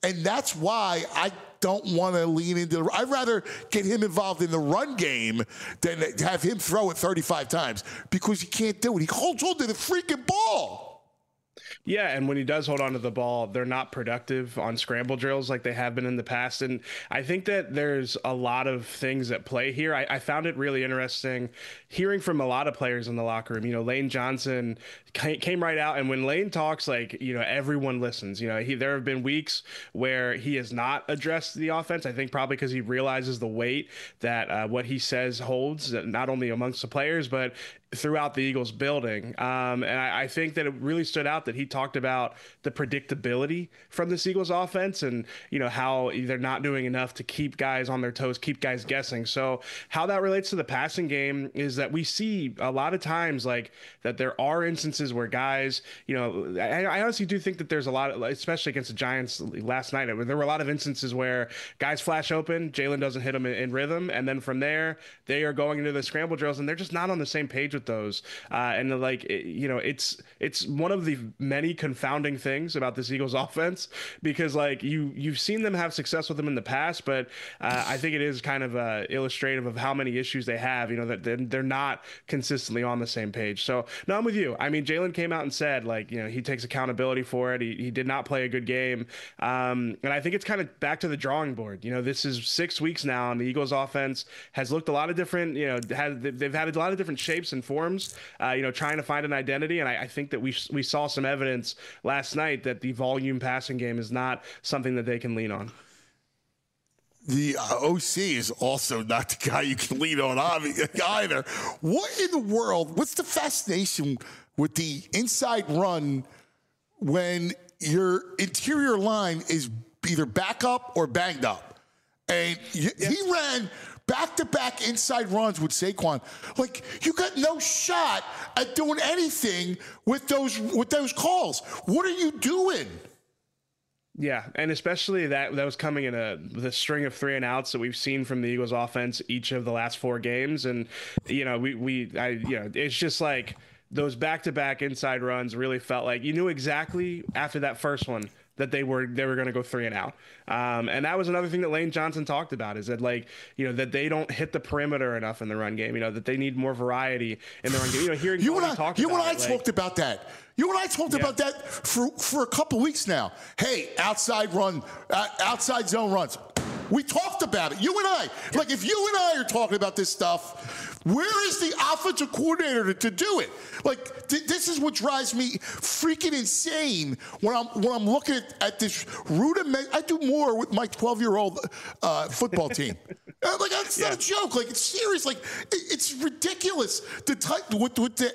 And that's why I don't want to lean into I'd rather get him involved in the run game than have him throw it 35 times because he can't do it. He holds on to the freaking ball.
Yeah, and when he does hold on to the ball, they're not productive on scramble drills like they have been in the past. And I think that there's a lot of things at play here. I found it really interesting hearing from a lot of players in the locker room. You know, Lane Johnson came right out, and when Lane talks, like, you know, everyone listens. You know, there have been weeks where he has not addressed the offense. I think probably because he realizes the weight that what he says holds, not only amongst the players, but throughout the Eagles building. And I think that it really stood out that he talked about the predictability from this Eagles offense and, you know, how they're not doing enough to keep guys on their toes, keep guys guessing. So how that relates to the passing game is that we see a lot of times like that there are instances where guys, you know, I honestly do think that there's a lot of, especially against the Giants last night, there were a lot of instances where guys flash open, Jalen doesn't hit them in rhythm. And then from there, they are going into the scramble drills and they're just not on the same page with those. And like, you know, it's one of the many confounding things about this Eagles offense because like you've seen them have success with them in the past, but I think it is kind of illustrative of how many issues they have, you know, that they're not consistently on the same page. So no, I'm with you. I mean, Jalen came out and said like, you know, he takes accountability for it. He did not play a good game. And I think it's kind of back to the drawing board. You know, this is 6 weeks now and the Eagles offense has looked a lot of different, you know, they've had a lot of different shapes and forms, you know, trying to find an identity. And I think that we saw some evidence last night that the volume passing game is not something that they can lean on.
The OC is also not the guy you can lean on either. What in the world? What's the fascination with the inside run when your interior line is either back up or banged up? And he ran back-to-back inside runs with Saquon. Like, you got no shot at doing anything with those calls. What are you doing?
Yeah, and especially that was coming in the string of 3 and outs that we've seen from the Eagles offense each of the last 4 games. And, you know, it's just like those back-to-back inside runs really felt like you knew exactly after that first one that they were going to go 3 and out. And that was another thing that Lane Johnson talked about is that, like, you know, that they don't hit the perimeter enough in the run game, you know, that they need more variety in the run game. You know, hearing you and I
talked about that. You and I talked about that for a couple weeks now. Hey, outside zone runs. We talked about it. You and I. Like, if you and I are talking about this stuff, where is the offensive coordinator to do it? Like, this is what drives me freaking insane when I'm looking at this rudiment. I do more with my 12-year-old football team. Like, that's not a joke. Like, it's serious. Like, it's ridiculous. The type with the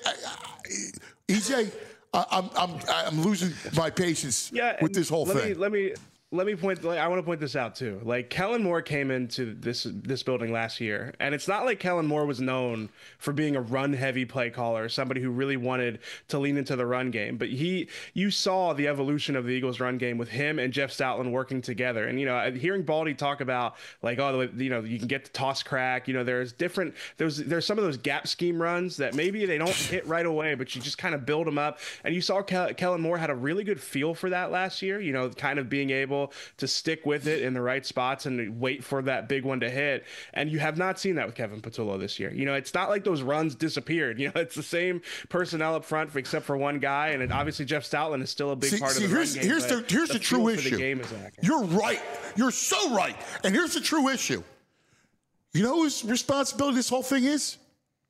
EJ. I'm losing my patience with this whole thing.
Let me point. I want to point this out too. Like, Kellen Moore came into this building last year, and it's not like Kellen Moore was known for being a run-heavy play caller, somebody who really wanted to lean into the run game. But you saw the evolution of the Eagles' run game with him and Jeff Stoutland working together. And, you know, hearing Baldy talk about, like, oh, you know, you can get the toss crack. You know, there's some of those gap scheme runs that maybe they don't hit right away, but you just kind of build them up. And you saw Kellen Moore had a really good feel for that last year. You know, kind of being able to stick with it in the right spots and wait for that big one to hit. And you have not seen that with Kevin Patullo this year. You know, it's not like those runs disappeared. You know, it's the same personnel up front except for one guy. And obviously Jeff Stoutland is still a big part of the run game.
Here's the true issue. You're right. You're so right. And here's the true issue. You know whose responsibility this whole thing is?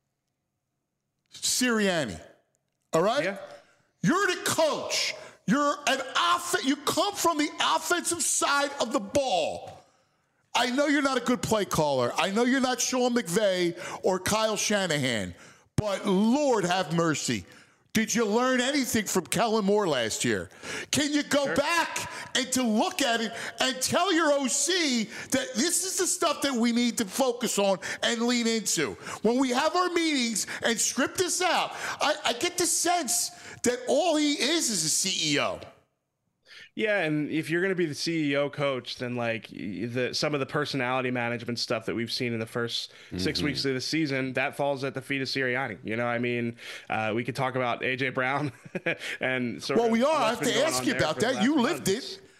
Sirianni. All right? Yeah. You're the coach. You come from the offensive side of the ball. I know you're not a good play caller. I know you're not Sean McVay or Kyle Shanahan. But Lord have mercy. Did you learn anything from Kellen Moore last year? Can you go back and to look at it and tell your OC that this is the stuff that we need to focus on and lean into? When we have our meetings and script this out, I get the sense that all he is a CEO.
Yeah, and if you're going to be the CEO coach, then like some of the personality management stuff that we've seen in the first 6 weeks of the season, that falls at the feet of Sirianni. You know, I mean, we could talk about A.J. Brown and sort of.
Well, we are. I have to ask you about that. You lived it.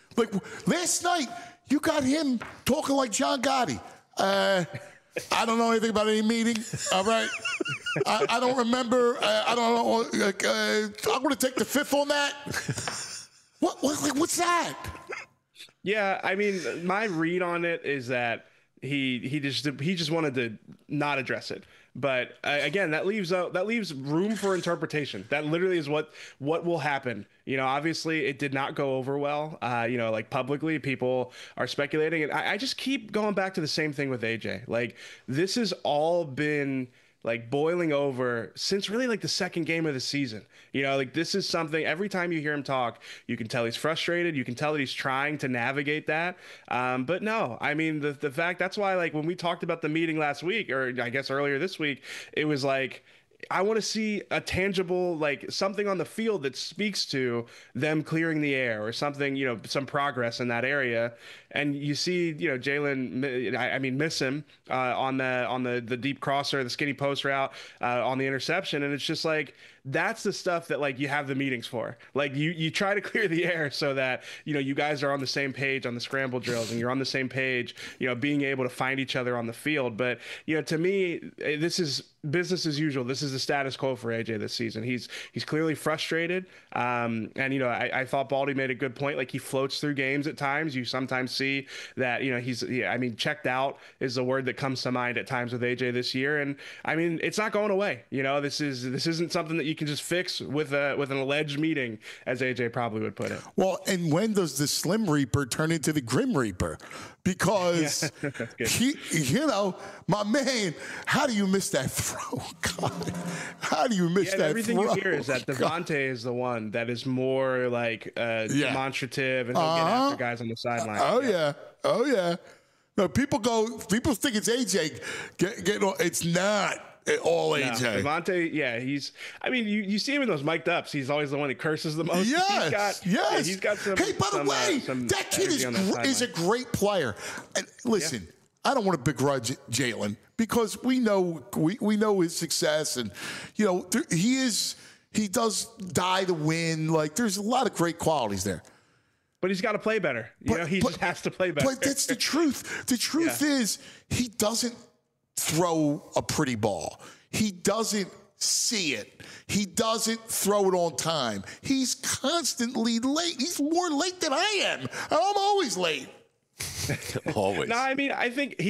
Like last night, you got him talking like John Gotti. I don't know anything about any meeting. All right. I don't remember. I don't know. I'm going to take the fifth on that. What's that?
Yeah, I mean, my read on it is that he just wanted to not address it. But again, that leaves room for interpretation. That literally is what will happen. Obviously, it did not go over well. Like publicly, people are speculating, and I just keep going back to the same thing with AJ. Like this has all been like boiling over since really like the second game of the season. Like this is something every time you hear him talk, you can tell he's frustrated. You can tell that he's trying to navigate that. But no, I mean, the fact that's why, like when we talked about the meeting last week, or I guess earlier this week, it was like, I want to see a tangible, like something on the field that speaks to them clearing the air or something, some progress in that area. And you see, Jalen, miss him on the deep crosser, the skinny post route, on the interception. And it's just like, that's the stuff that like you have the meetings for. Like you try to clear the air so that, you guys are on the same page on the scramble drills and you're on the same page, being able to find each other on the field. But, to me, this is business as usual. This is the status quo for AJ this season. He's clearly frustrated. I thought Baldy made a good point. Like he floats through games at times. You sometimes see that, checked out is the word that comes to mind at times with AJ this year. And I mean, it's not going away. This isn't something that you can just fix with an alleged meeting, as AJ probably would put it.
Well, and when does the Slim Reaper turn into the Grim Reaper? Because my man, how do you miss that throw? God, how do you miss that
everything
throw?
You hear is that Devontae is the one that is more like demonstrative and he'll get after guys on the sideline.
Oh yeah. No, people think it's AJ. It's not all AJ.
No, Devontae, you see him in those mic'd ups. He's always the one that curses the most.
Yes.
He's got some.
Hey, by the way, that kid is a great player. And listen, I don't want to begrudge Jalen because we know his success, and he does die to win. Like there's a lot of great qualities there.
But he's got to play better. He just has to play better.
But that's the truth. The truth is he doesn't throw a pretty ball. He doesn't see it. He doesn't throw it on time. He's constantly late. He's more late than I am. I'm always late.
Always.
No, I mean, I think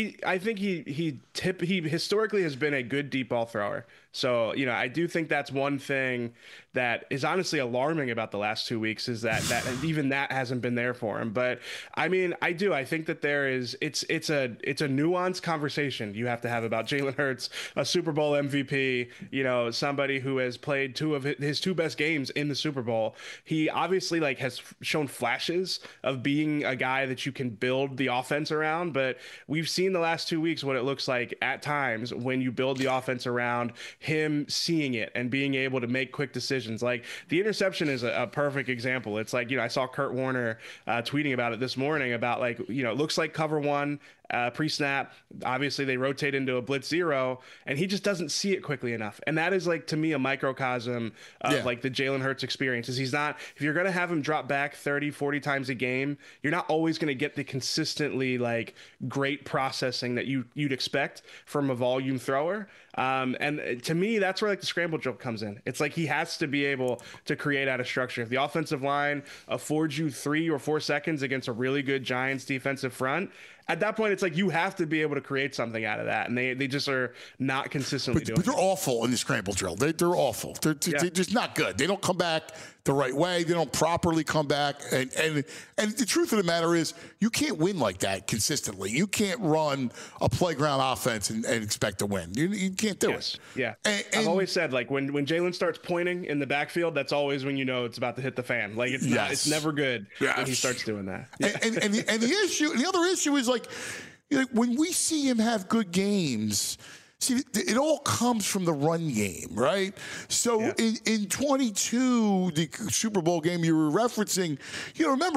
he historically has been a good deep ball thrower. So, I do think that's one thing that is honestly alarming about the last 2 weeks is that even that hasn't been there for him. But I mean, I think that it's a nuanced conversation you have to have about Jalen Hurts, a Super Bowl MVP, somebody who has played two of his two best games in the Super Bowl. He obviously has shown flashes of being a guy that you can build the offense around, but we've seen the last 2 weeks what it looks like at times when you build the offense around him seeing it and being able to make quick decisions. Like the interception is a perfect example. It's like, I saw Kurt Warner tweeting about it this morning about it looks like cover one pre-snap. Obviously they rotate into a blitz zero and he just doesn't see it quickly enough. And that is to me a microcosm of the Jalen Hurts experience. Is if you're going to have him drop back 30, 40 times a game, you're not always going to get the consistently great processing that you'd expect from a volume thrower. And to me, that's where the scramble drill comes in. It's he has to be able to create out of structure. If the offensive line affords you 3 or 4 seconds against a really good Giants defensive front, at that point, it's you have to be able to create something out of that. And they just are not consistently doing it.
But they're awful in the scramble drill. They're awful. They're just not good. They don't come back the right way. They don't properly come back. And the truth of the matter is you can't win like that consistently. You can't run a playground offense and expect to win. You can't do it.
Yeah. And I've always said, when Jalen starts pointing in the backfield, that's always when it's about to hit the fan. It's never good when he starts doing that.
And the other issue is when we see him have good games, see, it all comes from the run game, right? So in 22, the Super Bowl game you were referencing, remember,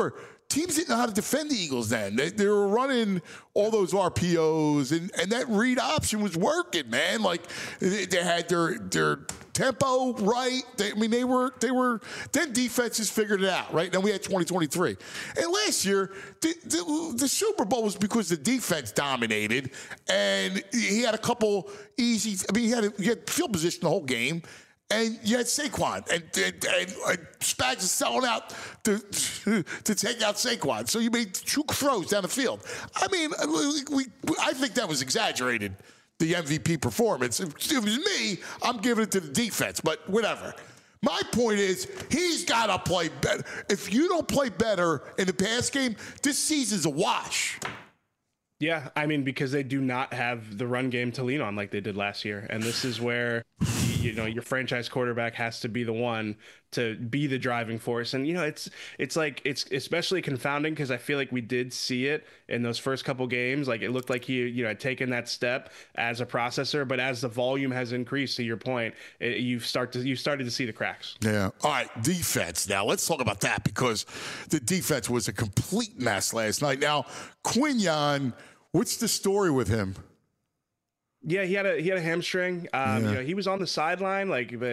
teams didn't know how to defend the Eagles then. They were running all those RPOs, and that read option was working, man. Like they had their tempo right. They were. Then defenses figured it out, right? Then we had 2023, and last year the Super Bowl was because the defense dominated, and he had a couple easy. I mean, he had field position the whole game. And you had Saquon, and Spags is selling out to take out Saquon. So you made 2 throws down the field. I mean, I think that was exaggerated, the MVP performance. If it was me, I'm giving it to the defense, but whatever. My point is, he's got to play better. If you don't play better in the pass game, this season's a wash.
Yeah, I mean, because they do not have the run game to lean on like they did last year. And this is where, your franchise quarterback has to be the one to be the driving force. And, it's especially confounding because I feel like we did see it in those first couple games. Like it looked like he, had taken that step as a processor. But as the volume has increased, to your point, you started to see the cracks.
Yeah. All right, defense. Now, let's talk about that because the defense was a complete mess last night. Now, Quinyon, what's the story with him?
Yeah, he had a hamstring. He was on the sideline.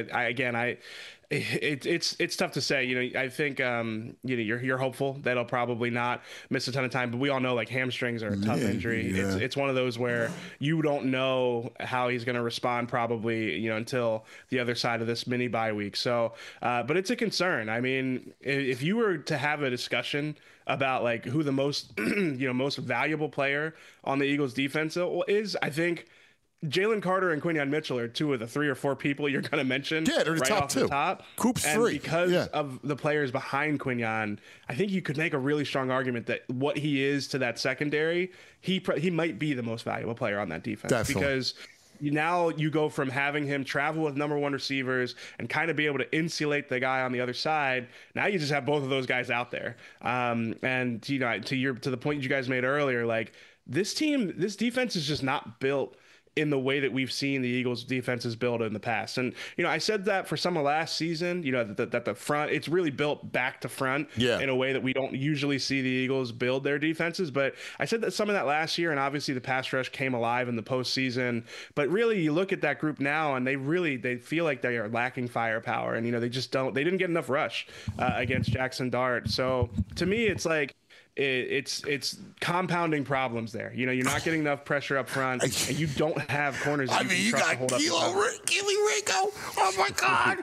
It's tough to say. I think you're hopeful that he'll probably not miss a ton of time, but we all know like hamstrings are a tough injury. Yeah. It's one of those where you don't know how he's going to respond probably until the other side of this mini bye week. So, but it's a concern. I mean, if you were to have a discussion about like who the most most valuable player on the Eagles defense is, I think Jalen Carter and Quinyon Mitchell are 2 of the 3 or 4 people you're going to mention.
Yeah, they're the
right
top
off
2.
The top.
Coop's
and
3.
Because of the players behind Quinyon, I think you could make a really strong argument that what he is to that secondary, he might be the most valuable player on that defense.
Definitely.
Because now you go from having him travel with number 1 receivers and kind of be able to insulate the guy on the other side. Now you just have both of those guys out there. And to the point you guys made earlier, like this defense is just not built in the way that we've seen the Eagles defenses build in the past. And, I said that for some of last season, that the front, it's really built back to front in a way that we don't usually see the Eagles build their defenses. But I said that some of that last year, and obviously the pass rush came alive in the postseason. But really, you look at that group now, and they feel like they are lacking firepower. And, they didn't get enough rush against Jackson Dart. So to me, it's like, it's compounding problems there. You're not getting enough pressure up front, and you don't have corners.
You got Keely Ringo. Oh my God,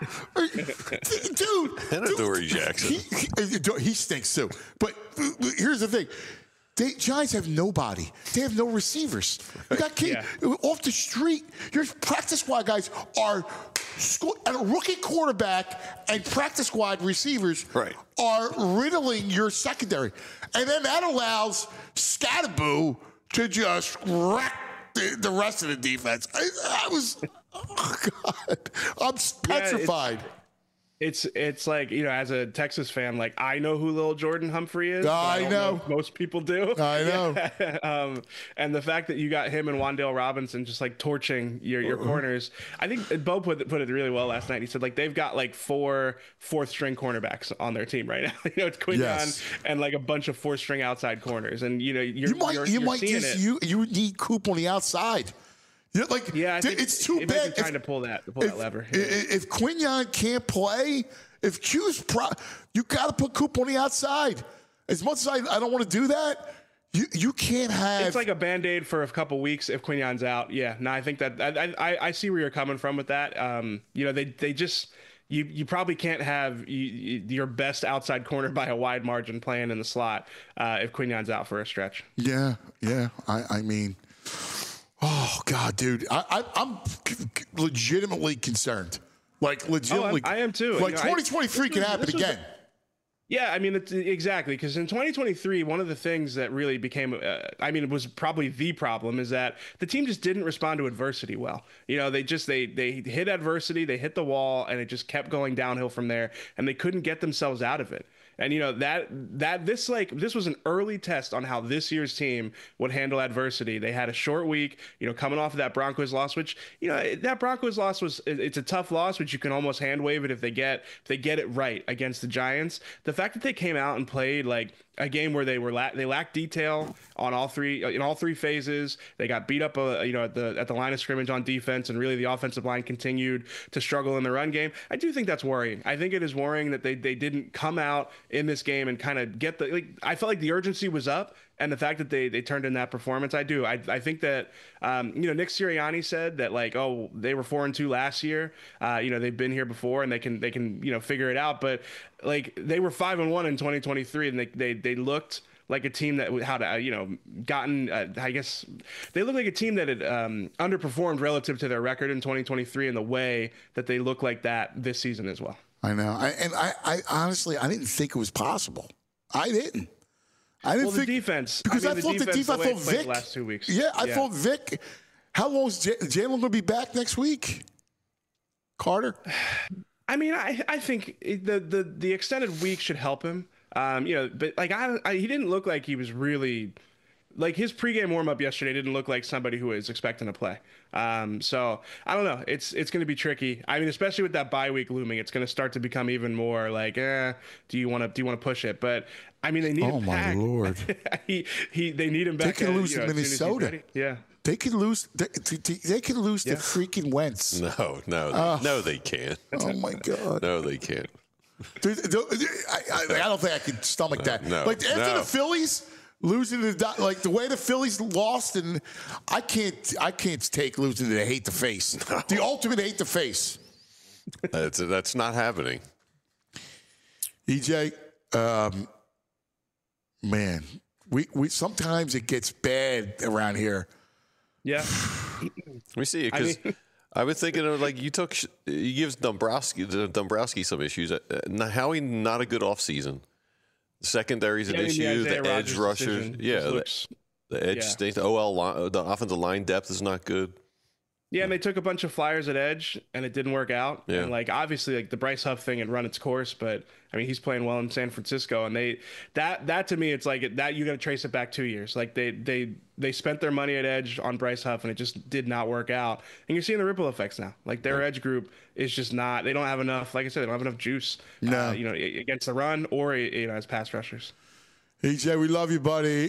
dude!
And Adoree Jackson.
He stinks too. But here's the thing. Giants have nobody. They have no receivers. You got kids off the street. Your practice squad guys are and a rookie quarterback and practice squad receivers are riddling your secondary. And then that allows Scatterboo to just wreck the rest of the defense. Oh God, I'm petrified.
It's like, as a Texas fan, like I know who Lil Jordan Humphrey is.
I know.
Most people do.
I know.
And the fact that you got him and Wan'Dale Robinson just like torching your corners. I think Bo put it really well last night. He said like they've got like 4 fourth-string cornerbacks on their team right now. It's Quinyon and like a bunch of 4th-string outside corners. And you
need Coop on the outside. It's too bad.
Trying to pull that lever.
If Quinyon can't play, if Q's you got to put Coop on the outside. As much as I don't want to do that, you can't have.
It's like a Band-Aid for a couple weeks if Quinyon's out. Yeah, no, I think that I see where you're coming from with that. They just. You probably can't have your best outside corner by a wide margin playing in the slot if Quinyon's out for a stretch.
Yeah. I mean. Oh God, dude! I'm legitimately concerned. Like legitimately,
I am too.
Like 2023 can happen again.
Yeah, I mean, exactly. Because in 2023, one of the things that really became, it was probably the problem is that the team just didn't respond to adversity well. They hit adversity, they hit the wall, and it just kept going downhill from there, and they couldn't get themselves out of it. And this was an early test on how this year's team would handle adversity. They had a short week, coming off of that Broncos loss, which that Broncos loss it's a tough loss, which you can almost hand wave it if they get it right against the Giants. The fact that they came out and played like a game where they lacked detail on all three phases. They got beat up, at the line of scrimmage on defense, and really the offensive line continued to struggle in the run game. I do think that's worrying. I think it is worrying that they didn't come out in this game and kind of get I felt like the urgency was up. And the fact that they turned in that performance, I think that Nick Sirianni said that they were 4-2 last year. They've been here before and they can figure it out. But they were 5-1 in 2023, and they looked like a team that they look like a team that had underperformed relative to their record in 2023 in the way that they look like that this season as well.
I know, I honestly I didn't think it was possible. I didn't.
The defense. Because
I thought the defense. I thought Vic.
The last 2 weeks.
Yeah, I thought Vic. How long is Jalen going to be back next week? Carter.
I mean, I think the extended week should help him. But he didn't look like he was really. His pregame warm-up yesterday didn't look like somebody who was expecting to play. So I don't know. It's going to be tricky. I mean, especially with that bye week looming, it's going to start to become even more do you want to push it? But I mean, they need him back. Oh my Lord! They need him back.
They can lose to Minnesota.
Yeah.
They can lose. They can lose to freaking Wentz.
No, they can't.
Oh my God!
No, they can't.
Dude, I don't think I could stomach that. After the Phillies losing the way the Phillies lost, and I can't take losing to the hate the face. No. The ultimate hate the face.
That's not happening.
EJ, man, we sometimes it gets bad around here.
Yeah.
Let me see, because I've been thinking of he gives Dombrowski some issues. Howie, not a good offseason. The secondary's an issue. The edge rushers, the edge stinks. The offensive line depth is not good.
Yeah, and they took a bunch of flyers at edge, and it didn't work out. Yeah. And obviously, the Bryce Huff thing had run its course, but I mean, he's playing well in San Francisco, and that to me, it's that you got to trace it back 2 years. They spent their money at edge on Bryce Huff, and it just did not work out. And you're seeing the ripple effects now. Their edge group is just not. They don't have enough. Like I said, they don't have enough juice. No. Against the run or as pass rushers.
EJ, we love you, buddy.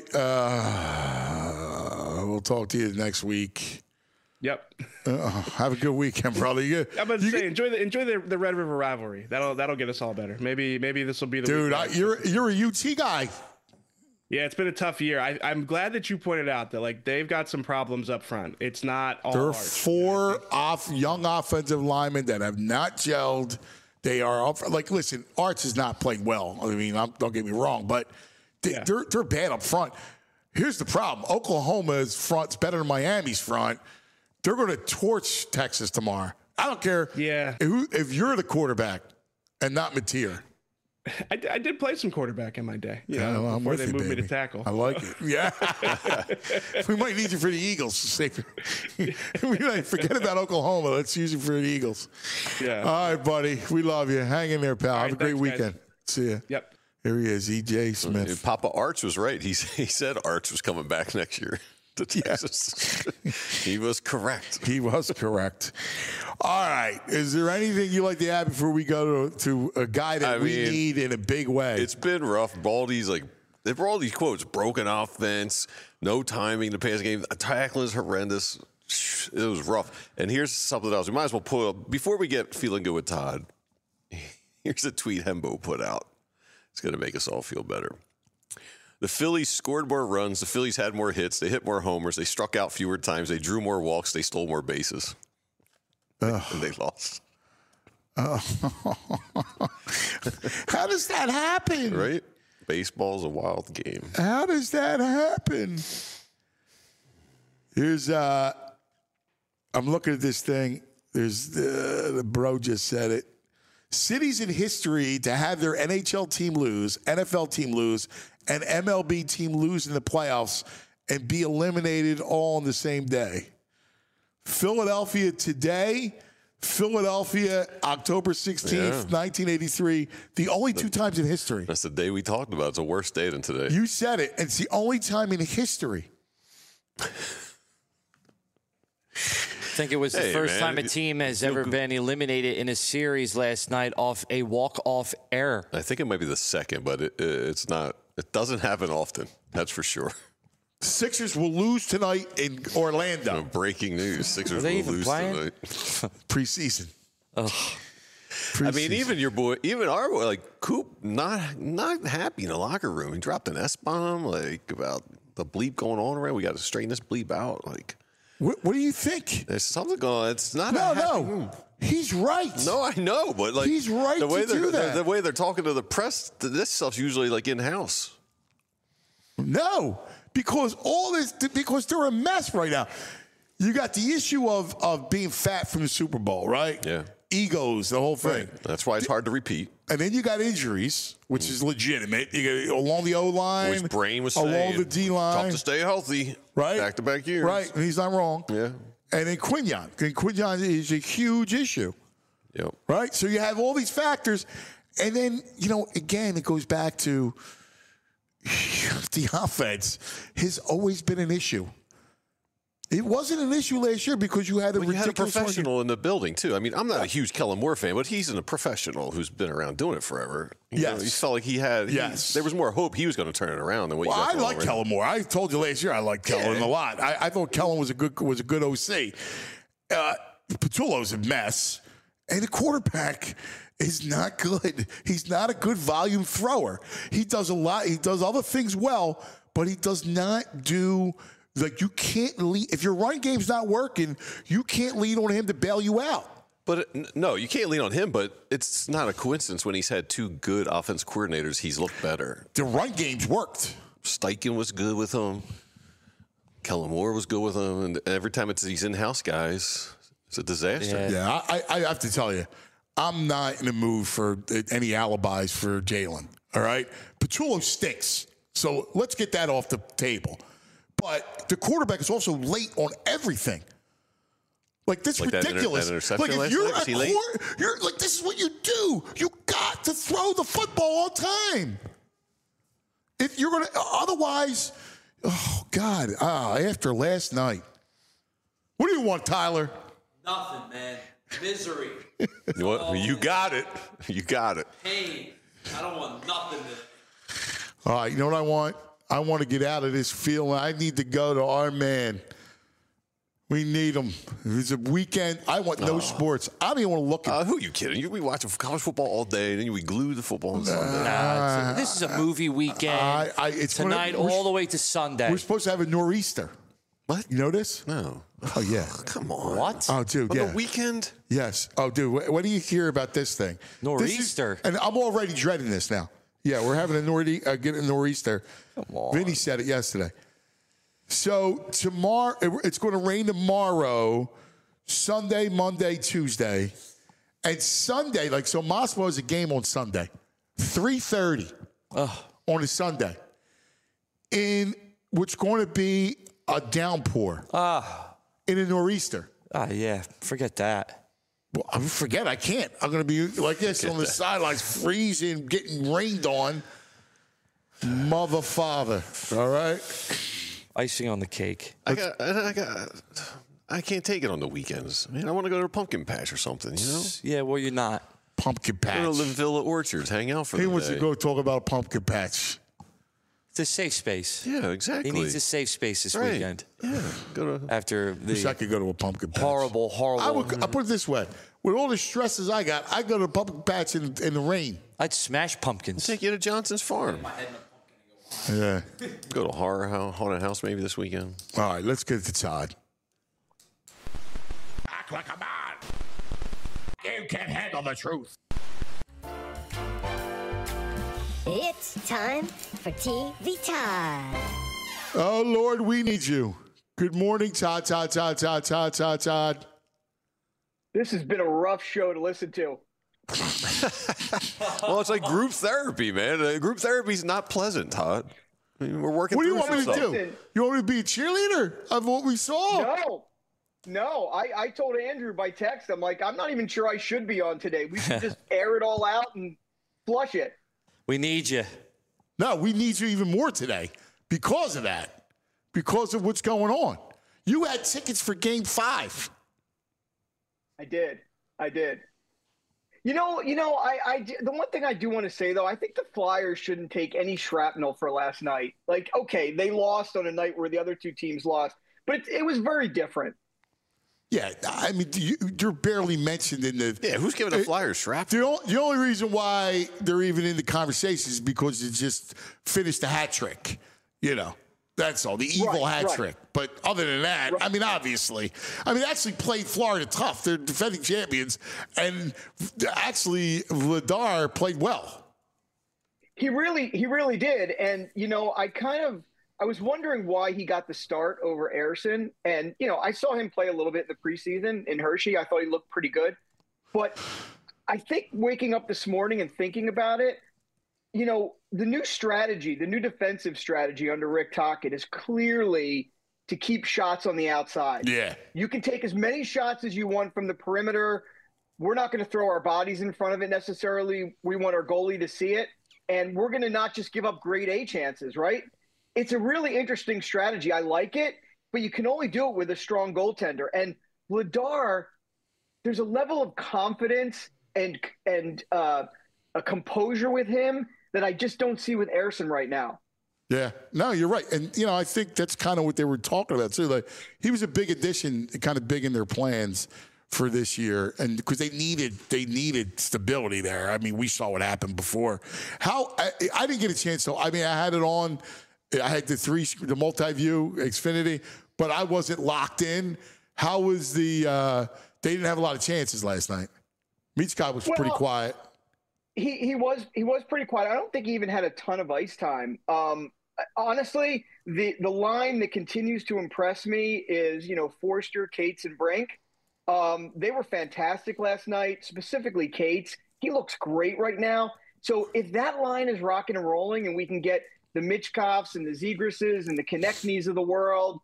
We'll talk to you next week.
Yep.
Have a good weekend, brother.
I'm about to say, enjoy the Red River rivalry. That'll get us all better. Maybe this will be the
dude. You're a UT guy.
Yeah, it's been a tough year. I'm glad that you pointed out that they've got some problems up front. It's not all.
There are 4 young offensive linemen that have not gelled. They are up. Listen, Arts is not playing well. I mean, don't get me wrong, but they're bad up front. Here's the problem: Oklahoma's front's better than Miami's front. They're going to torch Texas tomorrow. I don't care if you're the quarterback and not Mateer.
I did play some quarterback in my day, before they moved me to tackle.
I like it. Yeah. We might need you for the Eagles. We might forget about Oklahoma. Let's use you for the Eagles.
Yeah.
All right, buddy. We love you. Hang in there, pal. Have a great weekend.
Guys.
See ya.
Yep.
Here he is, EJ Smith.
Papa Arch was right. He said Arch was coming back next year to Texas. He was correct.
He was correct. All right. Is there anything you like to add before we go to a guy that we need in a big way?
It's been rough. Baldy's they were all these quotes: broken offense, no timing to pass game, tackling is horrendous. It was rough. And here's something else. We might as well pull up before we get feeling good with Todd. Here's a tweet Hembo put out. It's going to make us all feel better. The Phillies scored more runs. The Phillies had more hits. They hit more homers. They struck out fewer times. They drew more walks. They stole more bases. And they lost.
How does that happen?
Right? Baseball's a wild game.
How does that happen? Here's, I'm looking at this thing. There's the bro just said it. Cities in history to have their NHL team lose, NFL team lose, and MLB team lose in the playoffs and be eliminated all on the same day. Philadelphia today, Philadelphia, October 16th, 1983. The only 2 times in history.
That's the day we talked about. It's a worse day than today.
You said it. It's the only time in history.
I think it was the first time a team has ever been eliminated in a series last night off a walk-off error.
I think it might be the second, but it's not It doesn't happen often. That's for sure.
Sixers will lose tonight in Orlando.
Breaking news. Sixers
they
will
even
lose
playing?
tonight.
Preseason.
I mean, even your boy, even our boy, like Coop, not happy in the locker room. He dropped an S-bomb, like, about the bleep going on around. We got to straighten this bleep out. Like,
what do you think?
there's something going on. It's not
No. He's right.
No, I know, but like
he's right
the way
to do that.
The way they're talking to the press, this stuff's usually like in-house.
No, because because they're a mess right now. You got the issue of being fat from the Super Bowl, right?
Yeah.
Egos, the whole thing.
Right. That's why it's hard to repeat.
And then you got injuries, which is legitimate. You got along the O-line.
Which Brain was
along
saying.
the D-line.
Tough to stay healthy.
Right.
Back-to-back years.
Right. And he's not wrong.
Yeah.
And then Quinyon. Quinyon is a huge issue.
Yep.
Right? So you have all these factors. And then, again, it goes back to the offense has always been an issue. It wasn't an issue last year because you had a ridiculous
professional in the building, too. I mean, I'm not a huge Kellen Moore fan, but he's a professional who's been around doing it forever. You know, he felt like he had there was more hope he was going to turn it around than what you got going on right now.
Kellen Moore. I told you last year I liked Kellen a lot. I thought Kellen was a good OC. Patullo's a mess, and the quarterback is not good. He's not a good volume thrower. He does a lot. He does other things well, but he does not do. Like, you can't lead. If your run game's not working, you can't lean on him to bail you out.
But no, you can't lean on him, but it's not a coincidence when he's had two good offense coordinators, he's looked better.
The run game's worked.
Steichen was good with him. Kellen Moore was good with him. And every time it's these in-house guys, it's a disaster.
Yeah, I have to tell you, I'm not in the mood for any alibis for Jalen. All right? Patullo stinks. So let's get that off the table. But the quarterback is also late on everything. Like, this is ridiculous.
That interception
like, if you're like, this is what you do. You got to throw the football on time. If you're going to, otherwise, oh, God, after last night. What do you want, Tyler?
Nothing, man. Misery.
You got it. You got it.
Pain. I don't want nothing.
All right, you know what I want? I want to get out of this feeling. I need to go to our man. We need him. It's a weekend. I want no sports. I don't even want to look at
who are you kidding? We watch college football all day, and then we glue the football on Sunday.
This is a movie weekend.
It's
tonight all the way to Sunday.
We're supposed to have a nor'easter.
What?
You know this?
No.
Oh, yeah.
Come on.
What?
Oh, dude,
on
yeah.
the weekend?
Yes. Oh, dude, what do you hear about this thing?
Nor'easter.
And I'm already dreading this now. Yeah, we're having a nor'easter.
Come on.
Vinny said it yesterday. So tomorrow, it's going to rain tomorrow, Sunday, Monday, Tuesday. And Sunday, so Moscow has a game on Sunday, 3:30 on a Sunday. In what's going to be a downpour in a nor'easter.
Yeah, forget that.
Well, I forget. I can't. I'm going to be like this on the sidelines, freezing, getting rained on. Mother, father. All right?
Icing on the cake.
I can't take it on the weekends. Man, I want to go to a pumpkin patch or something, you know?
Yeah, well, you're not.
Pumpkin patch.
Go to Villa Orchards, hang out for the day.
He wants to go talk about a pumpkin patch.
It's a safe space.
Yeah, exactly.
He needs a safe space this weekend.
Yeah. Go to
after the
Wish I could go to a pumpkin patch.
horrible.
I'll put it this way. With all the stresses I got, I'd go to a pumpkin patch in the rain.
I'd smash pumpkins.
Take you to Johnson's Farm.
Yeah.
Go to haunted house maybe this weekend.
All right, let's get to Todd.
Act like a man. You can't handle the truth.
It's time for TV Todd.
Oh, Lord, we need you. Good morning, Todd.
This has been a rough show to listen to.
Well, it's like group therapy, man. Group therapy is not pleasant, Todd. I mean, we're working
What do you
through
want me to
some
do?
stuff.
You want me to be a cheerleader of what we saw?
No. I told Andrew by text, I'm like, I'm not even sure I should be on today. We should just air it all out and flush it.
We need you.
No, we need you even more today because of that, because of what's going on. You had tickets for Game 5.
I did. The one thing I do want to say, though, I think the Flyers shouldn't take any shrapnel for last night. Like, okay, they lost on a night where the other two teams lost, but it was very different.
Yeah, I mean, you're barely mentioned in the.
Yeah, who's giving the Flyers shrapnel?
The only reason why they're even in the conversation is because they just finished a hat trick. That's all. The evil hat trick. But other than that, I mean, obviously. I mean, they actually played Florida tough. They're defending champions. And actually, Vladar played well.
He really did. And, I was wondering why he got the start over Ersson. And, I saw him play a little bit in the preseason in Hershey. I thought he looked pretty good. But I think waking up this morning and thinking about it, the new strategy, the new defensive strategy under Rick Tocchet is clearly to keep shots on the outside.
Yeah.
You can take as many shots as you want from the perimeter. We're not going to throw our bodies in front of it necessarily. We want our goalie to see it. And we're going to not just give up grade A chances, right? It's a really interesting strategy. I like it, but you can only do it with a strong goaltender. And Vladar, there's a level of confidence and a composure with him that I just don't see with Ersson right now.
Yeah, no, you're right. And, I think that's kind of what they were talking about, too. Like, he was a big addition, kind of big in their plans for this year. And because they needed stability there. I mean, we saw what happened before. I didn't get a chance, though. I mean, I had it on. I had the multi-view Xfinity, but I wasn't locked in. How was they didn't have a lot of chances last night. Michkov was pretty quiet.
He was pretty quiet. I don't think he even had a ton of ice time. Honestly, the line that continues to impress me is, Forster, Cates, and Brink. They were fantastic last night, specifically Cates. He looks great right now. So if that line is rocking and rolling and we can get the Michkovs and the Zegras and the Konechny's of the world,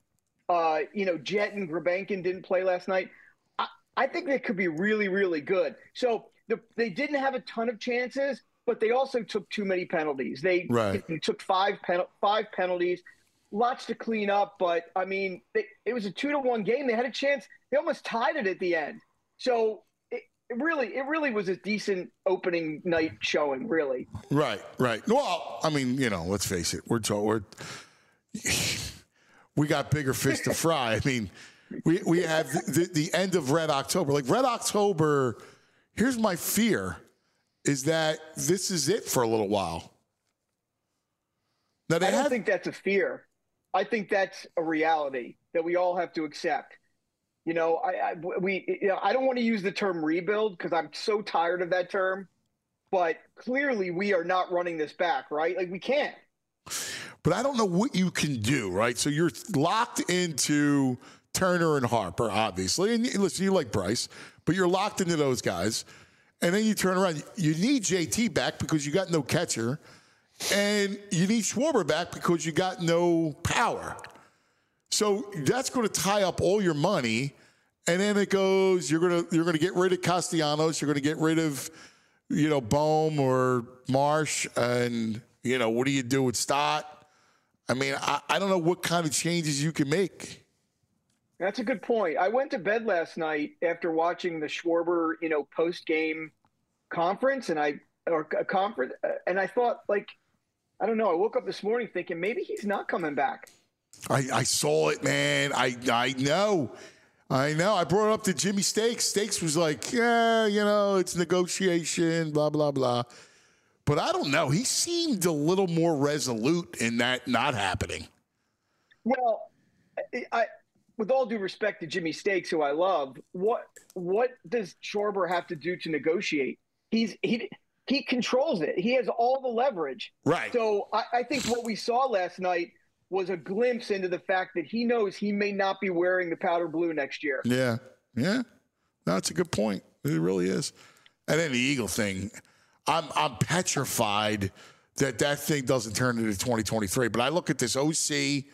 Jet and Grabenkin didn't play last night, I think they could be really, really good. So they didn't have a ton of chances, but they also took too many penalties. They took five penalties, lots to clean up. But, I mean, it was a 2-1 game. They had a chance. They almost tied it at the end. So it really was a decent opening night showing, really.
Right. Well, I mean, let's face it. We got bigger fish to fry. I mean, we have the end of Red October. Like, Red October, here's my fear, is that this is it for a little while. Now, I
don't think that's a fear. I think that's a reality that we all have to accept. I don't want to use the term rebuild because I'm so tired of that term, but clearly we are not running this back, right? Like, we can't.
But I don't know what you can do, right? So you're locked into Turner and Harper, obviously. And listen, you like Bryce, but you're locked into those guys. And then you turn around. You need JT back because you got no catcher. And you need Schwarber back because you got no power. So that's going to tie up all your money. And then it goes, you're going to get rid of Castellanos. You're going to get rid of, Bohm or Marsh. And, what do you do with Stott? I mean, I don't know what kind of changes you can make.
That's a good point. I went to bed last night after watching the Schwarber, post-game conference, and I thought, like, I don't know. I woke up this morning thinking maybe he's not coming back.
I saw it, man. I know. I brought it up to Jimmy Stakes. Stakes was like, yeah, it's negotiation, blah, blah, blah. But I don't know. He seemed a little more resolute in that not happening.
Well, with all due respect to Jimmy Stakes, who I love, what does Schwarber have to do to negotiate? He controls it. He has all the leverage.
Right.
So I think what we saw last night was a glimpse into the fact that he knows he may not be wearing the powder blue next year.
Yeah. That's a good point. It really is. And then the Eagle thing, I'm petrified that thing doesn't turn into 2023. But I look at this OC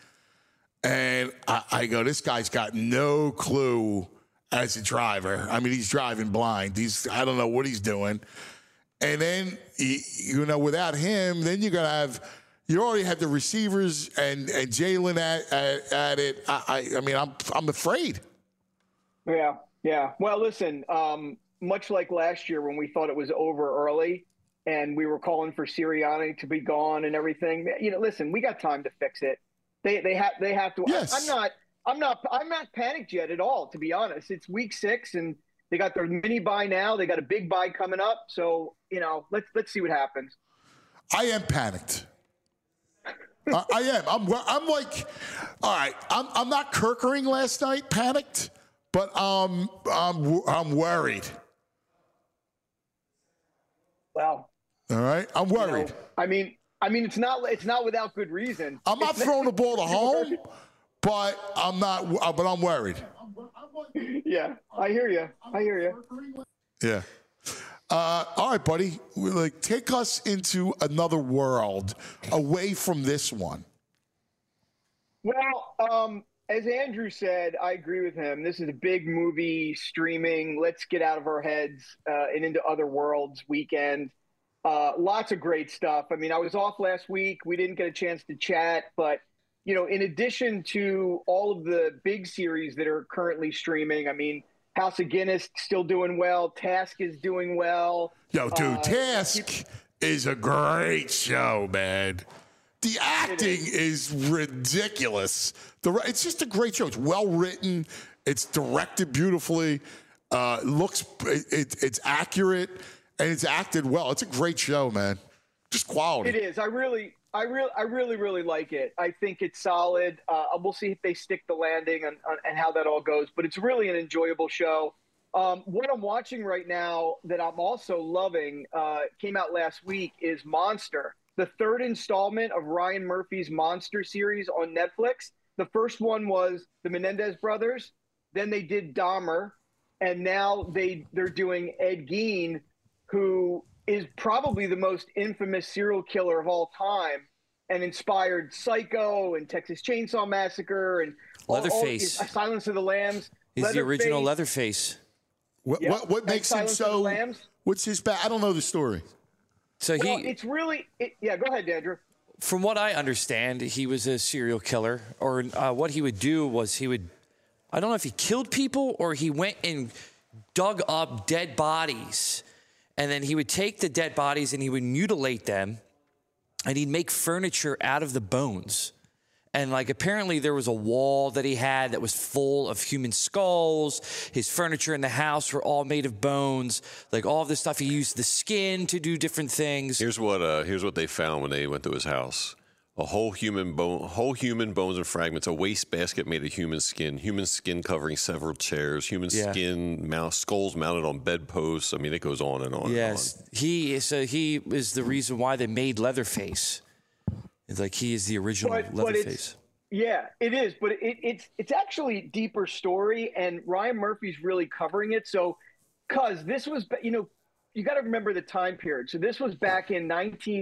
and I go, this guy's got no clue as a driver. I mean, he's driving blind. I don't know what he's doing. And then, without him, then you're going to have – you already have the receivers and Jalen at it. I mean, I'm afraid.
Yeah. Well, listen, much like last year when we thought it was over early and we were calling for Sirianni to be gone and everything. Listen, we got time to fix it. They have to.
Yes.
I'm not panicked yet at all, to be honest. It's week 6 and they got their mini bye now. They got a big bye coming up. So, let's see what happens.
I am panicked. I am. I'm like, all right. I'm not Kirkering last night, panicked, but I'm worried.
Well,
all right. I'm worried.
I mean, it's not without good reason.
I'm not throwing the ball to home, but I'm not. But I'm worried.
Yeah, I hear you.
Yeah. All right, buddy. Take us into another world away from this one.
Well, as Andrew said, I agree with him. This is a big movie streaming. Let's get out of our heads and into other worlds weekend. Lots of great stuff. I mean, I was off last week. We didn't get a chance to chat, but in addition to all of the big series that are currently streaming, I mean, House of Guinness still doing well. Task is doing well.
Yo, dude, Task is a great show, man. The acting is ridiculous. It's just a great show. It's well written. It's directed beautifully. It's accurate, and it's acted well. It's a great show, man. Just quality.
It is. I really like it. I think it's solid. We'll see if they stick the landing and how that all goes. But it's really an enjoyable show. What I'm watching right now that I'm also loving, came out last week, is Monster, the 3rd installment of Ryan Murphy's Monster series on Netflix. The first one was the Menendez brothers. Then they did Dahmer. And now they're doing Ed Gein, who is probably the most infamous serial killer of all time and inspired Psycho and Texas Chainsaw Massacre and
Leatherface.
Silence of the Lambs.
He's the original Leatherface.
What makes him so? What's his back? I don't know the story.
So
it's really go ahead, Andrew.
From what I understand, he was a serial killer, or what he would do was I don't know if he killed people or he went and dug up dead bodies. And then he would take the dead bodies and he would mutilate them and he'd make furniture out of the bones. And apparently there was a wall that he had that was full of human skulls. His furniture in the house were all made of bones. All of this stuff, he used the skin to do different things.
Here's what they found when they went to his house. A whole human bones and fragments, a wastebasket made of human skin covering several chairs, skulls mounted on bedposts. I mean, it goes on and on.
Yes,
and on.
He is the reason why they made Leatherface. He is the original Leatherface.
Yeah, it is, but it's actually a deeper story, and Ryan Murphy's really covering it. So, cause this was, you got to remember the time period. So this was back in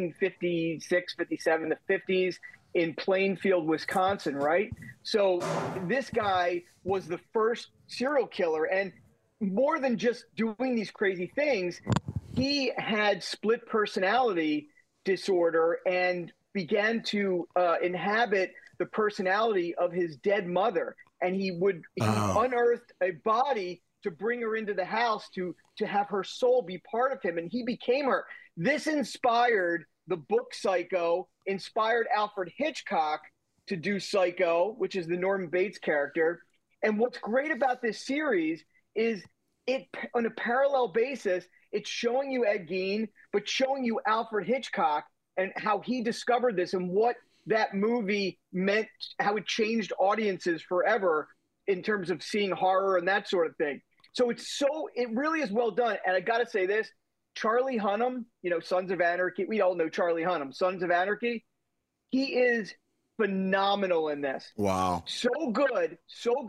1956, 57, the 50s in Plainfield, Wisconsin, right? So this guy was the first serial killer. And more than just doing these crazy things, he had split personality disorder and began to inhabit the personality of his dead mother. And he unearthed a body to bring her into the house to have her soul be part of him, and he became her. This inspired the book Psycho, inspired Alfred Hitchcock to do Psycho, which is the Norman Bates character. And what's great about this series is it, on a parallel basis, it's showing you Ed Gein, but showing you Alfred Hitchcock and how he discovered this and what that movie meant, how it changed audiences forever in terms of seeing horror and that sort of thing. So it really is well done. And I got to say this, Charlie Hunnam, Sons of Anarchy. We all know Charlie Hunnam, Sons of Anarchy. He is phenomenal in this.
Wow.
So good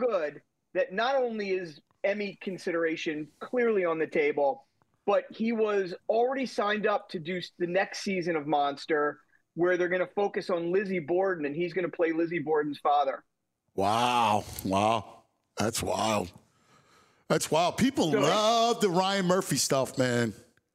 that not only is Emmy consideration clearly on the table, but he was already signed up to do the next season of Monster, where they're going to focus on Lizzie Borden, and he's going to play Lizzie Borden's father.
Wow. That's wild. People love the Ryan Murphy stuff, man.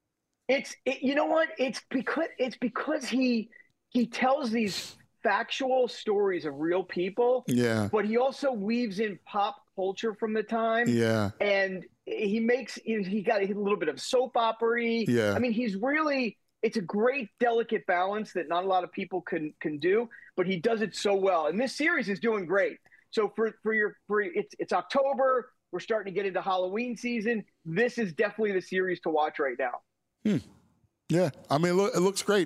You know what? It's because he tells these factual stories of real people.
Yeah.
But he also weaves in pop culture from the time.
Yeah.
And he got a little bit of soap opera-y.
Yeah.
I mean, it's a great delicate balance that not a lot of people can do, but he does it so well. And this series is doing great. So it's October, we're starting to get into Halloween season. This is definitely the series to watch right now.
Yeah, I mean, it looks great.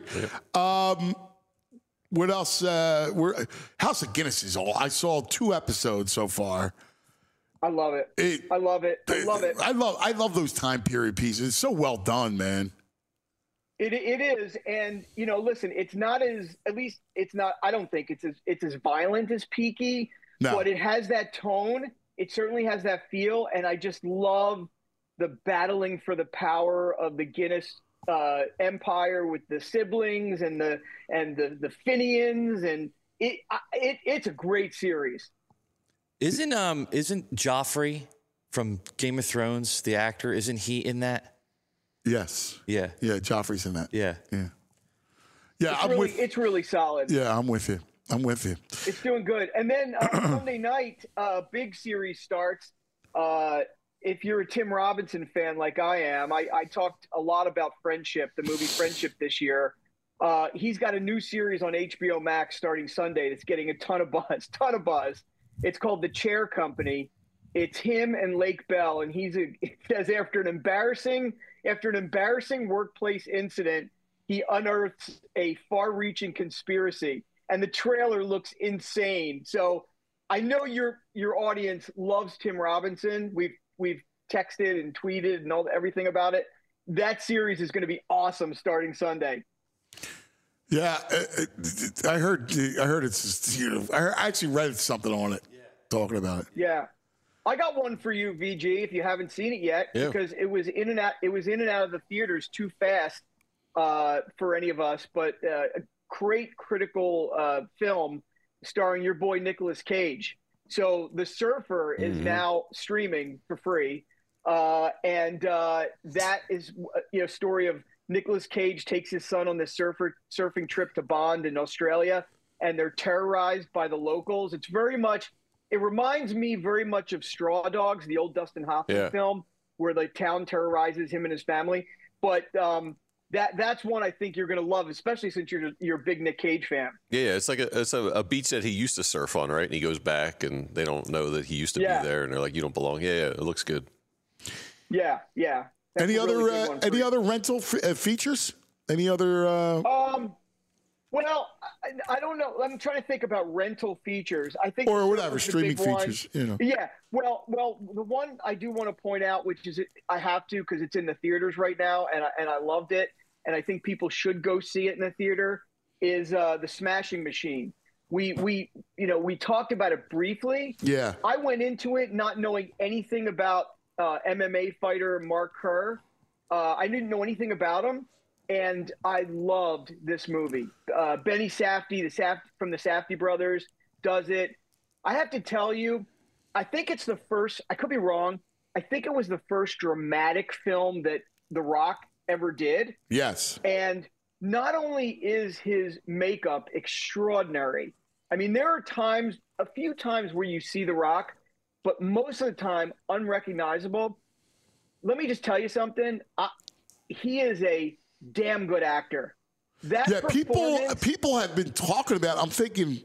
What else? House of Guinness is all. I saw 2 episodes so far.
I love it. I love it.
I love those time period pieces. It's so well done, man.
It is, and listen, it's not I don't think it's as violent as Peaky, but it has that tone. It certainly has that feel, and I just love the battling for the power of the Guinness empire with the siblings and the Finians, and it's a great series.
Isn't Joffrey from Game of Thrones, the actor, isn't he in that?
Yes.
Yeah.
Yeah, Joffrey's in that.
Yeah.
Yeah.
It's really solid.
Yeah, I'm with you.
It's doing good. And then Sunday night, big series starts. If you're a Tim Robinson fan like I am, I talked a lot about Friendship, the movie Friendship this year. He's got a new series on HBO Max starting Sunday that's getting a ton of buzz. It's called The Chair Company. It's him and Lake Bell, and it says after an embarrassing workplace incident, he unearths a far-reaching conspiracy, and the trailer looks insane. So I know your audience loves Tim Robinson. We've texted and tweeted and everything about it. That series is going to be awesome starting Sunday.
Yeah, I heard it's just, I actually read something on it talking about it.
Yeah. I got one for you, VG, if you haven't seen it yet, because it was in and out of the theaters too fast for any of us, but a great critical film starring your boy Nicolas Cage. So The Surfer is now streaming for free, and that is a story of Nicolas Cage takes his son on this surfing trip to Bond in Australia, and they're terrorized by the locals. It reminds me very much of Straw Dogs, the old Dustin Hoffman film, where the town terrorizes him and his family. But that's one I think you're going to love, especially since you're a big Nick Cage fan.
Yeah, it's like a beach that he used to surf on, right? And he goes back, and they don't know that he used to be there, and they're like, "You don't belong." Yeah, it looks good.
Yeah. That's
any other rental features? Any other?
Well, I don't know. I'm trying to think about rental features. I think
or whatever streaming features.
Yeah. Well, the one I do want to point out, which is I have to because it's in the theaters right now, and I loved it, and I think people should go see it in the theater. Is the Smashing Machine? We talked about it briefly.
Yeah.
I went into it not knowing anything about MMA fighter Mark Kerr. I didn't know anything about him. And I loved this movie. Benny Safdie, from the Safdie brothers, does it. I have to tell you, I think it's the first, I could be wrong, I think it was the first dramatic film that The Rock ever did.
Yes.
And not only is his makeup extraordinary, I mean, there are a few times where you see The Rock, but most of the time, unrecognizable. Let me just tell you something. He is a damn good actor.
People have been talking about. I'm thinking,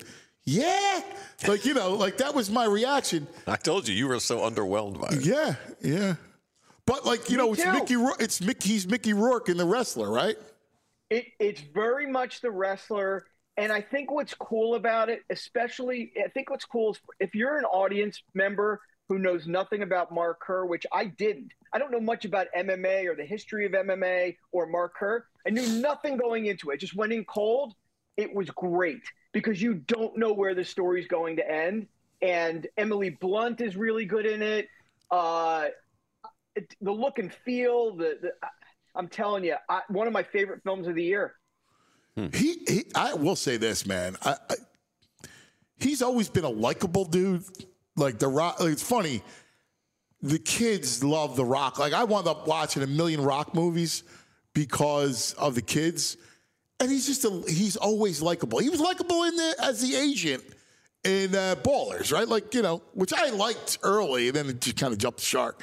like that was my reaction.
I told you were so underwhelmed by it.
Yeah. But he's Mickey Rourke in The Wrestler, right?
It's very much The Wrestler, and I think what's cool about it, is if you're an audience member who knows nothing about Mark Kerr, which I didn't. I don't know much about MMA or the history of MMA or Mark Kerr. I knew nothing going into it. Just went in cold. It was great because you don't know where the story's going to end. And Emily Blunt is really good in it. The look and feel, I'm telling you, one of my favorite films of the year.
I will say this, man. He's always been a likable dude. Like The Rock, it's funny. The kids love The Rock. Like I wound up watching a million Rock movies because of the kids, and he's always likable. He was likable as the agent in Ballers, right? Like which I liked early, and then it just kind of jumped the shark.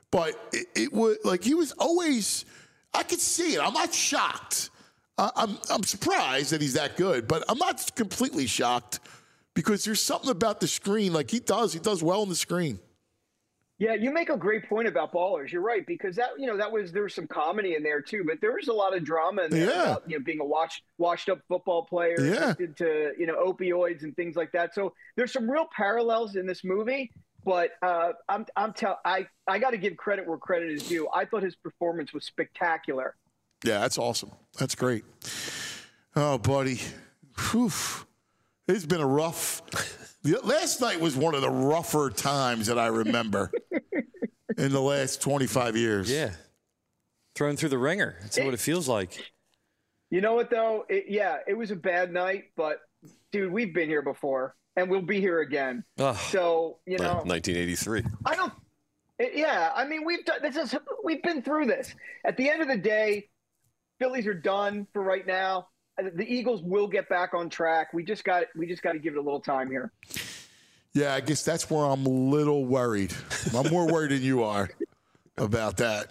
But it was like he was always. I could see it. I'm not shocked. I'm surprised that he's that good, but I'm not completely shocked because there's something about the screen. Like he does well on the screen.
Yeah, you make a great point about Ballers. You're right, because there was some comedy in there too, but there was a lot of drama in there about being a washed up football player, addicted to opioids and things like that. So there's some real parallels in this movie. But I got to give credit where credit is due. I thought his performance was spectacular.
Yeah, that's awesome. That's great. Oh, buddy, whew. It's been a rough. Last night was one of the rougher times that I remember in the last 25 years.
Yeah. Thrown through the ringer. That's what it feels like.
You know what, though? It was a bad night, but, dude, we've been here before, and we'll be here again.
Ugh.
So,
1983.
I don't – yeah, I mean, we've been through this. At the end of the day, Phillies are done for right now. The Eagles will get back on track. We just got to give it a little time here.
Yeah, I guess that's where I'm a little worried. I'm more worried than you are about that.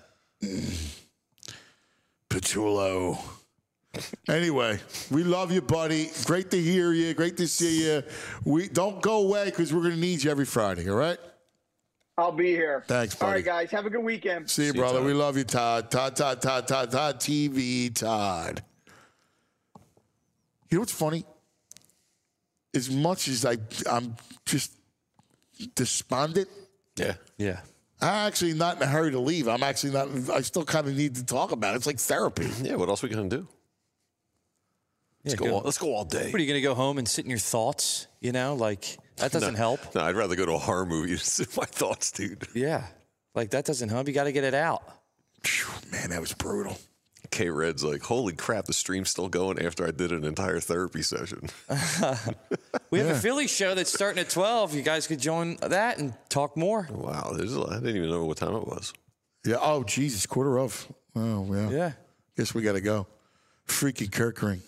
Petullo. Anyway, we love you, buddy. Great to hear you. Great to see you. We don't go away because we're going to need you every Friday, all right?
I'll be here.
Thanks, buddy.
All right, guys. Have a good weekend.
See you, brother. We love you, Todd. Todd TV, Todd. You know what's funny? As much as I'm just despondent.
Yeah.
Yeah.
I'm actually not in a hurry to leave. I'm actually not. I still kind of need to talk about it. It's like therapy.
Yeah, what else are we going to do? Let's go all day.
What, are you going to go home and sit in your thoughts? That doesn't help.
No, I'd rather go to a horror movie to sit in my thoughts, dude.
Yeah. That doesn't help. You got to get it out.
Man, that was brutal.
K-Red's like, holy crap, the stream's still going after I did an entire therapy session.
We have a Philly show that's starting at 12. You guys could join that and talk more.
Wow, I didn't even know what time it was.
Yeah. Oh, Jesus, 1:15. Oh, yeah.
Yeah.
Guess we got to go. Freaky Kirkring.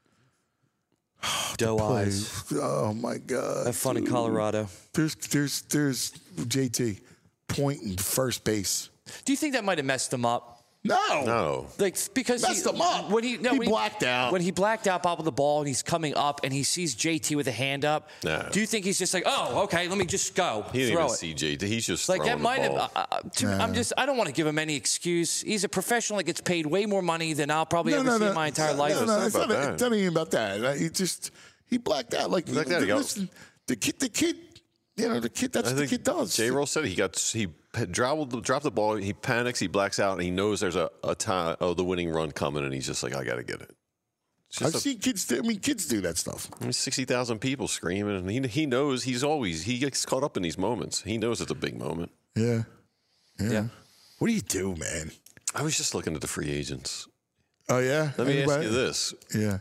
Doe eyes.
Oh, my God.
Have fun in Colorado.
There's JT pointing first base.
Do you think that might have messed him up?
No.
Because
messed him up. He blacked out.
When he blacked out, bobbled the ball, and he's coming up, and he sees JT with a hand up.
No.
Do you think he's just like, oh, okay, let me just go?
He didn't
throw
even
it.
see JT. He's just
like
throwing
that might
the ball.
have. I don't want to give him any excuse. He's a professional that gets paid way more money than I'll probably ever see in my entire life.
No, it's not even about that. He blacked out. Listen, the kid. The kid. That's what the kid does.
J-Roll said he dropped the ball. He panics. He blacks out, and he knows there's a time. Oh, the winning run coming, and he's just like, I got to get it.
I've seen kids. Kids do that stuff.
60,000 people screaming, and he knows he gets caught up in these moments. He knows it's a big moment.
Yeah. What do you do, man?
I was just looking at the free agents.
Oh yeah.
Let me ask you this.
Yeah.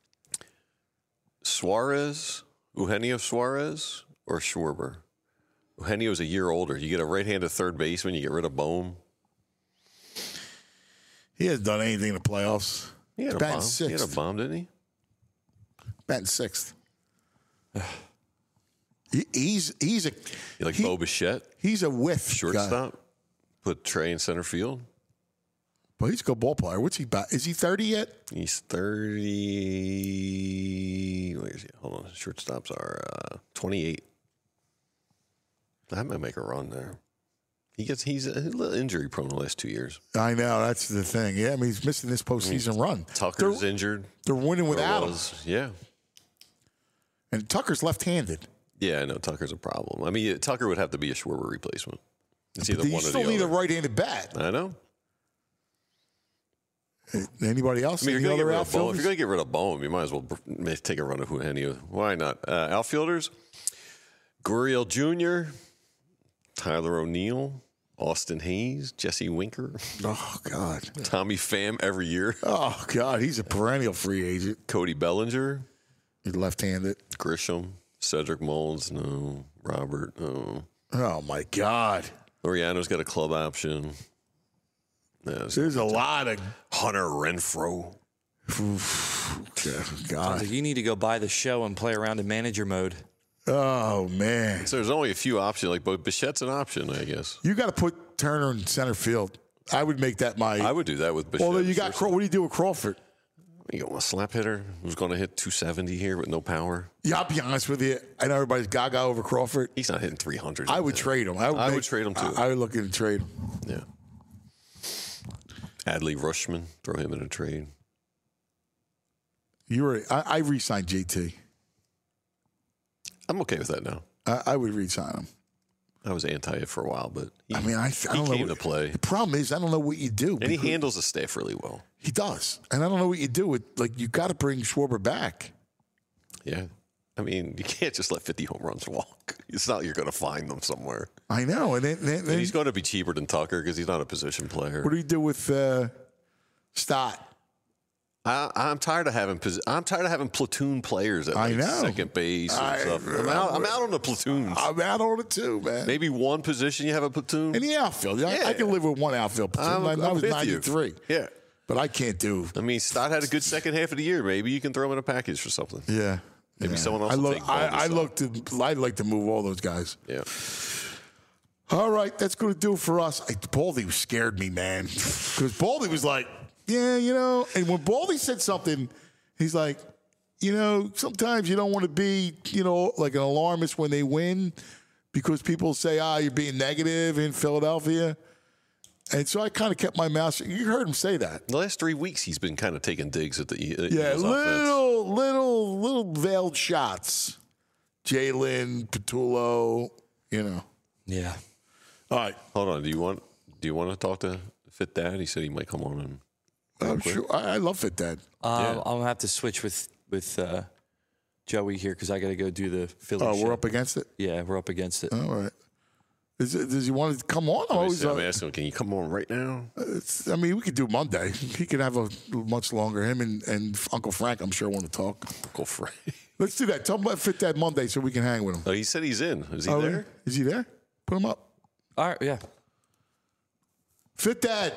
Suarez, Eugenio Suarez, or Schwarber? Eugenio's a year older. You get a right-handed third baseman. You get rid of Bohm.
He hasn't done anything in the playoffs.
He had a bomb. He had a bomb, didn't he?
Batting sixth. He's a.
You like Bo Bichette?
He's a whiff
shortstop.
Guy.
Put Trey in center field.
Well, he's a good ball player. What's he about? Is he 30 yet?
He's 30. Where is he? Hold on. Shortstops are 28. That might make a run there. He's a little injury prone the last 2 years.
I know. That's the thing. Yeah, I mean, he's missing this postseason run.
Tucker's injured.
They're winning without him.
Yeah.
And Tucker's left-handed.
Yeah, I know. Tucker's a problem. I mean, Tucker would have to be a Schwarber replacement. It's either one or the other.
You still need a right-handed bat.
I know.
Anybody else?
I mean, if you're going to get rid of Bohm, you might as well take a run of Eugenio. Why not? Outfielders, Gurriel Jr., Tyler O'Neill, Austin Hayes, Jesse Winker.
Oh, God.
Tommy Pham every year.
Oh, God. He's a perennial free agent.
Cody Bellinger.
He's left-handed.
Grisham. Cedric Mullins. No. Robert. No.
Oh, my God.
Laureano's got a club option.
There's a lot of
Hunter Renfroe.
God,
you need to go buy the show and play around in manager mode.
Oh man!
So there's only a few options. Like, but Bichette's an option, I guess.
You got to put Turner in center field. I would make that my.
I would do that with Bichette.
Well, you got what do you do with Crawford?
You got a slap hitter who's going to hit 270 here with no power.
Yeah, I'll be honest with you. I know everybody's gaga over Crawford.
He's not hitting 300.
I would trade him.
I would trade him too.
I would look at trade him.
Yeah. Adley Rutschman, throw him in a trade.
I re-signed JT.
I'm okay with that now.
I would re-sign him.
I was anti it for a while, but
I don't know.
Came to play.
The problem is I don't know what you do.
And he handles the staff really well.
He does, and I don't know what you do with you got to bring Schwarber back.
Yeah, I mean you can't just let 50 home runs walk. It's not like you're going to find them somewhere.
I know, and then
he's going to be cheaper than Tucker because he's not a position player.
What do you do with Stott?
I'm tired of having platoon players at second base and stuff. I'm out on the platoons.
I'm out on it too, man.
Maybe one position you have a platoon.
In the outfield, I can live with one outfield platoon. I was 93.
You. Yeah,
but I can't do.
I mean, Stott had a good second half of the year. Maybe you can throw him in a package for something.
Yeah,
maybe someone else.
I'd like to move all those guys.
Yeah.
All right, that's going to do it for us. Baldy scared me, man, because Baldy was like. Yeah, and when Baldy said something, he's like, sometimes you don't want to be, like an alarmist when they win because people say, you're being negative in Philadelphia. And so I kind of kept my mouth shut. You heard him say that.
The last 3 weeks, he's been kind of taking digs at the
Eagles little veiled shots. Jalen, Patullo,
Yeah.
All right.
Hold on. Do you want to talk to Fit Dad? He said he might come on and.
I'm sure. I love Fit Dad.
I'll have to switch with Joey here because I got to go do the Philly.
Oh,
show.
we're up against it.
Yeah, we're up against it.
All right. Does he want to come on?
I'm asking him, can you come on right now?
We could do Monday. He could have a much longer. Him and Uncle Frank, I'm sure, want to talk.
Uncle Frank.
Let's do that. Tell him about Fit Dad Monday so we can hang with him.
Oh, he said he's in. Is he there?
Is he there? Put him up.
All right. Yeah.
Fit Dad.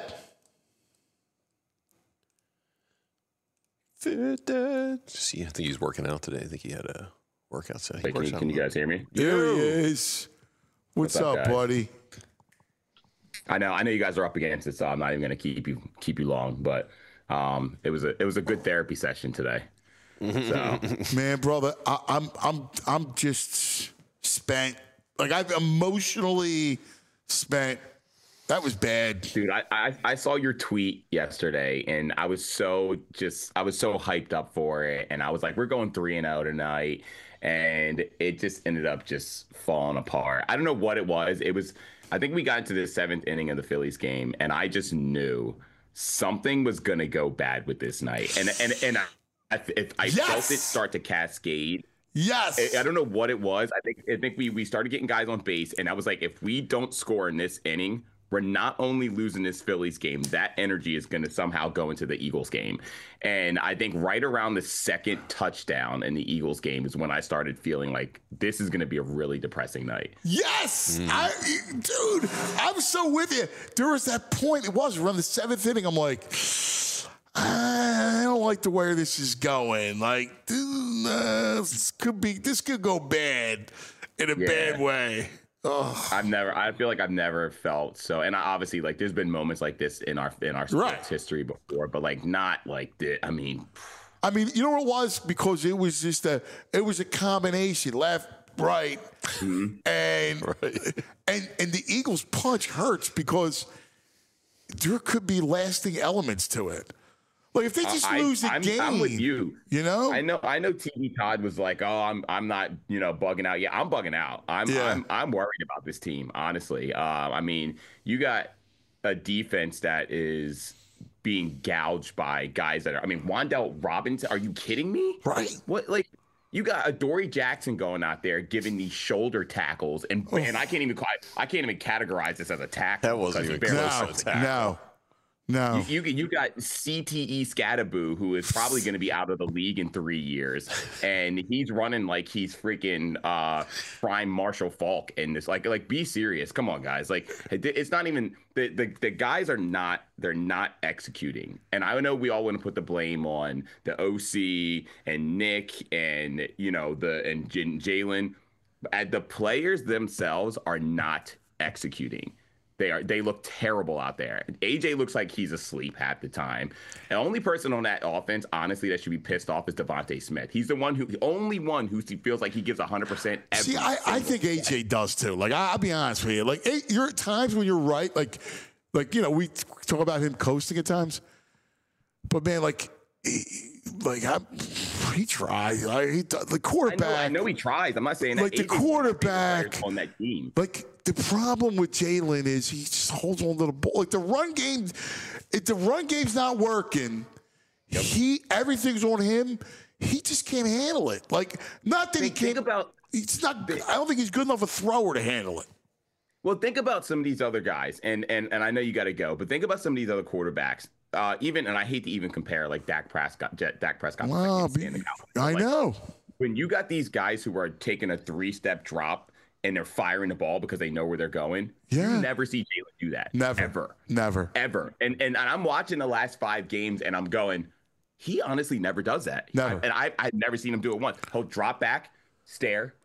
See, I think he's working out today. I think he had a workout today.
Can you guys hear me?
There he is. What's up, buddy?
I know you guys are up against it, so I'm not even going to keep you long. But it was a good therapy session today. So.
Man, brother, I'm just spent. Like I've emotionally spent. That was bad,
dude. I saw your tweet yesterday, and I was so hyped up for it, and I was like, we're going 3-0 tonight, and it just ended up just falling apart. I don't know what it was. I think we got into the 7th inning of the Phillies game, and I just knew something was gonna go bad with this night, and I felt it start to cascade.
Yes.
I don't know what it was. I think we started getting guys on base, and I was like, if we don't score in this inning, we're not only losing this Phillies game, that energy is going to somehow go into the Eagles game. And I think right around the second touchdown in the Eagles game is when I started feeling like this is going to be a really depressing night.
Yes. Dude, I'm so with you. There was that point, it was around the 7th inning. I'm like, I don't like the way this is going. Like, this could go bad in a bad way. Oh.
I feel like I've never felt so, and obviously like there's been moments like this in our sports history before, but like not like this. I mean,
you know what it was? Because it was just a combination, left, right, and the Eagles punch hurts because there could be lasting elements to it. Like if they just lose the game,
I'm with you.
You know,
I know. TV Todd was like, "Oh, I'm not, bugging out." Yeah, I'm bugging out. I'm worried about this team, honestly. You got a defense that is being gouged by guys that are. Wan'Dale Robinson. Are you kidding me?
Right.
What like? You got Adoree Jackson going out there giving these shoulder tackles, and I can't even categorize this as a tackle.
That wasn't even close to a tackle.
No.
You got CTE Scadaboo, who is probably going to be out of the league in 3 years, and he's running like he's freaking prime Marshall Faulk in this. Like, be serious. Come on, guys. Like, it's not even the guys are not. They're not executing. And I know we all want to put the blame on the OC and Nick and Jalen. The players themselves are not executing. They look terrible out there. AJ looks like he's asleep half the time. The only person on that offense, honestly, that should be pissed off is Devontae Smith. He's the only one who feels like he gives 100%.
See, I think AJ does too. Like, I'll be honest with you. Like, you're at times when you're right. Like we talk about him coasting at times, but man, he tries. The quarterback.
I know he tries. I'm not saying that.
Like the quarterback
on that team.
Like the problem with Jalen is he just holds on to the ball. Like the run game, if the run game's not working, everything's on him. He just can't handle it. Like not that he can't. It's not. I don't think he's good enough a thrower to handle it.
Well, think about some of these other guys, and I know you got to go, but think about some of these other quarterbacks. And I hate to even compare like Dak Prescott.
Wow, I know.
When you got these guys who are taking a 3-step drop and they're firing the ball because they know where they're going, you never see Jalen do that.
Never.
Ever. And I'm watching the last 5 games and I'm going, he honestly never does that.
Never.
I've never seen him do it once. He'll drop back, stare,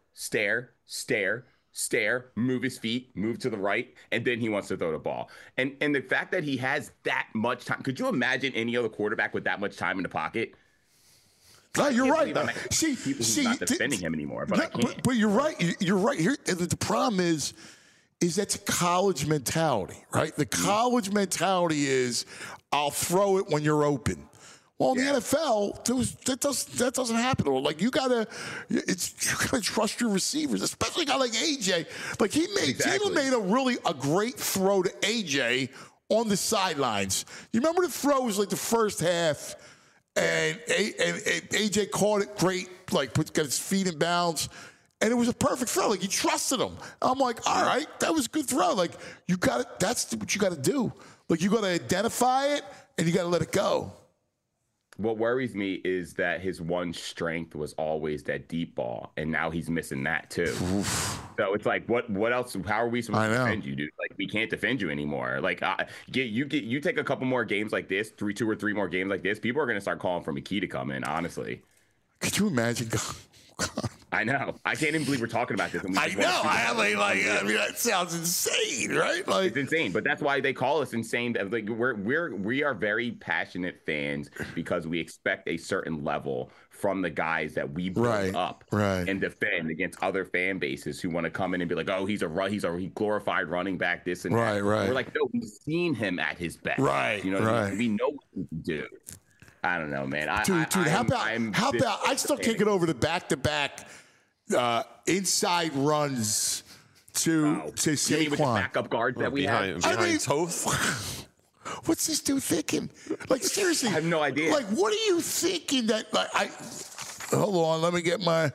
move his feet, move to the right, and then he wants to throw the ball. And the fact that he has that much time, could you imagine any other quarterback with that much time in the pocket?
No, you're right. See,
not defending him anymore, but I can't.
But you're right. You're right. Here, the problem is that's a college mentality, right? The college mentality is, I'll throw it when you're open. Well, in the NFL, that doesn't happen. Like you gotta trust your receivers, especially a guy like AJ. Like Jalen made a great throw to AJ on the sidelines. You remember the throws like the first half, and AJ caught it great, like got his feet in bounds, and it was a perfect throw. Like he trusted him. I'm like, all right, that was a good throw. Like that's what you got to do. Like you got to identify it and you got to let it go.
What worries me is that his one strength was always that deep ball, and now he's missing that too. So it's like, what else? How are we supposed to defend you, dude? Like we can't defend you anymore. Like you take a couple more games like this, 2 or 3 more games like this, people are gonna start calling for McKee to come in. Honestly,
could you imagine?
I know. I can't even believe we're talking about this.
I know. I mean, that sounds insane, right? Like
it's insane, but that's why they call us insane. Like we are very passionate fans because we expect a certain level from the guys that we build up and defend against other fan bases who want to come in and be like, oh, he's a glorified running back, this and that. We're like, no, we've seen him at his best. You know, we know what he can do. I don't know, man.
Dude, how about I still can't get over the back-to-back inside runs to Saquon.
You mean with the backup guards that we have?
Behind Toth?
What's this dude thinking? Like, seriously.
I have no idea.
Like, what are you thinking that, hold on, let me get my,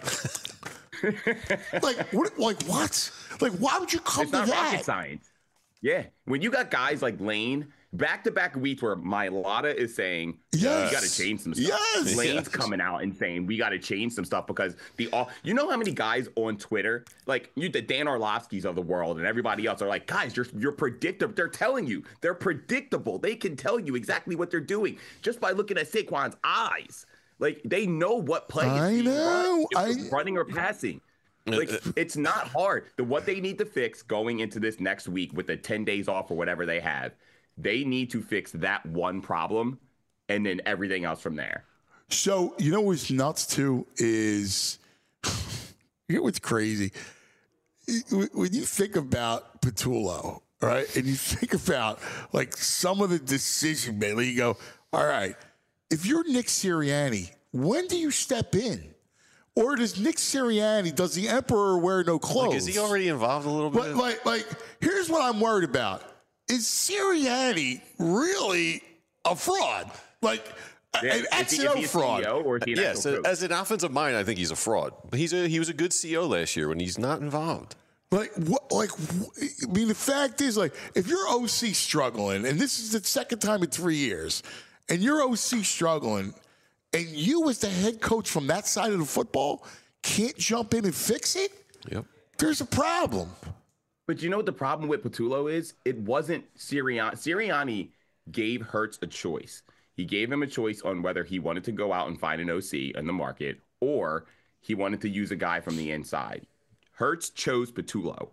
what? Like, why would you come to that?
It's not rocket science. Yeah. When you got guys like Lane, back-to-back weeks where Mailata is saying, we got to change some stuff. Lane's coming out and saying, we got to change some stuff because you know how many guys on Twitter, like the Dan Orlovskis of the world and everybody else are like, guys, you're predictable. They're telling you. They're predictable. They can tell you exactly what they're doing just by looking at Saquon's eyes. Like, they know what play is being run, running or passing. Like, it's not hard. What they need to fix going into this next week with the 10 days off or whatever they have, they need to fix that one problem and then everything else from there.
So, you know what's nuts too is, you know what's crazy? When you think about Patullo, right, and you think about like some of the decision making, you go, all right, if you're Nick Sirianni, when do you step in? Or does Nick Sirianni, does the emperor wear no clothes?
Like, is he already involved a little bit?
Like, here's what I'm worried about. Is Sirianni really a fraud? Like, an XO fraud?
Or is he
yes, as an offensive mind, I think he's a fraud. But he was a good CEO last year when he's not involved.
I mean, the fact is, like, if your OC struggling, and this is the second time in 3 years, and your OC struggling, and you as the head coach from that side of the football can't jump in and fix it, there's a problem.
But you know what the problem with Patullo is? It wasn't Sirianni. Sirianni gave Hurts a choice. He gave him a choice on whether he wanted to go out and find an OC in the market or he wanted to use a guy from the inside. Hurts chose Patullo.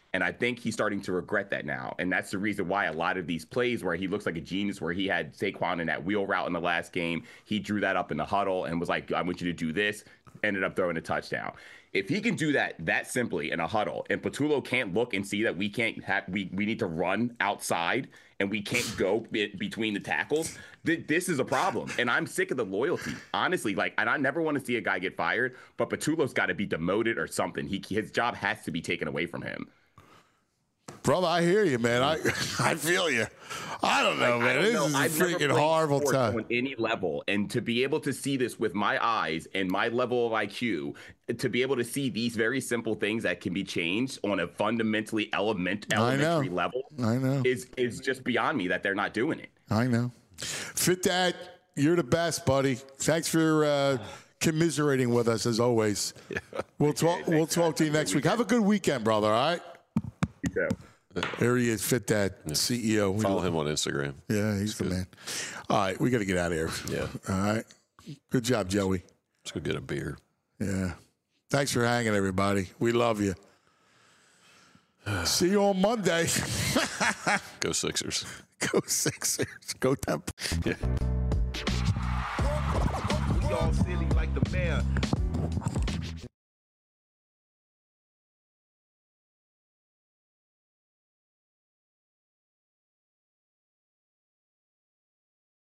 And I think he's starting to regret that now. And that's the reason why a lot of these plays where he looks like a genius, where he had Saquon in that wheel route in the last game, he drew that up in the huddle and was like, I want you to do this, ended up throwing a touchdown. If he can do that simply in a huddle, and Patullo can't look and see that we need to run outside and we can't go between the tackles, this is a problem. And I'm sick of the loyalty, honestly. And I never want to see a guy get fired, but Patullo's got to be demoted or something. His job has to be taken away from him.
Brother, I hear you, man. I feel you. I don't know, man. This is a freaking horrible time.
On any level, and to be able to see this with my eyes and my level of IQ, to be able to see these very simple things that can be changed on a fundamentally elementary level, is just beyond me that they're not doing it.
I know. Fit Dad, you're the best, buddy. Thanks for commiserating with us as always. Yeah. We'll talk to you next week. Have a good weekend, brother. All right.
You too.
There he is, Fit Dad, CEO.
Follow him on Instagram.
Yeah, he's the man. All right, we got to get out of here.
Yeah.
All right. Good job, Joey.
Let's go get a beer.
Yeah. Thanks for hanging, everybody. We love you. See you on Monday.
Go Sixers.
Go Sixers. Go Temple.
Yeah.
We all silly like the mayor.